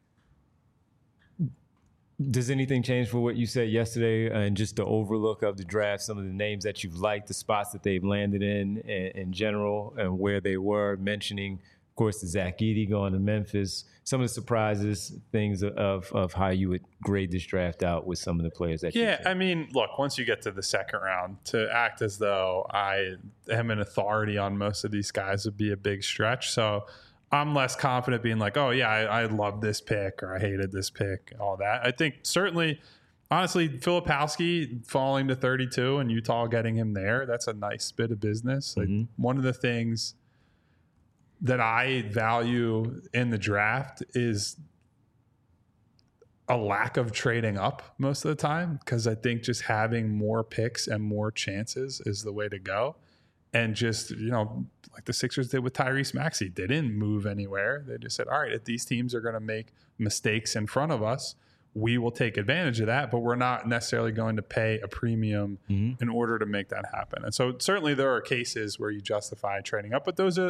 Does anything change for what you said yesterday and just the overlook of the draft, some of the names that you've liked, the spots that they've landed in in, in general, and where they were, mentioning, of course, the Zach Edey going to Memphis, some of the surprises, things of, of how you would grade this draft out with some of the players that Yeah, you I mean, look, once you get to the second round, to act as though I am an authority on most of these guys would be a big stretch. So I'm less confident being like, oh, yeah, I, I love this pick or I hated this pick, all that. I think certainly, honestly, Filipowski falling to thirty-two and Utah getting him there, that's a nice bit of business. Like Mm-hmm. one of the things that I value in the draft is a lack of trading up most of the time, because I think just having more picks and more chances is the way to go. And just, you know, like the Sixers did with Tyrese Maxey, they didn't move anywhere. They just said, all right, if these teams are going to make mistakes in front of us, we will take advantage of that, but we're not necessarily going to pay a premium Mm-hmm. in order to make that happen. And so certainly there are cases where you justify trading up, but those are,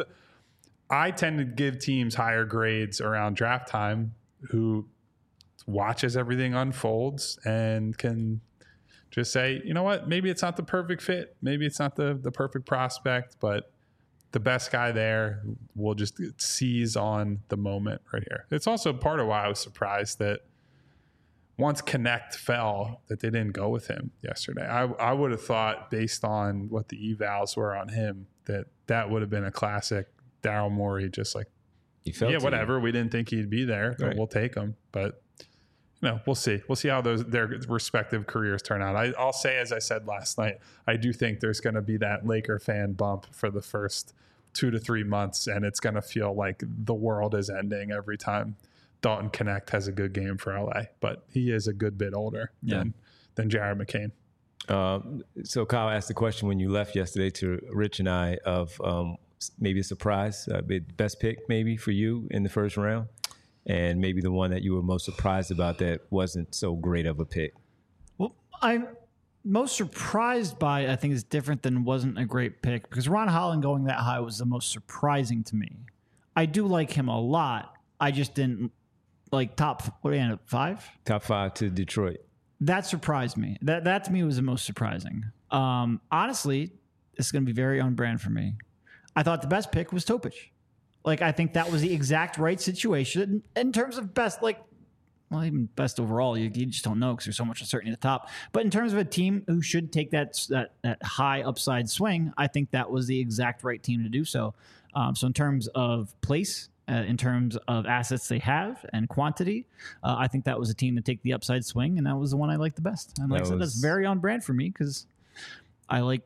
I tend to give teams higher grades around draft time who watches everything unfolds and can just say, you know what, maybe it's not the perfect fit. Maybe it's not the, the perfect prospect, but the best guy there will just seize on the moment right here. It's also part of why I was surprised that once Connect fell, that they didn't go with him yesterday. I, I would have thought, based on what the evals were on him, that that would have been a classic Daryl Morey, just like, He felt yeah, to whatever. you. We didn't think he'd be there, but Right. we'll take him. But you know, we'll see. We'll see how those their respective careers turn out. I, I'll say, as I said last night, I do think there's going to be that Laker fan bump for the first two to three months, and it's going to feel like the world is ending every time Dalton Connect has a good game for L A. But he is a good bit older Yeah. than than Jared McCain. Um, so Kyle asked the question when you left yesterday to Rich and I of um, maybe a surprise, uh, be- best pick maybe for you in the first round, and maybe the one that you were most surprised about that wasn't so great of a pick. Well, I'm most surprised by, I think, is different than wasn't a great pick, because Ron Holland going that high was the most surprising to me. I do like him a lot. I just didn't like top, what do you end up, five? Top five to Detroit. That surprised me. That that to me was the most surprising. Um, honestly, this is going to be very on brand for me. I thought the best pick was Topic. Like, I think that was the exact right situation in terms of best, like, well, even best overall. You, you just don't know because there's so much uncertainty at the top. But in terms of a team who should take that that, that high upside swing, I think that was the exact right team to do so. Um, so in terms of place, uh, in terms of assets they have and quantity, uh, I think that was a team to take the upside swing, and that was the one I liked the best. And like That I said, was- that's very on brand for me because I like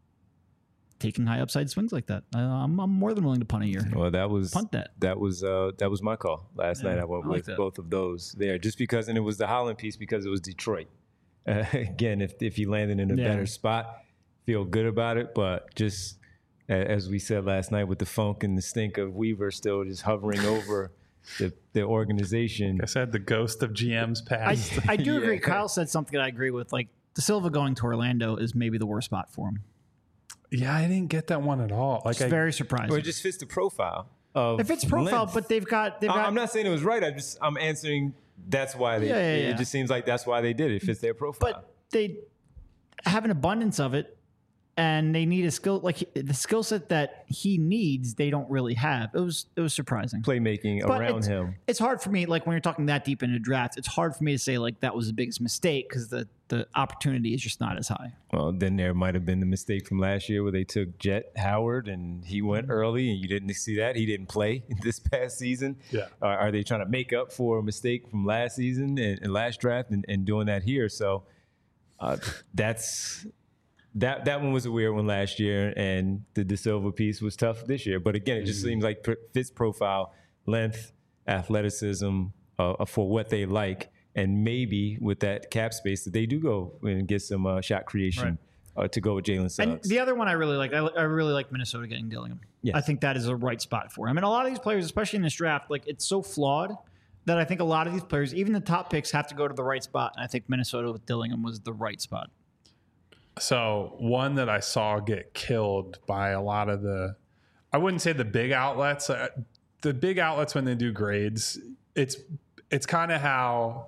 taking high upside swings like that. Uh, I'm, I'm more than willing to punt a year. Well, that was Punt that. That was uh, that was my call last Yeah, night. I went I like with that. both of those there, just because, and it was the Holland piece because it was Detroit. Uh, again, if if he landed in a Yeah. better spot, feel good about it. But just a- as we said last night, with the funk and the stink of Weaver still just hovering over the the organization. Like I said, the ghost of G M's I, past. I do agree. Yeah. Kyle said something that I agree with. Like, De Silva going to Orlando is maybe the worst spot for him. Yeah, I didn't get that one at all. Like, It's I, very surprising. Or it just fits the profile of If it's profile, length. but they've got they've I- got. I'm not saying it was right. I just I'm answering. That's why they. Yeah, yeah, it yeah. just seems like that's why they did it. It fits their profile. but they have an abundance of it, and they need a skill like the skill set that he needs. They don't really have. It was it was surprising. playmaking But around it's, him. It's hard for me, like when you're talking that deep into draft, it's hard for me to say like that was the biggest mistake because the the opportunity is just not as high. Well, then there might have been the mistake from last year where they took Jet Howard and he went Mm-hmm. early and you didn't see that. He didn't play this past season. Yeah. Uh, are they trying to make up for a mistake from last season and, and last draft and, and doing that here? So uh, that's that that one was a weird one last year, and the De Silva piece was tough this year. But again, it just seems like pr- fits profile, length, athleticism uh, for what they like. And maybe with that cap space that they do go and get some uh, shot creation uh, to go with Jalen And Suggs. the other one I really like, I, I really like Minnesota getting Dillingham. Yes. I think that is a right spot for him. And a lot of these players, especially in this draft, like it's so flawed that I think a lot of these players, even the top picks, have to go to the right spot. And I think Minnesota with Dillingham was the right spot. So one that I saw get killed by a lot of the, I wouldn't say the big outlets. Uh, the big outlets when they do grades, it's it's kind of how,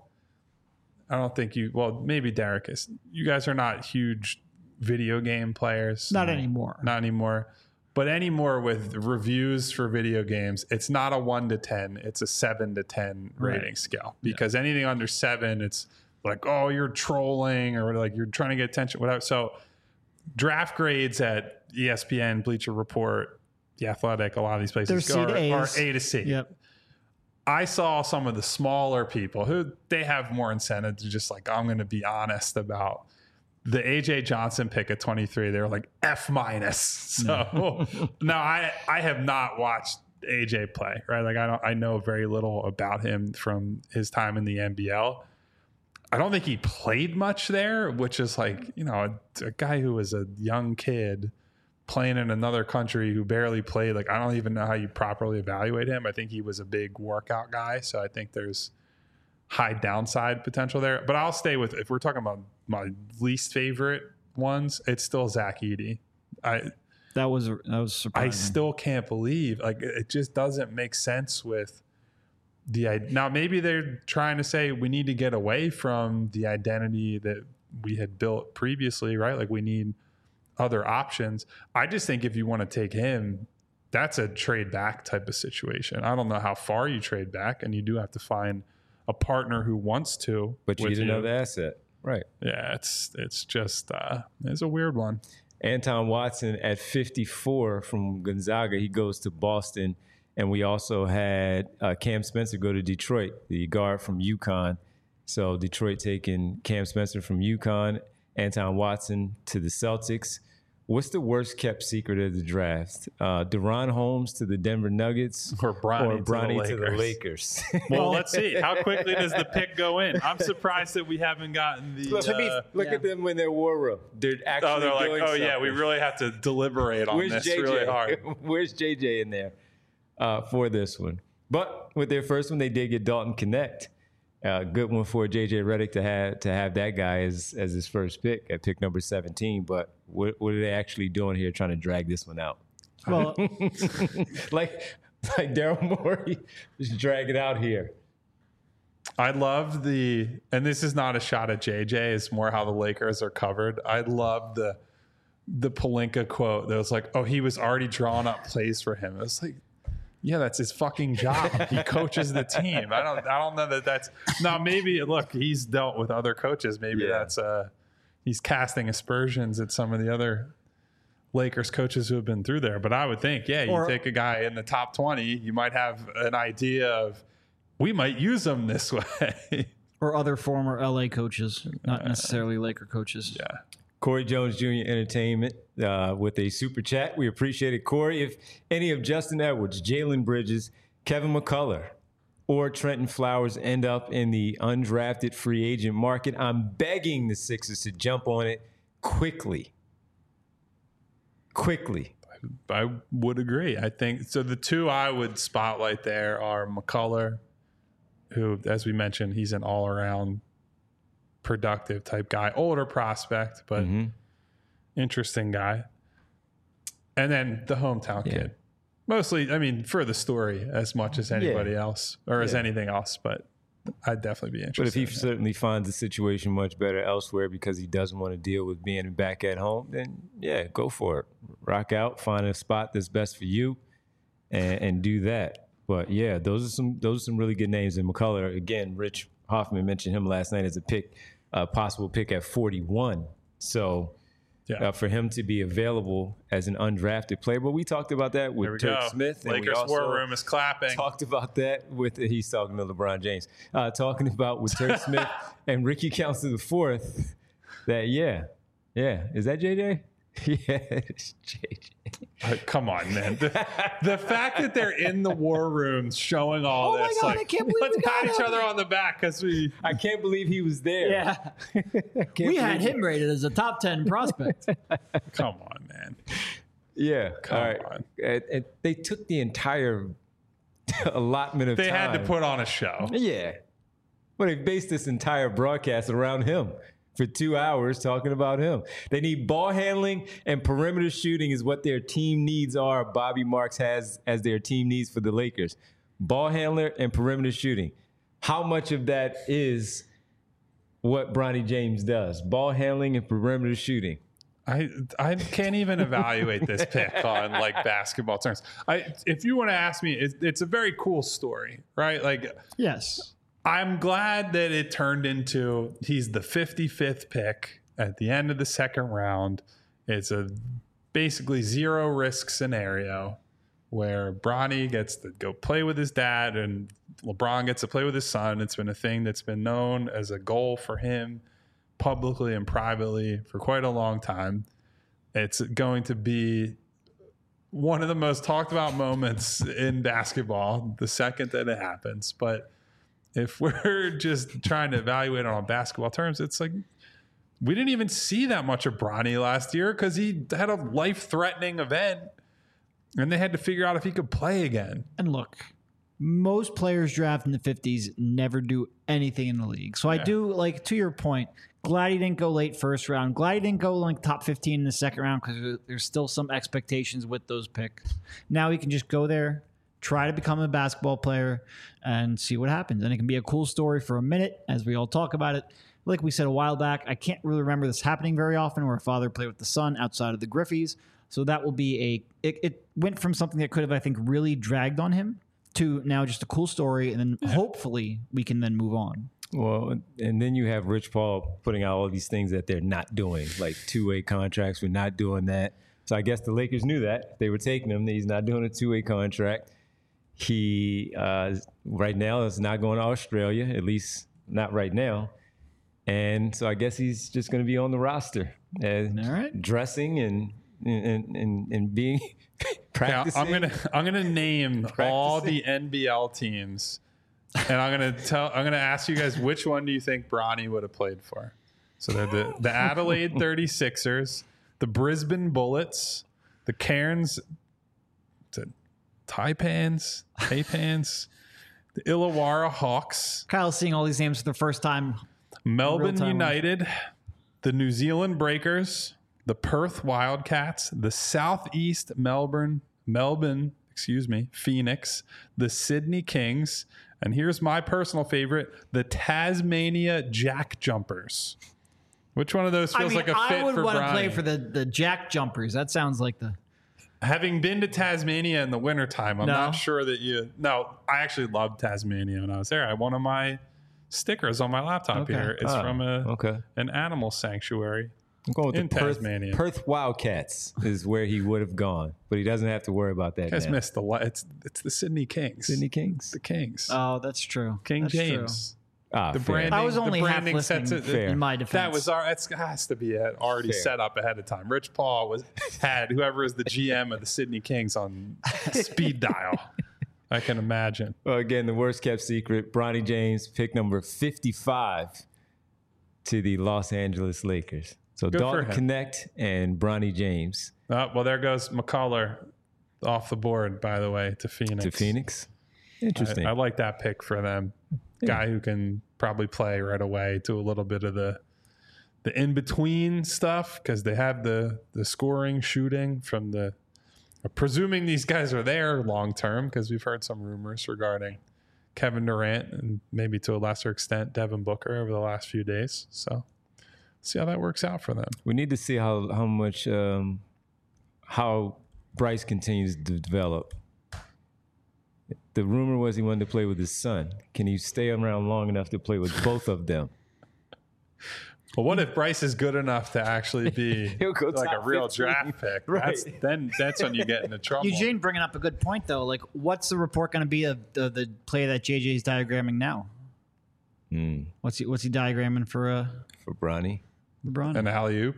I don't think you, well, maybe Derek is. You guys are not huge video game players. Not anymore. Not anymore. But anymore with reviews for video games, it's not a one to ten. It's a seven to ten Right. rating scale. Because yeah. anything under seven, it's like, oh, you're trolling or like you're trying to get attention, whatever. So draft grades at E S P N, Bleacher Report, The Athletic, a lot of these places They're are, C to are A's. A to C. Yep. I saw some of the smaller people who they have more incentive to just like, I'm going to be honest about the A J Johnson pick at twenty-three. They were like F minus. So no, I, I have not watched A J play, right? Like I don't, I know very little about him from his time in the N B L. I don't think he played much there, which is like, you know, a, a guy who was a young kid playing in another country who barely played. Like, I don't even know how you properly evaluate him. I think he was a big workout guy. So I think there's high downside potential there. But I'll stay with, if we're talking about my least favorite ones, it's still Zach Edey. I, That was that was surprising. I still can't believe, like, it just doesn't make sense with the, now maybe they're trying to say we need to get away from the identity that we had built previously, right? Like we need other options. I just think if you want to take him, that's a trade back type of situation. I don't know how far you trade back, and you do have to find a partner who wants to. But you with need another asset. Right. Yeah, it's it's just uh, it's a weird one. Anton Watson at fifty-four from Gonzaga. He goes to Boston. And we also had uh, Cam Spencer go to Detroit, the guard from UConn. So Detroit taking Cam Spencer from UConn, Anton Watson to the Celtics. What's the worst kept secret of the draft? Uh, Deron Holmes to the Denver Nuggets or Bronny, or Bronny to, the to the Lakers? Well, let's see. How quickly does the pick go in? I'm surprised that we haven't gotten the. Look, uh, look yeah. at them when they're war room. They're actually oh, they're like, doing oh something. yeah, we really have to deliberate on Where's this J J? really hard. Where's J J in there uh, for this one? But with their first one, they did get Dalton Connect. Uh, good one for J J Redick to have to have that guy as as his first pick at pick number seventeen. But what what are they actually doing here, trying to drag this one out? Well, like like Daryl Morey, just drag it out here. I love the, and this is not a shot at J J. It's more how the Lakers are covered. I love the the Pelinka quote that was like, "Oh, he was already drawing up plays for him." It was like, yeah, that's his fucking job. He coaches the team. I don't. I don't know that that's now. Maybe look, he's dealt with other coaches. Maybe Yeah. that's uh, he's casting aspersions at some of the other Lakers coaches who have been through there. But I would think, yeah, you Or- take a guy in the top twenty, you might have an idea of we might use him this way. or other former L A coaches, not necessarily Laker coaches. Yeah. Corey Jones Junior Entertainment uh, with a super chat. We appreciate it, Corey. If any of Justin Edwards, Jalen Bridges, Kevin McCullough, or Trenton Flowers end up in the undrafted free agent market, I'm begging the Sixers to jump on it quickly. Quickly. I would agree. I think so. The two I would spotlight there are McCullough, who, as we mentioned, he's an all-around productive type guy, older prospect, but Mm-hmm. interesting guy. And then the hometown Yeah. kid, mostly, I mean, for the story as much as anybody Yeah. else or as Yeah. anything else, but I'd definitely be But if interested. he in that. certainly finds the situation much better elsewhere because he doesn't want to deal with being back at home, then yeah, go for it. Rock out, find a spot that's best for you, and, and do that. But yeah, those are some those are some really good names. And McCullough, again, Rich Hoffman mentioned him last night as a pick, a possible pick at forty-one. So Yeah. uh, for him to be available as an undrafted player, but we talked about that with There we Turk go. Smith. And we Lakers also war room is clapping. talked about that with, he's talking to LeBron James, uh, talking about with Turk Smith and Ricky Council the fourth, that, yeah, yeah. Is that J J? Yeah, it's J J. Uh, Come on, man. The, the fact that they're in the war room showing all Oh my this, God, like, I can't believe let's we got pat each him. other on the back because we. I can't believe he was there. Yeah, Can't we had believe- him rated as a top ten prospect. Come on, man. Yeah. Come all right. on. And, and they took the entire allotment of They time. had to put on a show. Yeah. Well, they based this entire broadcast around him. for two hours talking about him. They need ball handling and perimeter shooting is what their team needs are. Bobby Marks has as their team needs for the Lakers. Ball handler and perimeter shooting. How much of that is what Bronny James does? Ball handling and perimeter shooting. I I can't even evaluate this pick on like basketball terms. I if you want to ask me, it, it's a very cool story, right? Like, Yes. I'm glad that it turned into he's the fifty-fifth pick at the end of the second round. It's a basically zero risk scenario where Bronny gets to go play with his dad and LeBron gets to play with his son. It's been a thing that's been known as a goal for him publicly and privately for quite a long time. It's going to be one of the most talked about moments in basketball the second that it happens. But if we're just trying to evaluate it on basketball terms, it's like we didn't even see that much of Bronny last year because he had a life-threatening event and they had to figure out if he could play again. And look, most players draft in the fifties never do anything in the league. So Yeah. I do, like, to your point, glad he didn't go late first round. Glad he didn't go like top fifteen in the second round because there's still some expectations with those picks. Now he can just go there, try to become a basketball player, and see what happens. And it can be a cool story for a minute as we all talk about it. Like we said a while back, I can't really remember this happening very often where a father played with the son outside of the Griffies. So that will be a, it, it went from something that could have, I think, really dragged on him to now just a cool story. And then yeah. hopefully we can then move on. Well, and then you have Rich Paul putting out all these things that they're not doing, like two-way contracts. We're not doing that. So I guess the Lakers knew that. They were taking him. He's not doing a two-way contract. He, uh, right now, is not going to Australia, at least not right now. And so I guess he's just going to be on the roster, uh, all right. dressing and and and, and being practicing. Yeah, I'm gonna I'm gonna name practicing. all the N B L teams, and I'm gonna tell I'm gonna ask you guys which one do you think Bronny would have played for? So they're the the Adelaide thirty-sixers, the Brisbane Bullets, the Cairns, the Taipans, Taipans, the Illawarra Hawks. Kyle's seeing all these names for the first time. Melbourne United, the New Zealand Breakers, the Perth Wildcats, the Southeast Melbourne, Melbourne, excuse me, Phoenix, the Sydney Kings, and here's my personal favorite, the Tasmania Jack Jumpers. Which one of those feels I mean, like a fit I would for want Bronny? to play for the, the Jack Jumpers. That sounds like the... Having been to Tasmania in the wintertime, I'm no. not sure that you... No, I actually loved Tasmania when I was there. I one of my stickers on my laptop okay. here is oh, from a okay. an animal sanctuary. I'm going with in the Perth, Tasmania. Perth Wildcats is where he would have gone, but he doesn't have to worry about that. You guys now. missed the li- it's it's the Sydney Kings. Sydney Kings. The Kings. Oh, that's true. King that's James. True. Ah, the fair. branding. I was only the half branding listening sets it, Fair. in my defense. That was our. It has to be already Fair. set up ahead of time. Rich Paul was had whoever is the G M of the Sydney Kings on speed dial. I can imagine. Well, again, the worst kept secret. Bronny James, pick number fifty-five to the Los Angeles Lakers. So Good for Dalton him. Connect and Bronny James Uh, well, there goes McCullough off the board, by the way, to Phoenix. to Phoenix. Interesting. I, I like that pick for them. Yeah. Guy who can probably play right away to a little bit of the the in between stuff because they have the the scoring, shooting from the. Presuming these guys are there long term because we've heard some rumors regarding Kevin Durant and maybe to a lesser extent Devin Booker over the last few days. So see how that works out for them. We need to see how how much um, how Bryce continues to develop. The rumor was he wanted to play with his son. Can he stay around long enough to play with both of them? But what if Bryce is good enough to actually be He'll go like a top real fifteen. draft pick? Right. That's, then that's when you get into trouble. Eugene bringing up a good point, though. Like, what's the report going to be of the, the play that J J's diagramming now? Mm, What's he What's he diagramming for uh, for Bronny. LeBron? An alley oop.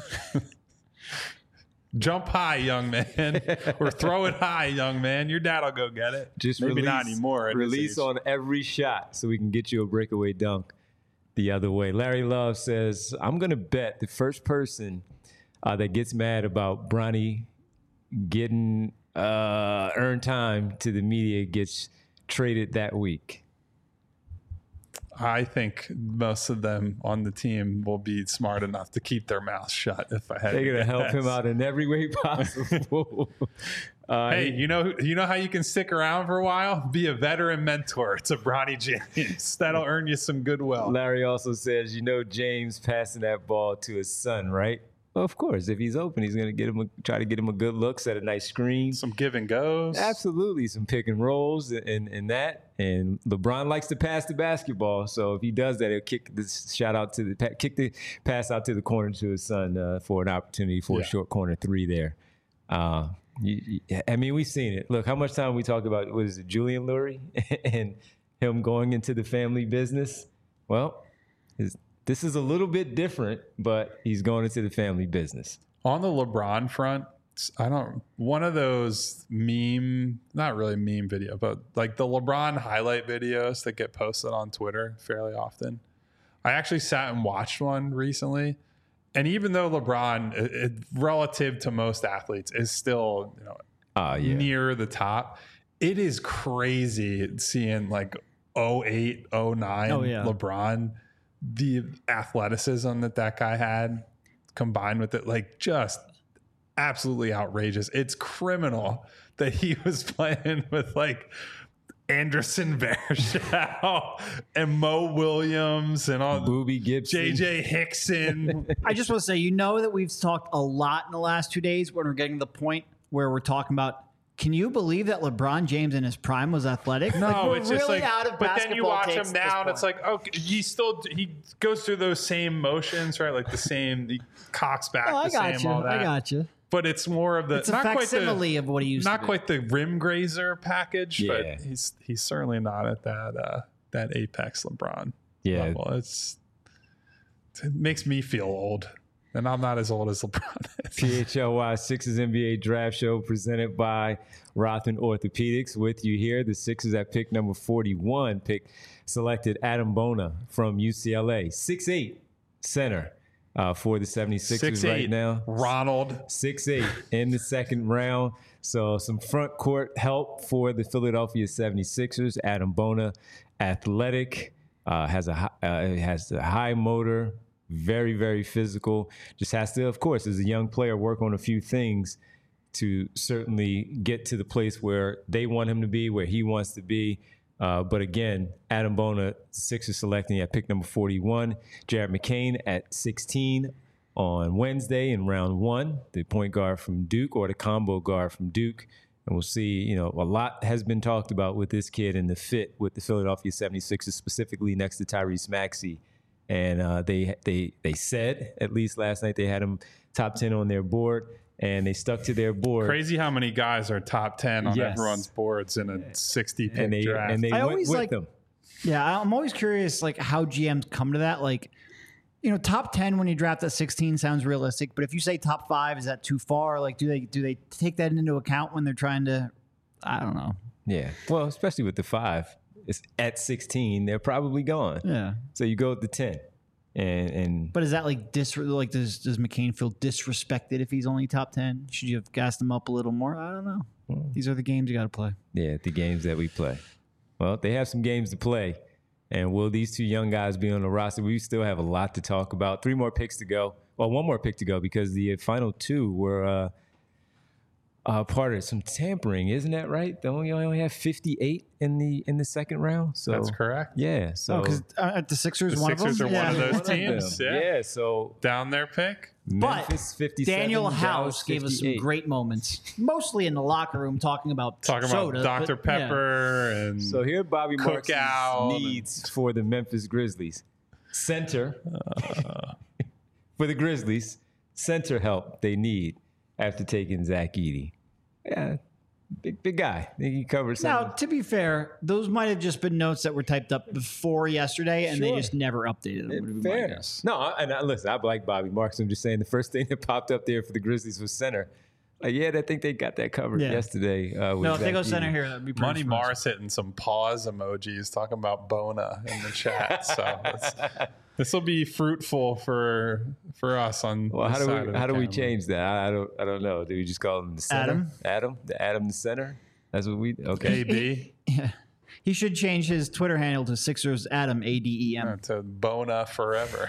Jump high, young man, or throw it high, young man. Your dad will go get it. Just maybe release, not anymore. at this Release age. on every shot so we can get you a breakaway dunk the other way. Larry Love says, I'm going to bet the first person uh, that gets mad about Bronny getting uh, earned time to the media gets traded that week. I think most of them on the team will be smart enough to keep their mouths shut. If I had, They're to gonna help guess. him out in every way possible. uh, Hey, you know, you know how you can stick around for a while? Be a veteran mentor to Bronny James. That'll earn you some goodwill. Larry also says, you know, James passing that ball to his son, right? Well, of course, if he's open, he's gonna get him a, try to get him a good look, set a nice screen. Some give and goes. Absolutely, some pick and rolls and, and that. And LeBron likes to pass the basketball, so if he does that, he'll kick this shot out to the kick the pass out to the corner to his son uh, for an opportunity for Yeah. a short corner three there. Uh, you, you, I mean, we've seen it. Look, how much time we talked about what is it, Julian Lurie and him going into the family business. Well, his, this is a little bit different, but he's going into the family business. On the LeBron front, I don't, one of those meme, not really meme video, but like the LeBron highlight videos that get posted on Twitter fairly often. I actually sat and watched one recently. And even though LeBron, it, it, relative to most athletes, is still, you know, Oh, yeah. near the top, it is crazy seeing like oh eight, oh nine Oh, yeah. LeBron, the athleticism that that guy had combined with it, like just absolutely outrageous. It's criminal that he was playing with like Anderson Varejao and Mo Williams and all Booby Gibson. J J Hickson. I just want to say, you know that we've talked a lot in the last two days when we're getting to the point where we're talking about, can you believe that LeBron James in his prime was athletic? No, Like, we're it's just really like, out of but then you basketball watch takes him at this now, and it's point. like, okay, he still he goes through those same motions, right? Like the same, he cocks back Oh, I the got same, you. all that. I got you. But it's more of the It's a not quite facsimile the of what he used not to be. quite the rim grazer package, Yeah. but he's he's certainly not at that uh, that apex LeBron Yeah. level. It's it makes me feel old, and I'm not as old as LeBron is. P H L Y Sixers N B A Draft Show presented by Rothman Orthopedics. With you here, the Sixers at pick number forty-one pick selected Adam Bona from U C L A, six eight center uh, for the seventy-sixers Six right eight, now. Ronald. six eight in the second round. So some front court help for the Philadelphia seventy-sixers. Adam Bona, athletic, uh, has a hi- uh, has a high motor, very, very physical. Just has to, of course, as a young player, work on a few things to certainly get to the place where they want him to be, where he wants to be. Uh, but again, Adam Bona, Sixers selecting at pick number forty-one. Jared McCain at sixteen on Wednesday in round one, the point guard from Duke or the combo guard from Duke. And we'll see, you know, a lot has been talked about with this kid and the fit with the Philadelphia seventy-sixers, specifically next to Tyrese Maxey. And uh, they they they said, at least last night, they had him top ten on their board, and they stuck to their board. Crazy how many guys are top ten on Yes. everyone's boards in a sixty pick And they, draft. and they I went always with like- them. Yeah, I'm always curious, like how G Ms come to that. Like, you know, top ten when you draft at sixteen sounds realistic, but if you say top five, is that too far? Like, do they do they take that into account when they're trying to? I don't know. Yeah. Well, especially with the five, it's at sixteen, they're probably gone. Yeah, So you go with the ten. And, and but is that like dis? Like, does does McCain feel disrespected if he's only top ten? Should you have gassed him up a little more? I don't know. These are the games you got to play. yeah, the games that we play. Well, they have some games to play. And will these two young guys be on the roster? We still have a lot to talk about. Three more picks to go. Well, one more pick to go because the final two were uh, uh, part of some tampering, isn't that right? They only, only have fifty-eight in the in the second round. So That's correct. Yeah. So Oh, because uh, the Sixers, The one Sixers of are them. one of Yeah. those one of teams, them. yeah. Yeah. So Down their pick. But Memphis fifty-seven. Daniel Dallas House gave us some fifty-eight. great moments, mostly in the locker room, talking about Talking soda, about Doctor but, yeah. Pepper and So here, Bobby Marks' Cookout and- needs for the Memphis Grizzlies. Center Uh. for the Grizzlies. Center help they need after taking Zach Edey. Yeah, big big guy. I think he covers Now, something. to be fair, those might have just been notes that were typed up before yesterday, and they Sure. just never updated them. Would be my Fair. guess. No, I- and I, listen, I like Bobby Marks. I'm just saying the first thing that popped up there for the Grizzlies was center. Like, yeah, I think they got that covered Yeah. yesterday. Uh, with No, if they Zach go center Edey. here, that'd be pretty Money surprising. Mars hitting some pause emojis talking about Bona in the chat. So this will be fruitful for for us on Well, this how do side we of the how do we camera. change that? I, I don't I don't know. Do we just call him the center? Adam? Adam, the Adam, the center. That's what we okay. A B. Yeah. He should change his Twitter handle to Sixers Adam A D E M. To Bona forever.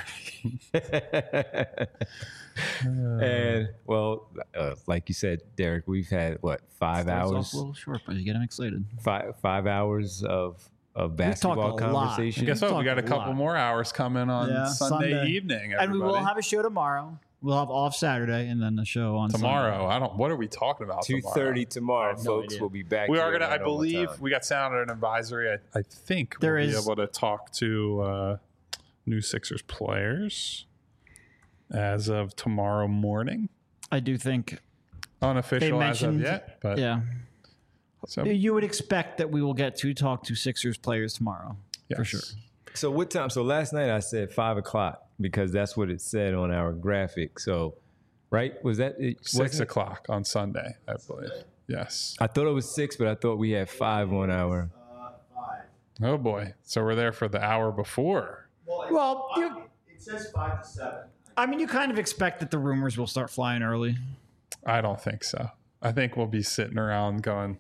And well, uh, like you said, Derek, we've had what five Starts off hours, a little short, but you get him excited. five five hours of of talked basketball a lot. conversation. Guess what? We talked got a a couple lot. more hours coming on Yeah, Sunday, Sunday. evening. And we will everybody. have a show tomorrow. We'll have off Saturday and then the show on tomorrow. Sunday. I don't. What are we talking about? Two thirty tomorrow, no folks. idea. We'll be back. We here are gonna. at I right on believe time. we got sound an advisory. I, I think There we'll is- be able to talk to uh, new Sixers players as of tomorrow morning. I do think, Unofficial as of mentioned- yet, but yeah. so, You would expect that we will get to talk to Sixers players tomorrow. For yes. sure. So what time? So last night I said five o'clock because that's what it said on our graphic. So, right? Was that it? Six wasn't it? o'clock on Sunday, I believe. Yes. I thought it was six, but I thought we had five on our. Oh boy. So we're there for the hour before. Well, you, It says five to seven. I mean, you kind of expect that the rumors will start flying early. I don't think so. I think we'll be sitting around going,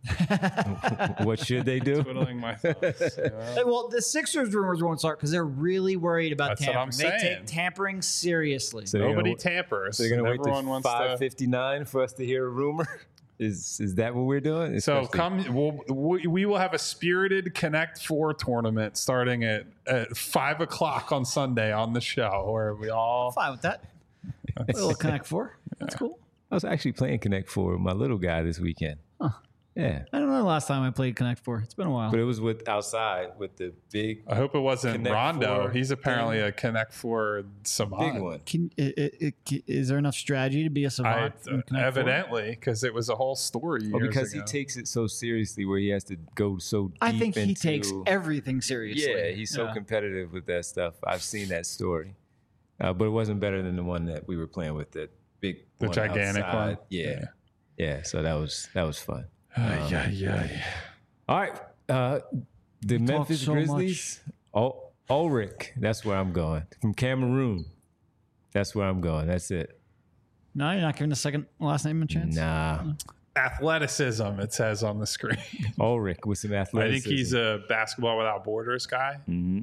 What should they do? twiddling my thumbs. you know? Hey, Well, the Sixers rumors won't start because they're really worried about That's what tampering. I'm They saying. take tampering seriously. So they're Nobody gonna, tampers. so they're gonna wait Everyone till wants five to. fifty nine for us to hear a rumor. Is is that what we're doing? So Especially- come, we'll, we we will have a spirited Connect Four tournament starting at, at five o'clock on Sunday on the show, where we all. Fine with that. A little Connect Four. That's cool. I was actually playing Connect Four with my little guy this weekend. Huh. Yeah, I don't know the last time I played Connect Four. It's been a while. but it was with outside with the big I hope it wasn't Connect Rondo. Four He's apparently thing. a Connect Four savant. big one. Can it, it, it, is there enough strategy to be a I, savant? in Connect Four? evidently, because it was a whole story. Well, years because ago. he takes it so seriously, where he has to go so deep. I think he into, takes everything seriously. Yeah, he's so Yeah. competitive with that stuff. I've seen that story, uh, but it wasn't better than the one that we were playing with. That big, the one gigantic outside. one. Yeah, yeah. So that was that was fun. Yeah, yeah. All right, uh, the talked Memphis so Grizzlies. Ul- Ulrich, that's where I'm going. From Cameroon, that's where I'm going. That's it. No, you're not giving the second last name a chance. Nah, Athleticism, it says on the screen. Ulrich with some I athleticism. think he's a basketball without borders guy. hmm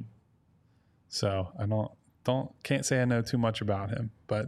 So I don't don't can't say I know too much about him, but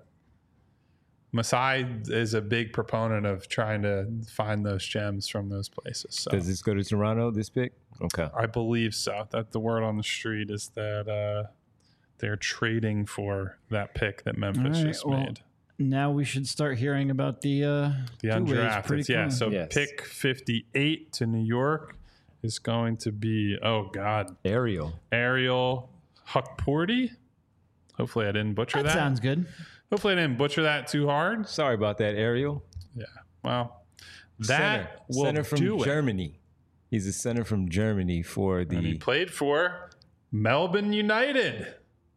Masai is a big proponent of trying to find those gems from those places. So Does this go to Toronto? This pick? Okay. I believe so. That the word on the street is that uh, they're trading for that pick that Memphis All right, just well, made. Now we should start hearing about the uh, The two-ways undrafted. pretty Yeah. soon. So Yes. pick fifty-eight to New York is going to be, oh God, Ariel. Ariel Hukporti. Hopefully I didn't butcher that that. sounds good. Hopefully I didn't butcher that too hard. Sorry about that, Ariel. Yeah. Well, that center, will center from do it. Germany. He's a center from Germany for And he the. played for Melbourne United.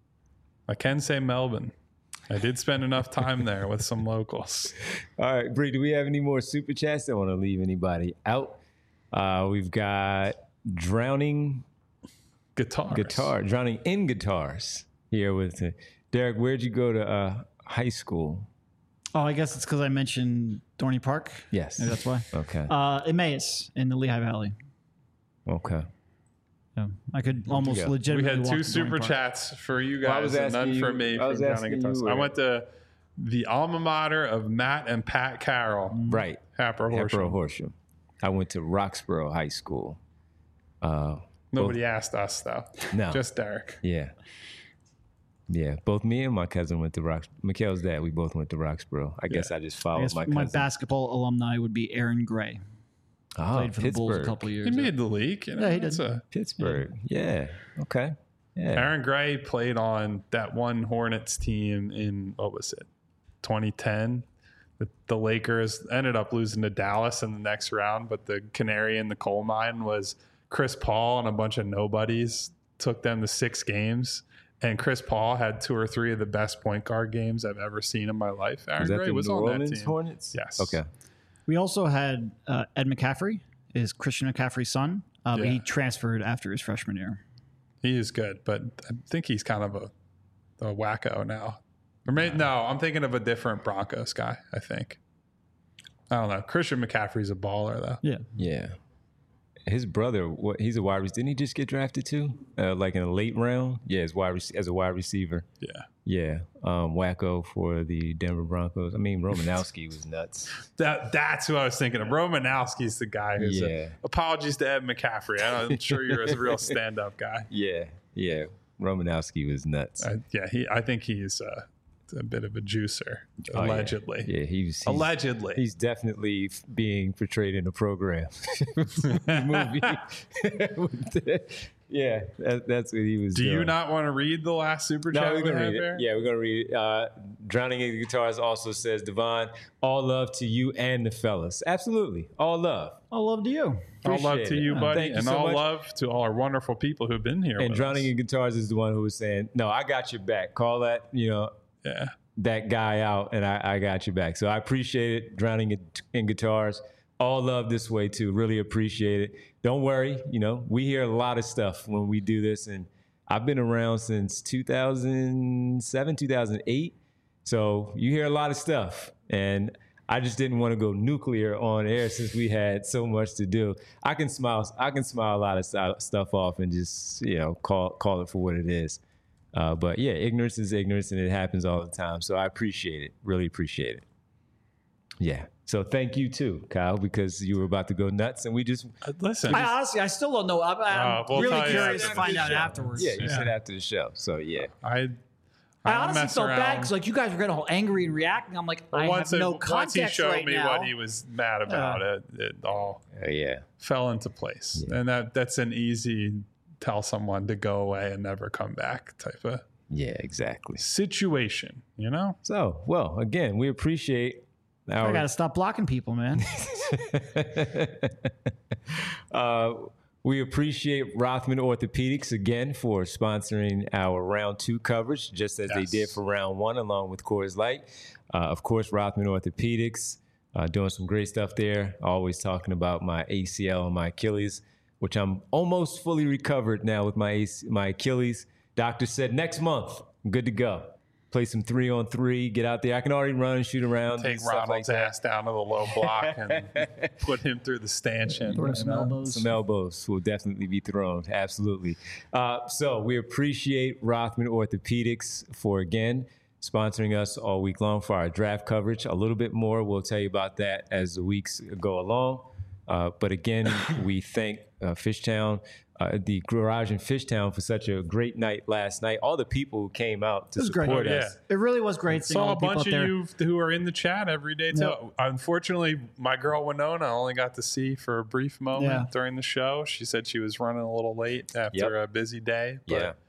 I can say Melbourne. I did spend enough time there with some locals. All right, Bree, do we have any more super chats? Don't want to leave anybody out. Uh, we've got Drowning Guitars. Guitar, Drowning in Guitars here with uh, Derek. Where'd you go to uh, high school? Oh, I guess it's because I mentioned Dorney Park. Yes. Maybe that's why. Okay. Uh, Emmaus in the Lehigh Valley. Okay. Yeah, I could almost go? We legitimately had walk two to Dorney super Park. chats for you Well, I guys was and none asking for you- me I from was Drowning asking Guitars. you I where- went to the alma mater of Matt and Pat Carroll. Right. Happer Hepburn Horsham. Horsham. I went to Roxborough High School. Uh, Nobody asked us, though. no. Just Derek. Yeah. Yeah. Both me and my cousin went to Rox. Mikhail's dad, we both went to Roxborough. I guess I just I followed guess my my, cousin. basketball alumni would be Aaron Gray. oh, Played for the Bulls a Pittsburgh. couple years. He made the league. You know, Yeah, he that's did. a- Pittsburgh. Yeah. Okay. Yeah. Aaron Gray played on that one Hornets team in, what was it, twenty ten? The, the Lakers ended up losing to Dallas in the next round, but the canary in the coal mine was Chris Paul and a bunch of nobodies took them to six games. And Chris Paul had two or three of the best point guard games I've ever seen in my life. Aaron Was that Gray the was New on Orleans that team. Hornets? Yes. Okay. We also had uh, Ed McCaffrey, is Christian McCaffrey's son. Uh, but Yeah. he transferred after his freshman year. He is good, but I think he's kind of a, a wacko now. Or maybe, no, I'm thinking of a different Broncos guy, I think. I don't know. Christian McCaffrey's a baller, though. Yeah. Yeah. his brother, what he's a wide receiver. Didn't he just get drafted too? Uh, like in a late round? Yeah, as wide rec- as a wide receiver. Yeah. Yeah. Um, Wacko for the Denver Broncos. I mean, Romanowski was nuts. That that's who I was thinking of. Romanowski's the guy who's Yeah. a, apologies to Ed McCaffrey. I'm sure you're a real stand-up guy. Yeah. Yeah. Romanowski was nuts. Uh, yeah, he. I think he's uh, a bit of a juicer, Oh, yeah. allegedly. Yeah, he's, he's Allegedly. He's definitely f- being portrayed in a program movie. yeah, that, that's what he was Do doing. you not want to read the last super No, chat we're we gonna have read it. there? Yeah, we're gonna read it. Uh, Drowning in the Guitars also says, Devon, all love to you and the fellas. Absolutely, all love. All love to you. All love Appreciate to it. you, Uh, buddy, thank you and so all much. love to all our wonderful people who've been here. And with Drowning us. in Guitars is the one who was saying, "No, I got your back. Call that, you know, Yeah. that guy out, and I, I got your back." So I appreciate it. Drowning in, in Guitars, all love this way too. Really appreciate it. Don't worry, you know, we hear a lot of stuff when we do this, and I've been around since two thousand seven, two thousand eight. So you hear a lot of stuff, and I just didn't want to go nuclear on air since we had so much to do. I can smile. I can smile a lot of st- stuff off and just, you know, call call it for what it is. Uh, but yeah, ignorance is ignorance, and it happens all the time. So I appreciate it. Really appreciate it. Yeah. So thank you too, Kyle, because you were about to go nuts, and we just Uh, Listen, I honestly, I still don't know. I'm, I'm Uh, we'll really tell you curious to after find the out show. afterwards. yeah, you Yeah. said after the show. So yeah, I. I don't honestly mess felt bad around. because like you guys were getting all angry and reacting. I'm like, I once, have no it, context once he showed right me now. what he was mad about, it, it all uh, yeah, fell into place, and that that's an easy tell someone to go away and never come back type of yeah, exactly. situation. You know. So well, again, we appreciate our. I gotta stop blocking people, man. uh, we appreciate Rothman Orthopedics again for sponsoring our round two coverage, just as Yes. they did for round one, along with Coors Light. Uh, of course, Rothman Orthopedics uh, doing some great stuff there. Always talking about my A C L and my Achilles, which I'm almost fully recovered now with my A C, my Achilles. Doctor said next month I'm good to go. Play some three on three, get out there. I can already run and shoot around. Take and stuff like Ronald's that. ass down to the low block and put him through the stanchion. Throw you some know? elbows. Some elbows will definitely be thrown. Absolutely. Uh, so we appreciate Rothman Orthopedics for, again, sponsoring us all week long for our draft coverage. A little bit more, we'll tell you about that as the weeks go along. Uh, but again, we thank uh, Fishtown, uh, the garage in Fishtown, for such a great night last night. All the people who came out to It was great. support Oh, yeah. us. It really was great seeing Saw all a the people bunch out of there. you who are in the chat every day too. Yep. Unfortunately, my girl Winona I only got to see for a brief moment Yeah. during the show. She said she was running a little late after Yep. a busy day. But Yeah.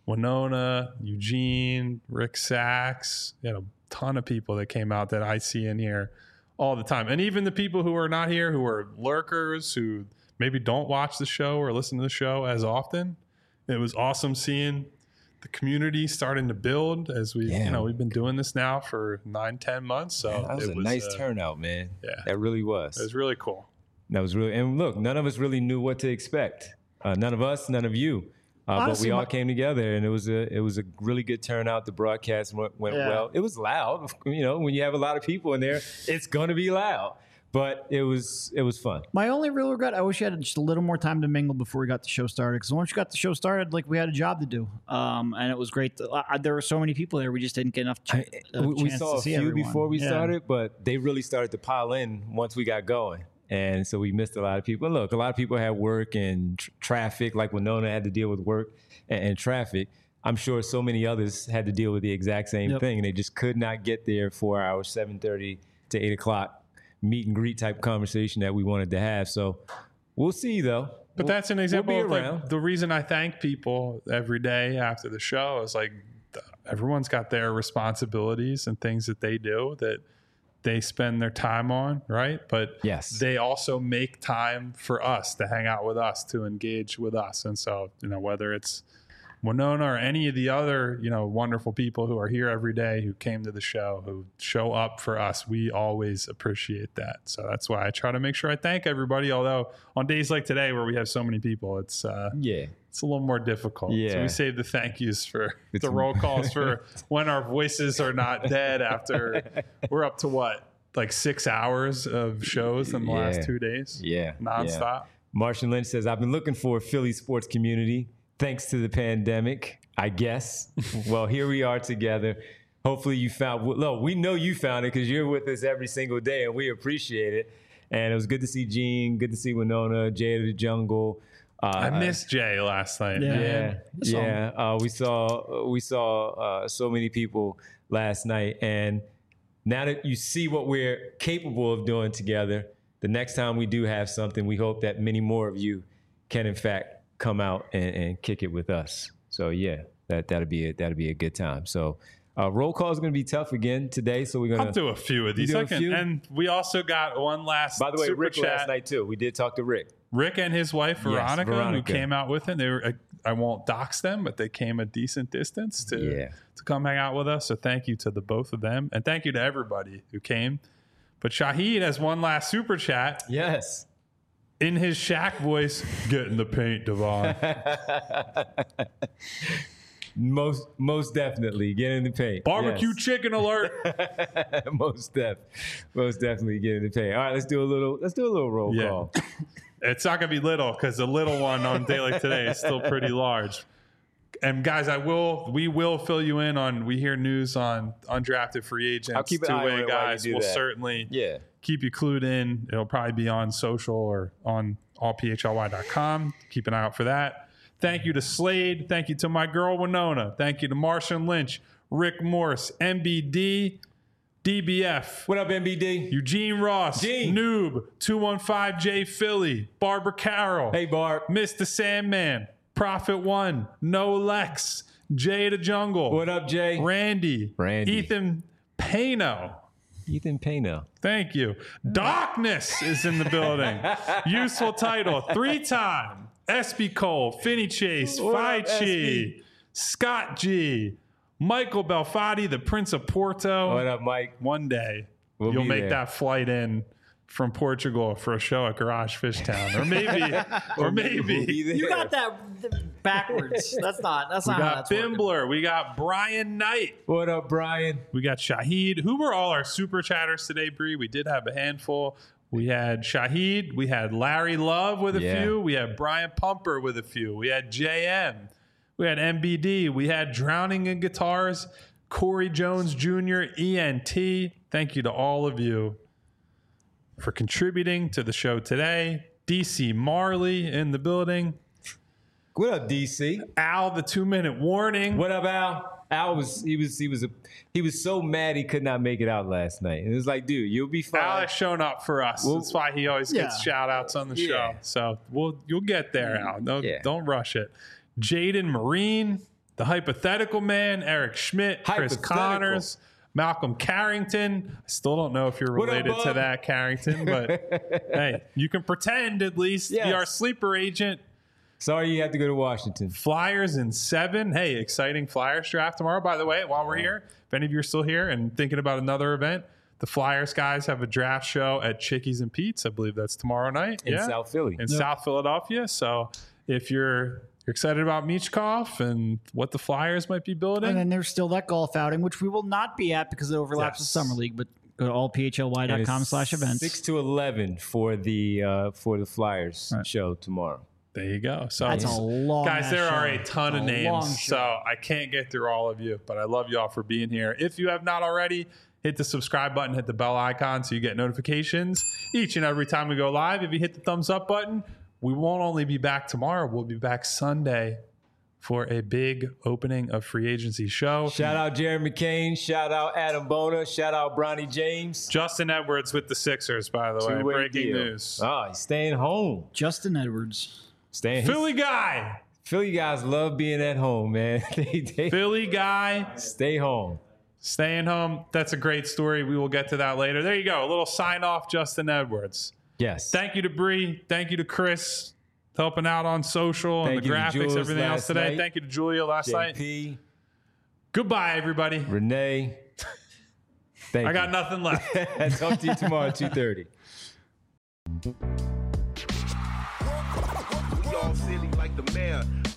Winona, Eugene, Rick Sachs, you know, a ton of people that came out that I see in here all the time. And even the people who are not here, who are lurkers, who maybe don't watch the show or listen to the show as often. It was awesome seeing the community starting to build as we, Yeah. you know, we've been doing this now for nine, ten months. So That was it a nice uh, turnout, man. yeah. That really was. It was really cool. That was really, and look, none of us really knew what to expect. Uh, none of us, none of you. Uh, but Honestly, we all my- came together, and it was a it was a really good turnout. The broadcast went, went Yeah. well. It was loud, you know. When you have a lot of people in there, it's going to be loud. But it was it was fun. My only real regret, I wish you had just a little more time to mingle before we got the show started. Because once you got the show started, like we had a job to do, um, and it was great. To, uh, there were so many people there, we just didn't get enough. Ch- I- uh, we we chance saw to a see few everyone. before we Yeah. started, but they really started to pile in once we got going. And so we missed a lot of people. And look, a lot of people had work and tr- traffic, like Winona had to deal with work and, and traffic. I'm sure so many others had to deal with the exact same Yep. thing. And they just could not get there for our seven thirty to eight o'clock meet and greet type conversation that we wanted to have. So we'll see, though. But We'll- that's an example we'll of be like around. the reason I thank people every day after the show is like th- everyone's got their responsibilities and things that they do that they spend their time on, right? But Yes. they also make time for us to hang out with us, to engage with us. And so, you know, whether it's Winona or any of the other, you know, wonderful people who are here every day, who came to the show, who show up for us, we always appreciate that. So that's why I try to make sure I thank everybody. Although on days like today where we have so many people, it's uh, Yeah. it's a little more difficult. So Yeah. we save the thank yous for It's- the roll calls for when our voices are not dead after we're up to what, like six hours of shows in the Yeah. last two days, Yeah. nonstop. Yeah. Martian Lynch says, I've been looking for a Philly sports community thanks to the pandemic, I guess. Well, here we are together. Hopefully you found, look, we know you found it because you're with us every single day and we appreciate it. And it was good to see Gene, good to see Winona, Jay of the Jungle. Uh, I missed Jay last night. Yeah. Yeah, yeah. Uh, we saw we saw uh, so many people last night, and now that you see what we're capable of doing together, the next time we do have something, we hope that many more of you can, in fact, come out and, and kick it with us. So yeah, that that'll be a, that'll be a good time. So. Uh, roll call is going to be tough again today, so we're going to I'll do a few of these. do a I can- few? And we also got one last By the way, super Rick chat. last night too. We did talk to Rick. Rick and his wife Veronica, Veronica. who came out with him. They were I, I won't dox them, but they came a decent distance to Yeah. to come hang out with us. So thank you to the both of them, and thank you to everybody who came. But Shahid has one last super chat Yes. in his Shaq voice. Get in the paint, Devon. Most most definitely get in the paint. Barbecue Yes. chicken alert. most def, most definitely get in the paint. All right, let's do a little. Let's do a little roll Yeah. call. It's not gonna be little because the little one on a day like today is still pretty large. And guys, I will. We will fill you in on. We hear news on undrafted free agents. I'll keep an eye on two-way it while you guys. do We'll that. certainly Yeah. keep you clued in. It'll probably be on social or on all p h l y dot com. Keep an eye out for that. Thank you to Slade. Thank you to my girl Winona. Thank you to Martian Lynch, Rick Morse, M B D, D B F, What up, M B D? Eugene Ross, Gene. Noob, two one five J Philly, Barbara Carroll, Hey, Barb. Mister Sandman, Prophet One, No Lex, Jay the Jungle, What up, Jay? Randy, Randy. Ethan Pano. Ethan Pena. Thank you. Darkness is in the building. Useful title. Three-time. S B Cole, Finney Chase, What Phi up, S Chi, B? Scott G, Michael Belfatti, the Prince of Porto. What up, Mike? One day We'll you'll be make there. that flight in from Portugal for a show at Garage Fish Town. Or maybe, or We'll be maybe. there. You got that backwards. That's not. That's We not how got that's working. Bimbler. We got Brian Knight. What up, Brian? We got Shahid. Who were all our super chatters today, Bree? We did have a handful. We had Shahid. We had Larry Love with a Yeah. few. We had Brian Pumper with a few. We had J M. We had M B D. We had Drowning in Guitars. Corey Jones Junior, E N T. Thank you to all of you for contributing to the show today. D C Marley in the building. What up, D C? Al, the two-minute warning. What up, Al? Al was he was he was a he was so mad he could not make it out last night. And it was like, dude, you'll be fine. Al has shown up for us. Well, That's why he always gets yeah. shout outs on the Yeah. show. So we'll you'll get there, Al. No, Yeah. Don't rush it. Jaden Marine, the hypothetical man, Eric Schmidt, Chris Hypothetical. Connors, Malcolm Carrington. I still don't know if you're What up, related to bub? that Carrington, but hey, you can pretend at least. Yes. Be our sleeper agent. Sorry you had to go to Washington. Flyers in seven. Hey, exciting Flyers draft tomorrow. By the way, while we're here, if any of you are still here and thinking about another event, the Flyers guys have a draft show at Chickies and Pete's. I believe that's tomorrow night. In yeah. South Philly. In South Philadelphia. So if you're you're excited about Michkov and what the Flyers might be building, And then there's still that golf outing, which we will not be at because it overlaps Yes. with Summer League. But go to all p h l y dot com slash events. Six to eleven for the uh, for the Flyers Right. show tomorrow. there you go. So That's a long guys, ass there show. are a ton of It's a long names, show. so I can't get through all of you, but I love you all for being here. If you have not already, hit the subscribe button, hit the bell icon so you get notifications each and every time we go live. If you hit the thumbs up button, we won't only be back tomorrow, we'll be back Sunday for a big opening of free agency show. Shout out Jared McCain. Shout out Adam Bona. Shout out Bronny James. Justin Edwards with the Sixers, by the way. Two-way Breaking deal. news. Oh, he's staying home. Justin Edwards. Staying. Philly guy. Philly guys love being at home, man. they they Philly guy. stay home. Staying home. That's a great story. We will get to that later. There you go. A little sign off, Justin Edwards. Yes. Thank you to Bree. Thank you to Chris helping out on social Thank and the you to graphics, Jules everything else last today. night. Thank you to Julia last night. J P, Goodbye, everybody. Renee. Thank I got you. nothing left. Talk to you tomorrow at two thirty. We all silly like the mayor.